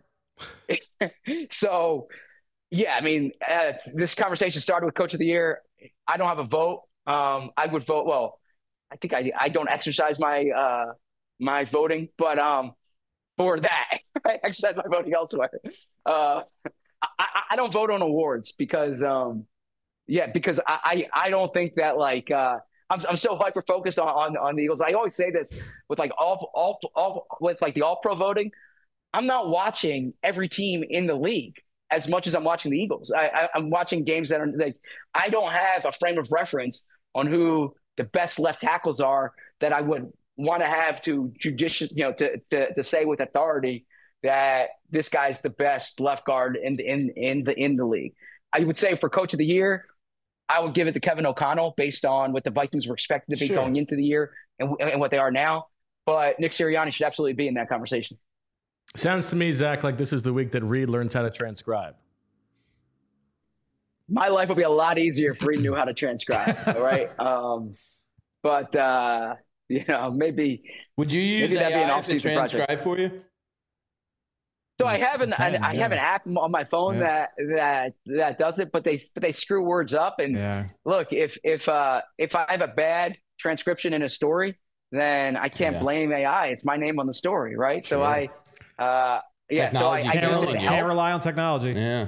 K: So, yeah, I mean, uh, this conversation started with Coach of the Year. I don't have a vote. Um, I would vote. Well, I think I I don't exercise my uh, my voting, but um, for that, I exercise my voting elsewhere. Uh, I, I don't vote on awards because, um, yeah, because I, I I don't think that like. Uh, I'm I'm so hyper focused on, on on the Eagles. I always say this with like all all all with like the all pro voting. I'm not watching every team in the league as much as I'm watching the Eagles. I, I I'm watching games that are like I don't have a frame of reference on who the best left tackles are that I would want to have to judicious you know to, to to say with authority that this guy's the best left guard in the in in the in the league. I would say for Coach of the Year, I would give it to Kevin O'Connell based on what the Vikings were expected to be sure. going into the year and, and what they are now. But Nick Sirianni should absolutely be in that conversation.
A: Sounds to me, Zach, like this is the week that Reed learns how to transcribe.
K: My life would be a lot easier if Reed knew how to transcribe. All right. Um, but, uh, you know, maybe.
C: Would you use A I to transcribe project. for you?
K: So I have an I, I have an app on my phone yeah. that that that does it, but they but they screw words up. And yeah. look, if if uh, if I have a bad transcription in a story, then I can't yeah. blame A I. It's my name on the story, right? Sure. So I, uh, yeah.
C: Technology
K: so I, I
D: can't,
K: can't,
D: can't rely on technology.
C: Yeah.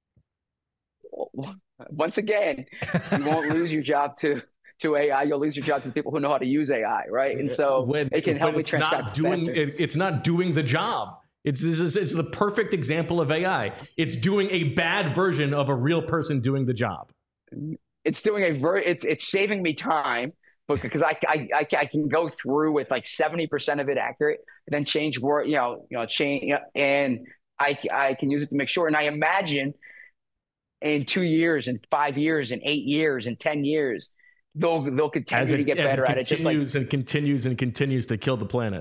K: Once again, you won't lose your job to. to A I, you'll lose your job to the people who know how to use A I, right? And so when, it can help me transcribe
A: not doing it, it's not doing the job. It's this is it's the perfect example of A I. It's doing a bad version of a real person doing the job.
K: It's doing a ver- it's it's saving me time because I I I, I can go through with like seventy percent of it accurate and then change word, you know, you know, change and I I can use it to make sure. And I imagine in two years and five years and eight years and ten years, they'll they'll continue it, to get better it at it. Just like
A: and continues and continues to kill the planet.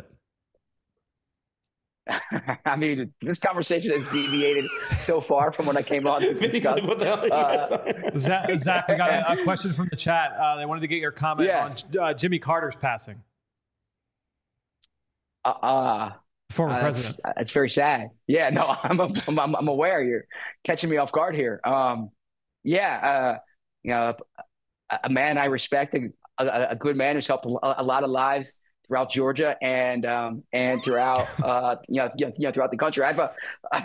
K: I mean, this conversation has deviated so far from when I came on to discuss.
D: What the hell uh, Zach, Zach, we got a, a question from the chat. Uh, they wanted to get your comment yeah. on uh, Jimmy Carter's passing.
K: Uh, uh
D: former
K: uh,
D: president.
K: It's, it's very sad. Yeah, no, I'm, a, I'm I'm aware. You're catching me off guard here. Um, yeah, uh, you know, a, a man I respect, a, a, a good man who's helped a, a lot of lives throughout Georgia and um, and throughout uh, you know you know throughout the country. I've uh,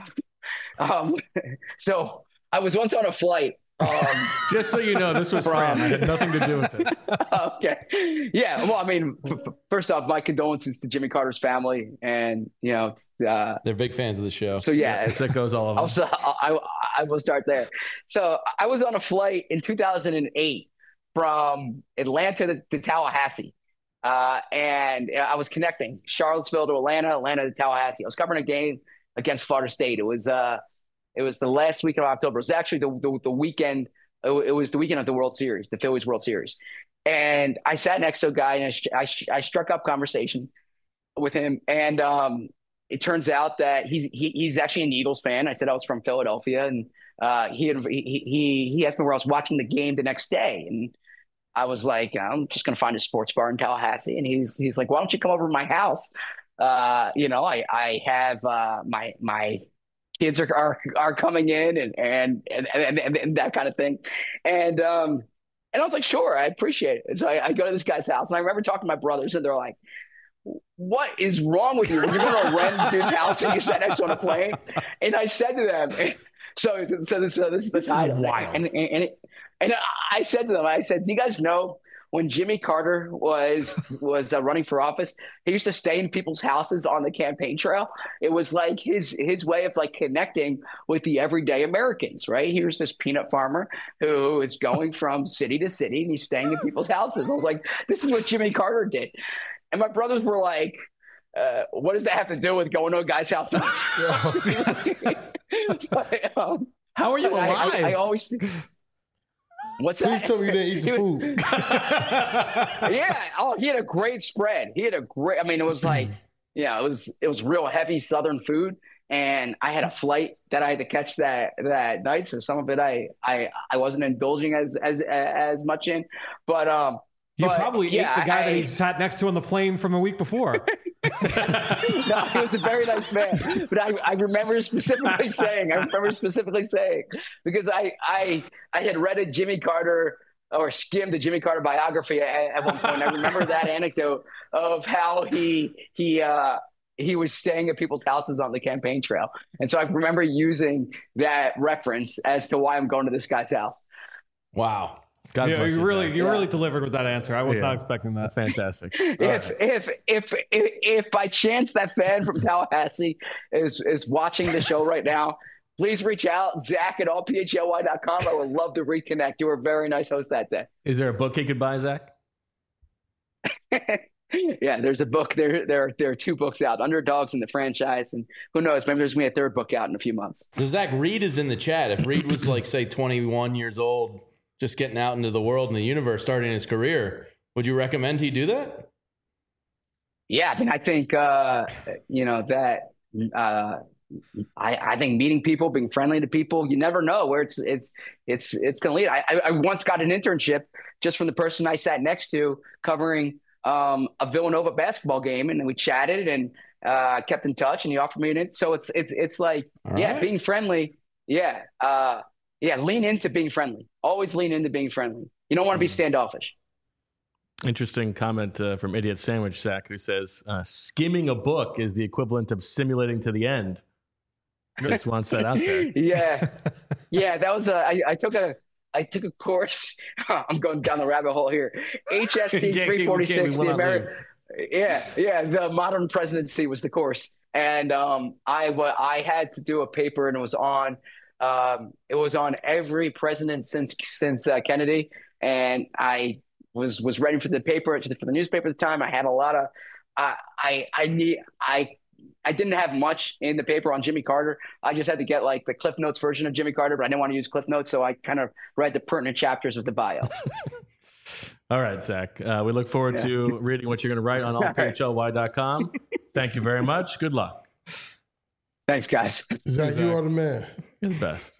K: um, so I was once on a flight. Um,
A: Just so you know, this was from it had nothing to do with this.
K: Okay, yeah. Well, I mean, f- first off, my condolences to Jimmy Carter's family, and you know uh,
C: they're big fans of the show.
K: So yeah,
A: yeah that goes all of them.
K: Also, I I will start there. So I was on a flight in two thousand eight from Atlanta to, to Tallahassee. Uh, and I was connecting Charlottesville to Atlanta, Atlanta to Tallahassee. I was covering a game against Florida State. It was uh, it was the last week of October. It was actually the the, the weekend. It, it was the weekend of the World Series, the Phillies World Series. And I sat next to a guy, and I, I, I struck up conversation with him. And um, it turns out that he's he, he's actually an Eagles fan. I said I was from Philadelphia, and uh, he, had, he he he asked me where I was watching the game the next day, and I was like, I'm just going to find a sports bar in Tallahassee. And he's, he's like, why don't you come over to my house? Uh, you know, I, I have, uh, my, my kids are, are, are coming in and, and, and, and, and, and that kind of thing. And, um, and I was like, sure, I appreciate it. So I, I go to this guy's house, and I remember talking to my brothers, and they're like, what is wrong with you? You're going to rent dude's house and you sat next on a plane. And I said to them, so, so, so this is the
A: this
K: title.
A: Is wild.
K: And, and, and it, And I said to them, I said, do you guys know when Jimmy Carter was was uh, running for office, he used to stay in people's houses on the campaign trail? It was like his his way of like connecting with the everyday Americans, right? Here's this peanut farmer who is going from city to city, and he's staying in people's houses. I was like, this is what Jimmy Carter did. And my brothers were like, uh, what does that have to do with going to a guy's house? But, um,
A: How are you
K: I,
A: alive?
K: I, I always think, what's
B: Please
K: that?
B: tell me you didn't eat the food.
K: Yeah. Oh, he had a great spread. He had a great. I mean, it was like, yeah, it was it was real heavy Southern food, and I had a flight that I had to catch that that night. So some of it I I I wasn't indulging as as as much in, but um.
D: You
K: but,
D: probably
K: yeah,
D: ate the guy
K: I,
D: that he sat next to on the plane from a week before.
K: No, he was a very nice man. But I, I remember specifically saying, I remember specifically saying, because I I I had read a Jimmy Carter or skimmed the Jimmy Carter biography at, at one point. I remember that anecdote of how he he uh, he was staying at people's houses on the campaign trail. And so I remember using that reference as to why I'm going to this guy's house.
C: Wow.
A: God
D: yeah,
A: bless
D: you
A: you,
D: really,
A: Zach.
D: you
K: Yeah.
D: really delivered with that answer. I was
A: Yeah.
D: not expecting that.
A: Fantastic.
K: If, if if if if by chance that fan from Tallahassee is is watching the show right now, please reach out, Zach at all P H L Y dot com. I would love to reconnect. You were a very nice host that day.
A: Is there a book he could buy, Zach?
K: Yeah, there's a book. There there there are two books out, Underdogs in the Franchise, and who knows, maybe there's gonna be a third book out in a few months.
C: So Zach, Reed is in the chat. If Reed was like, say, twenty-one years old, just getting out into the world and the universe, starting his career, would you recommend he do that?
K: Yeah, I mean, I think uh, you know that. Uh, I, I think meeting people, being friendly to people, you never know where it's it's it's it's going to lead. I, I, I once got an internship just from the person I sat next to covering um, a Villanova basketball game, and we chatted and uh, kept in touch, and he offered me an in. So it's it's it's like
C: All
K: yeah,
C: right.
K: being friendly, yeah, uh, yeah, lean into being friendly. Always lean into being friendly. You don't want to be standoffish.
A: Interesting comment uh, from Idiot Sandwich, Zach, who says, uh, skimming a book is the equivalent of simulating to the end. Just wants that out there.
K: Yeah, yeah, that was a. I, I took a. I took a course. I'm going down the rabbit hole here. H S T three forty-six, the American. Yeah, yeah, the modern presidency was the course, and um, I wa- I had to do a paper, and it was on. Um, it was on every president since since uh, Kennedy, and I was was ready for the paper for the newspaper at the time. I had a lot of. I I I need I. I didn't have much in the paper on Jimmy Carter. I just had to get like the Cliff Notes version of Jimmy Carter, but I didn't want to use Cliff Notes, so I kind of read the pertinent chapters of the bio.
A: All right, Zach. Uh, we look forward
K: Yeah.
A: to reading what you're going to write on all P H L Y dot com. Thank you very much. Good luck.
K: Thanks, guys.
B: Zach, you are the man.
A: You're the best.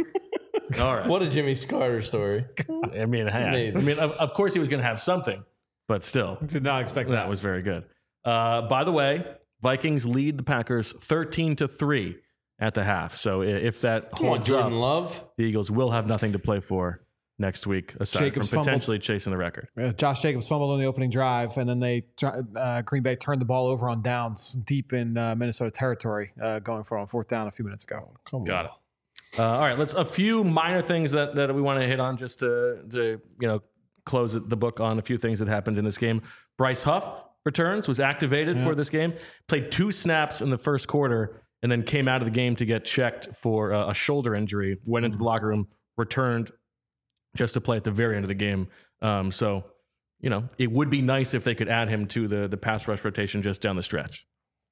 A: All right.
C: What a Jimmy Carter story.
A: I mean, hey, I
C: Amazing.
A: mean, of, of course he was going to have something, but still,
D: Did not expect
A: that
D: that.
A: was very good. Uh, by the way, Vikings lead the Packers thirteen to three at the half. So i- if that
C: Come on,
A: holds
C: Jordan
A: up,
C: Love.
A: the Eagles will have nothing to play for next week, aside
D: Jacobs
A: from
D: fumbled.
A: potentially chasing the record.
D: Uh, Josh Jacobs fumbled on the opening drive, and then they uh, Green Bay turned the ball over on downs deep in uh, Minnesota territory, uh, going for it on fourth down a few minutes ago.
B: Come
A: Got
B: on.
A: it. Uh, all right, let's a few minor things that, that we want to hit on just to to you know close the book on a few things that happened in this game. Bryce Huff returns, was activated
D: Yeah.
A: for this game, played two snaps in the first quarter, and then came out of the game to get checked for uh, a shoulder injury. Went into the locker room, returned just to play at the very end of the game. Um, so you know it would be nice if they could add him to the the pass rush rotation just down the stretch.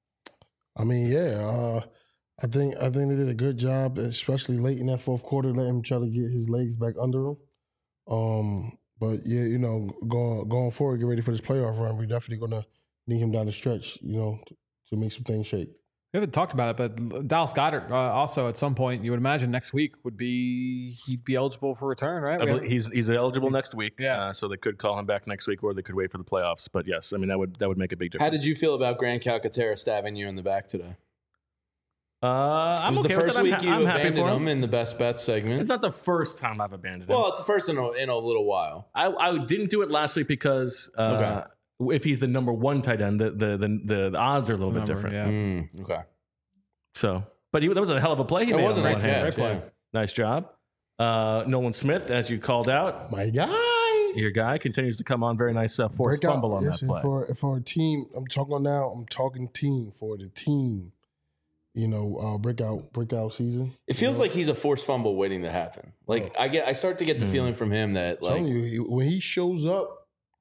B: I mean, yeah. Uh, I think I think they did a good job, especially late in that fourth quarter, letting him try to get his legs back under him. Um, but yeah, you know, going going forward, get ready for this playoff run. We're definitely gonna need him down the stretch, you know, to, to make some things shake.
D: We haven't talked about it, but Dallas Goedert uh, also at some point, you would imagine next week would be he'd be eligible for return, right?
A: I
D: We
A: believe
D: have-
A: he's he's eligible next week,
D: Yeah.
A: uh, so they could call him back next week, or they could wait for the playoffs. But yes, I mean that would that would make a big difference.
C: How did you feel about Grant Calcaterra stabbing you in the back today?
A: Uh,
C: It
A: I'm
C: was
A: okay
C: the
A: with
C: first
A: it. I'm
C: week
A: ha-
C: you
A: I'm happy
C: abandoned
A: for
C: him
A: him.
C: in the best bet segment.
A: It's not the first time I've abandoned him.
C: Well, it's the first in a, in a little while.
A: I, I didn't do it last week because uh, if he's the number one tight end, the the the, the, the odds are a little bit
D: Number,
A: different.
D: yeah.
C: Mm, okay.
A: So, but he, that was a hell of a play. He
C: It
A: made
C: was a
A: on the
C: nice
A: one hand.
C: catch.
D: Great
C: Yeah.
D: play.
A: Nice job, uh, Nolan Smith, as you called out.
B: My guy.
A: Your guy continues to come on. Very nice uh, forced
B: Breakout-
A: fumble on
B: yes,
A: that
B: and
A: play.
B: For for a team, I'm talking now. I'm talking team for the team. You know, uh, breakout breakout season.
C: It feels
B: you know?
C: like he's a forced fumble waiting to happen. Like I get, I start to get the
A: Mm.
C: feeling from him that
B: I'm telling
C: like
B: you, he- when he shows up,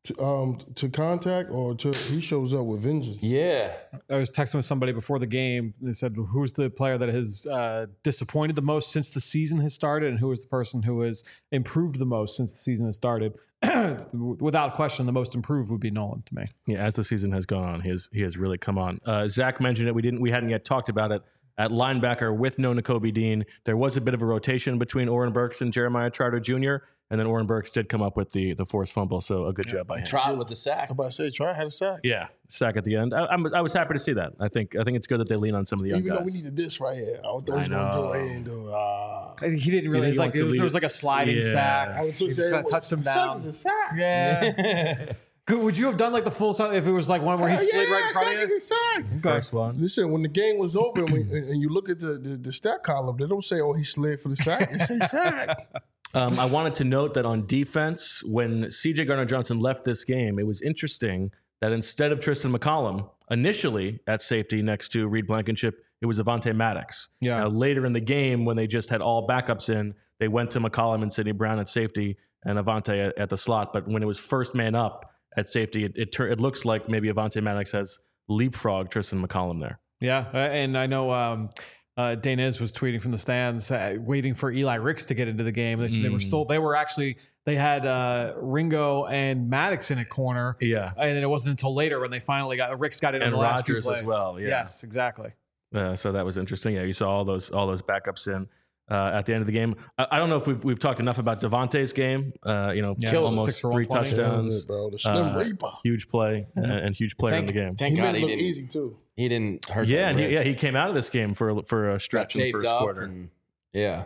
B: to, um, to contact or to he shows up with vengeance.
C: Yeah.
D: I was texting with somebody before the game. They said, who's the player that has uh, disappointed the most since the season has started, and who is the person who has improved the most since the season has started? Without question, the most improved would be Nolan to me.
A: Yeah, as the season has gone on, he has he has really come on. Uh, Zach mentioned it. We didn't. We hadn't yet talked about it. At linebacker with no Nakobe Dean, there was a bit of a rotation between Oren Burks and Jeremiah Trotter Junior And then Oren Burks did come up with the the forced fumble, so a good job by him.
C: Trot with the sack.
B: I'm about to say, Trot had a sack.
A: Yeah, sack at the end. I, I'm, I was happy to see that. I think I think it's good that they lean on some of the young
B: Even
A: guys.
B: though we needed this right here. I thought he was
A: I
B: going to do
A: know.
B: it. He didn't do it. Ah.
D: He didn't really
A: he
D: like.
A: wants
D: It
A: to
D: was,
A: lead
D: there was
A: it.
D: like a sliding
A: Yeah.
D: sack.
B: I would
D: He just got to touch him
B: a sack
D: down.
B: is a sack.
D: Yeah. Could, would you have done like the full sound if it was like one where he
B: Hell
D: slid
B: yeah,
D: right in front
B: sack
D: of
B: is
D: you?
B: a sack.
A: First one.
B: Listen, when the game was over and, we, and you look at the, the, the stat column, they don't say, oh, he slid for the sack. It says sack.
A: Um, I wanted to note that on defense, when C J Gardner-Johnson left this game, it was interesting that instead of Tristan McCollum, initially at safety next to Reed Blankenship, it was Avonte Maddox.
D: Yeah.
A: Now, later in the game, when they just had all backups in, they went to McCollum and Sidney Brown at safety and Avonte at, at the slot. But when it was first man up at safety, it it, tur- it looks like maybe Avonte Maddox has leapfrogged Tristan McCollum there.
D: Yeah, uh, and I know um, uh, Daniz was tweeting from the stands, uh, waiting for Eli Ricks to get into the game. They, said they were still, they were actually, they had uh, Ringo and Maddox in a corner.
A: Yeah.
D: And then it wasn't until later when they finally got Ricks got in
A: And
D: the last few
A: Rodgers as
D: plays.
A: well, yeah.
D: Yes, exactly.
A: Uh, so that was interesting. Yeah, you saw all those all those backups in uh, at the end of the game. I, I don't know if we've we've talked enough about Devontae's game. Uh, you know,
D: Yeah,
A: killed
D: almost
A: almost
D: six for
A: three
D: one twenty.
A: touchdowns.
B: That was it, bro. The Slim
A: Uh,
B: Reaper.
A: huge play and, and huge player
C: Thank,
A: in the game.
C: thank
B: He
C: God
B: made it
C: he
B: look
C: didn't,
B: easy, too.
C: he didn't hurt
A: Yeah,
C: that
A: and he, yeah,
C: wrist.
A: he came out of this game for for a
C: Got
A: stretch in the
C: taped
A: first
C: up
A: quarter.
C: and- yeah.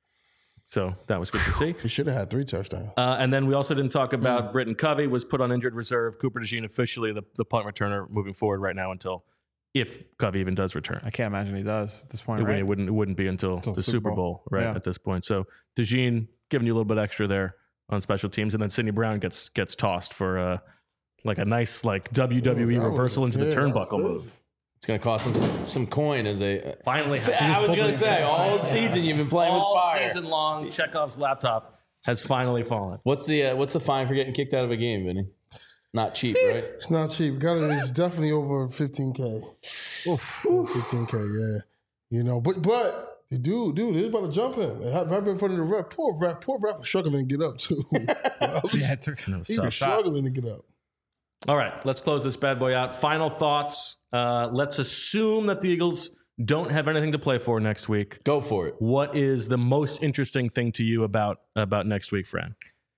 A: So that was good to see.
B: He should have had three touchdowns.
A: Uh, and then we also didn't talk about Britton Covey was put on injured reserve. Cooper DeJean officially the, the punt returner moving forward right now until if Covey even does return.
D: I can't imagine he does at this point,
A: It,
D: right?
A: wouldn't, it wouldn't it wouldn't be until,
D: Until
A: the
D: Super
A: Super
D: Bowl.
A: Bowl, right
D: Yeah.
A: at this point. So DeJean giving you a little bit extra there on special teams, and then Sidney Brown gets gets tossed for uh, like a nice like W W E
B: That was-
A: reversal into the
B: yeah, that was
A: turnbuckle
B: good.
A: move.
C: It's going to cost him some, some coin as a.
A: Finally,
C: I was going to say, all season you've been playing
A: all
C: with fire.
A: season long, Chekhov's laptop has finally fallen.
C: What's the uh, what's the fine for getting kicked out of a game, Vinny? Not cheap, right?
B: It's not cheap. Got it. It's definitely over fifteen K. Oof. fifteen K, yeah. You know, but but the dude, dude, he's about to jump in. And have right in front of the ref. Poor ref, poor ref was struggling to get up too.
D: Yeah, it took,
A: That was
B: he
A: tough.
B: was struggling to get up.
A: All right, let's close this bad boy out. Final thoughts. Uh, let's assume that the Eagles don't have anything to play for next week.
C: Go for it.
A: What is the most interesting thing to you about about next week, Fran?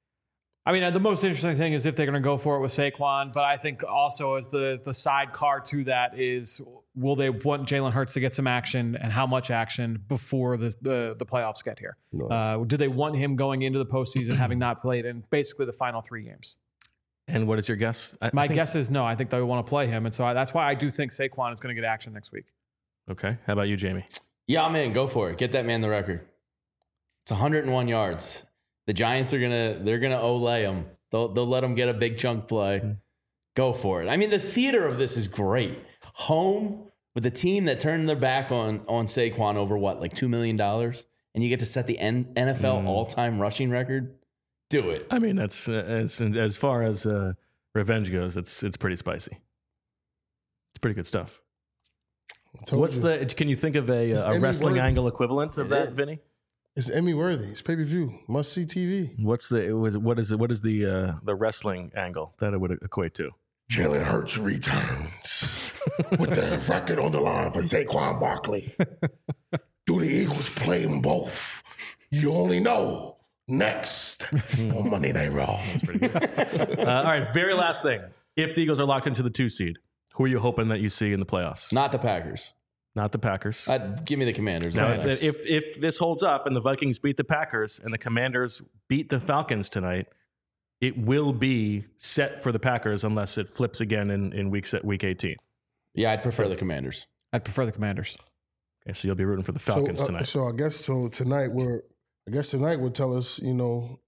D: I mean, uh, the most interesting thing is if they're going to go for it with Saquon, but I think also as the the sidecar to that is, will they want Jalen Hurts to get some action and how much action before the the, the playoffs get here?
B: No.
D: Uh, do they want him going into the postseason having not played in basically the final three games?
A: And what is your guess? I,
D: My
A: I think-
D: guess is no. I think they want to play him, and so I, that's why I do think Saquon is going to get action next week.
A: Okay. How about you, Jamie?
C: Yeah, I'm in. Go for it. Get that man the record. It's one hundred one yards. The Giants are gonna they're gonna olay him. They'll they'll let him get a big chunk play.
A: Mm-hmm.
C: Go for it. I mean, the theater of this is great. Home with a team that turned their back on on Saquon over what, like two million dollars, and you get to set the N- NFL
A: Mm.
C: all time rushing record. Do it.
A: I mean, that's uh, as as far as uh, revenge goes, it's it's pretty spicy. It's pretty good stuff.
B: I told
A: What's
B: you.
A: the? Can you think of a,
B: It's
A: a
B: Emmy
A: wrestling
B: worthy.
A: angle equivalent of
C: It
A: that,
C: is.
A: Vinny?
B: It's Emmy worthy. It's pay per view. Must see T V.
A: What's the? It was what is it? What is the uh, the wrestling angle that it would equate to?
B: Jalen Hurts returns with the record on the line for Saquon Barkley. Do the Eagles play them both? You only know next on Monday Night Raw.
A: Uh, all right, very last thing. If the Eagles are locked into the two seed, who are you hoping that you see in the playoffs?
C: Not the Packers.
A: Not the Packers.
C: Uh, give me the Commanders.
A: Now,
C: Okay.
A: if, if if this holds up and the Vikings beat the Packers and the Commanders beat the Falcons tonight, it will be set for the Packers unless it flips again in, in week set week eighteen.
C: yeah, I'd prefer the Commanders.
D: I'd prefer the Commanders.
A: Okay, so you'll be rooting for the Falcons
B: so, uh,
A: tonight.
B: So I guess so tonight we're I guess tonight will tell us, you know,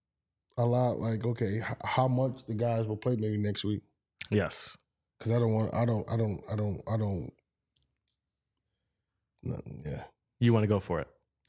B: a lot like, okay, h- how much the guys will play maybe next week.
A: Yes.
B: Because I don't want I don't I don't I don't I don't nothing, yeah.
A: You want to go for it.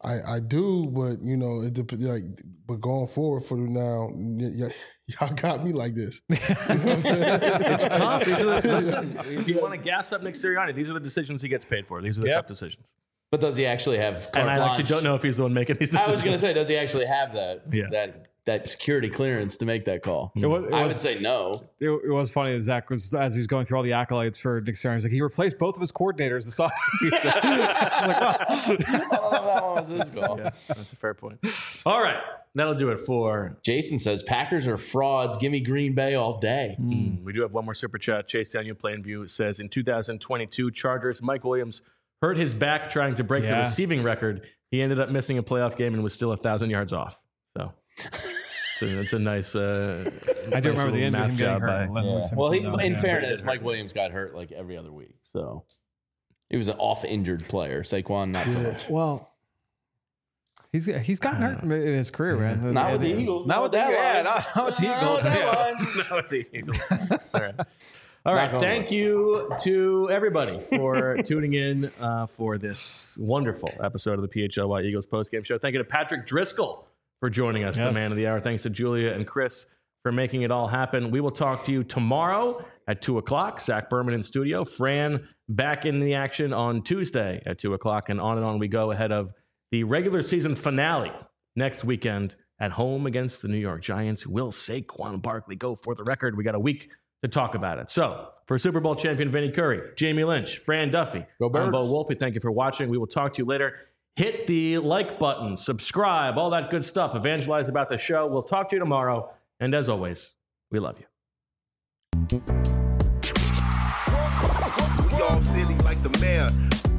B: I, I do, but you know, it dep- like, but going forward for now, y- y- y'all got me like this. You know what I'm saying?
A: It's tough. These are the, listen, if you want to gas up Nick Sirianni, these are the decisions he gets paid for. These are the
C: Yep.
A: tough decisions.
C: But does he actually have carte
A: And I
C: blanche?
A: actually don't know if he's the one making these decisions.
C: I was going to say, does he actually have that
A: Yeah.
C: that that security clearance to make that call?
D: It was- it
C: I
D: was-
C: would say no.
D: It, it was funny that Zach was, as he was going through all the accolades for Nick Sirianni, he's like, he replaced both of his coordinators this offseason. I was like, wow.
C: I don't know if that one was his call.
A: Yeah, that's a fair point. All right. That'll do it for.
C: Jason says Packers are frauds. Give me Green Bay all day.
A: Mm, we do have one more super chat. Chase Daniel Plainview says in two thousand twenty-two Chargers, Mike Williams hurt his back trying to break the
D: Yeah.
A: receiving record. He ended up missing a playoff game and was still a thousand yards off. So, so that's a nice. Uh,
D: I do
A: nice
D: remember the
A: little
D: end of
A: math
D: him getting
A: job
D: hurt.
A: by-
D: and letting
C: Yeah.
D: loose him
C: Well, he,
D: from
C: in
D: down.
C: fairness, Mike Williams got hurt like every other week. So he was an off-injured player. Saquon, not so much.
D: Well, he's he's gotten hurt in his career, man.
C: Not with the
D: And-
C: Eagles.
D: Not with the
C: that
D: yeah,
C: line.
D: not, not with the
C: Not
D: Eagles.
C: with that
D: yeah.
C: line.
A: Not with the Eagles. All right. All right.
C: Knock on
A: Thank
C: wood.
A: you to everybody for tuning in uh, for this wonderful episode of the P H L Y Eagles postgame show. Thank you to Patrick Driscoll for joining us, the
D: Yes.
A: man of the hour. Thanks to Julia and Chris for making it all happen. We will talk to you tomorrow at two o'clock. Zach Berman in studio. Fran back in the action on Tuesday at two o'clock. And on and on we go ahead of the regular season finale next weekend at home against the New York Giants. Will Saquon Barkley go for the record? We got a week to talk about it. So for Super Bowl champion Vinny Curry, Jamie Lynch, Fran Duffy,
C: Go
A: I'm Bo
C: Birds.
A: Wolfe. Thank you for watching. We will talk to you later. Hit the like button, subscribe, all that good stuff. Evangelize about the show. We'll talk to you tomorrow. And as always, we love you.
L: We all silly like the mayor.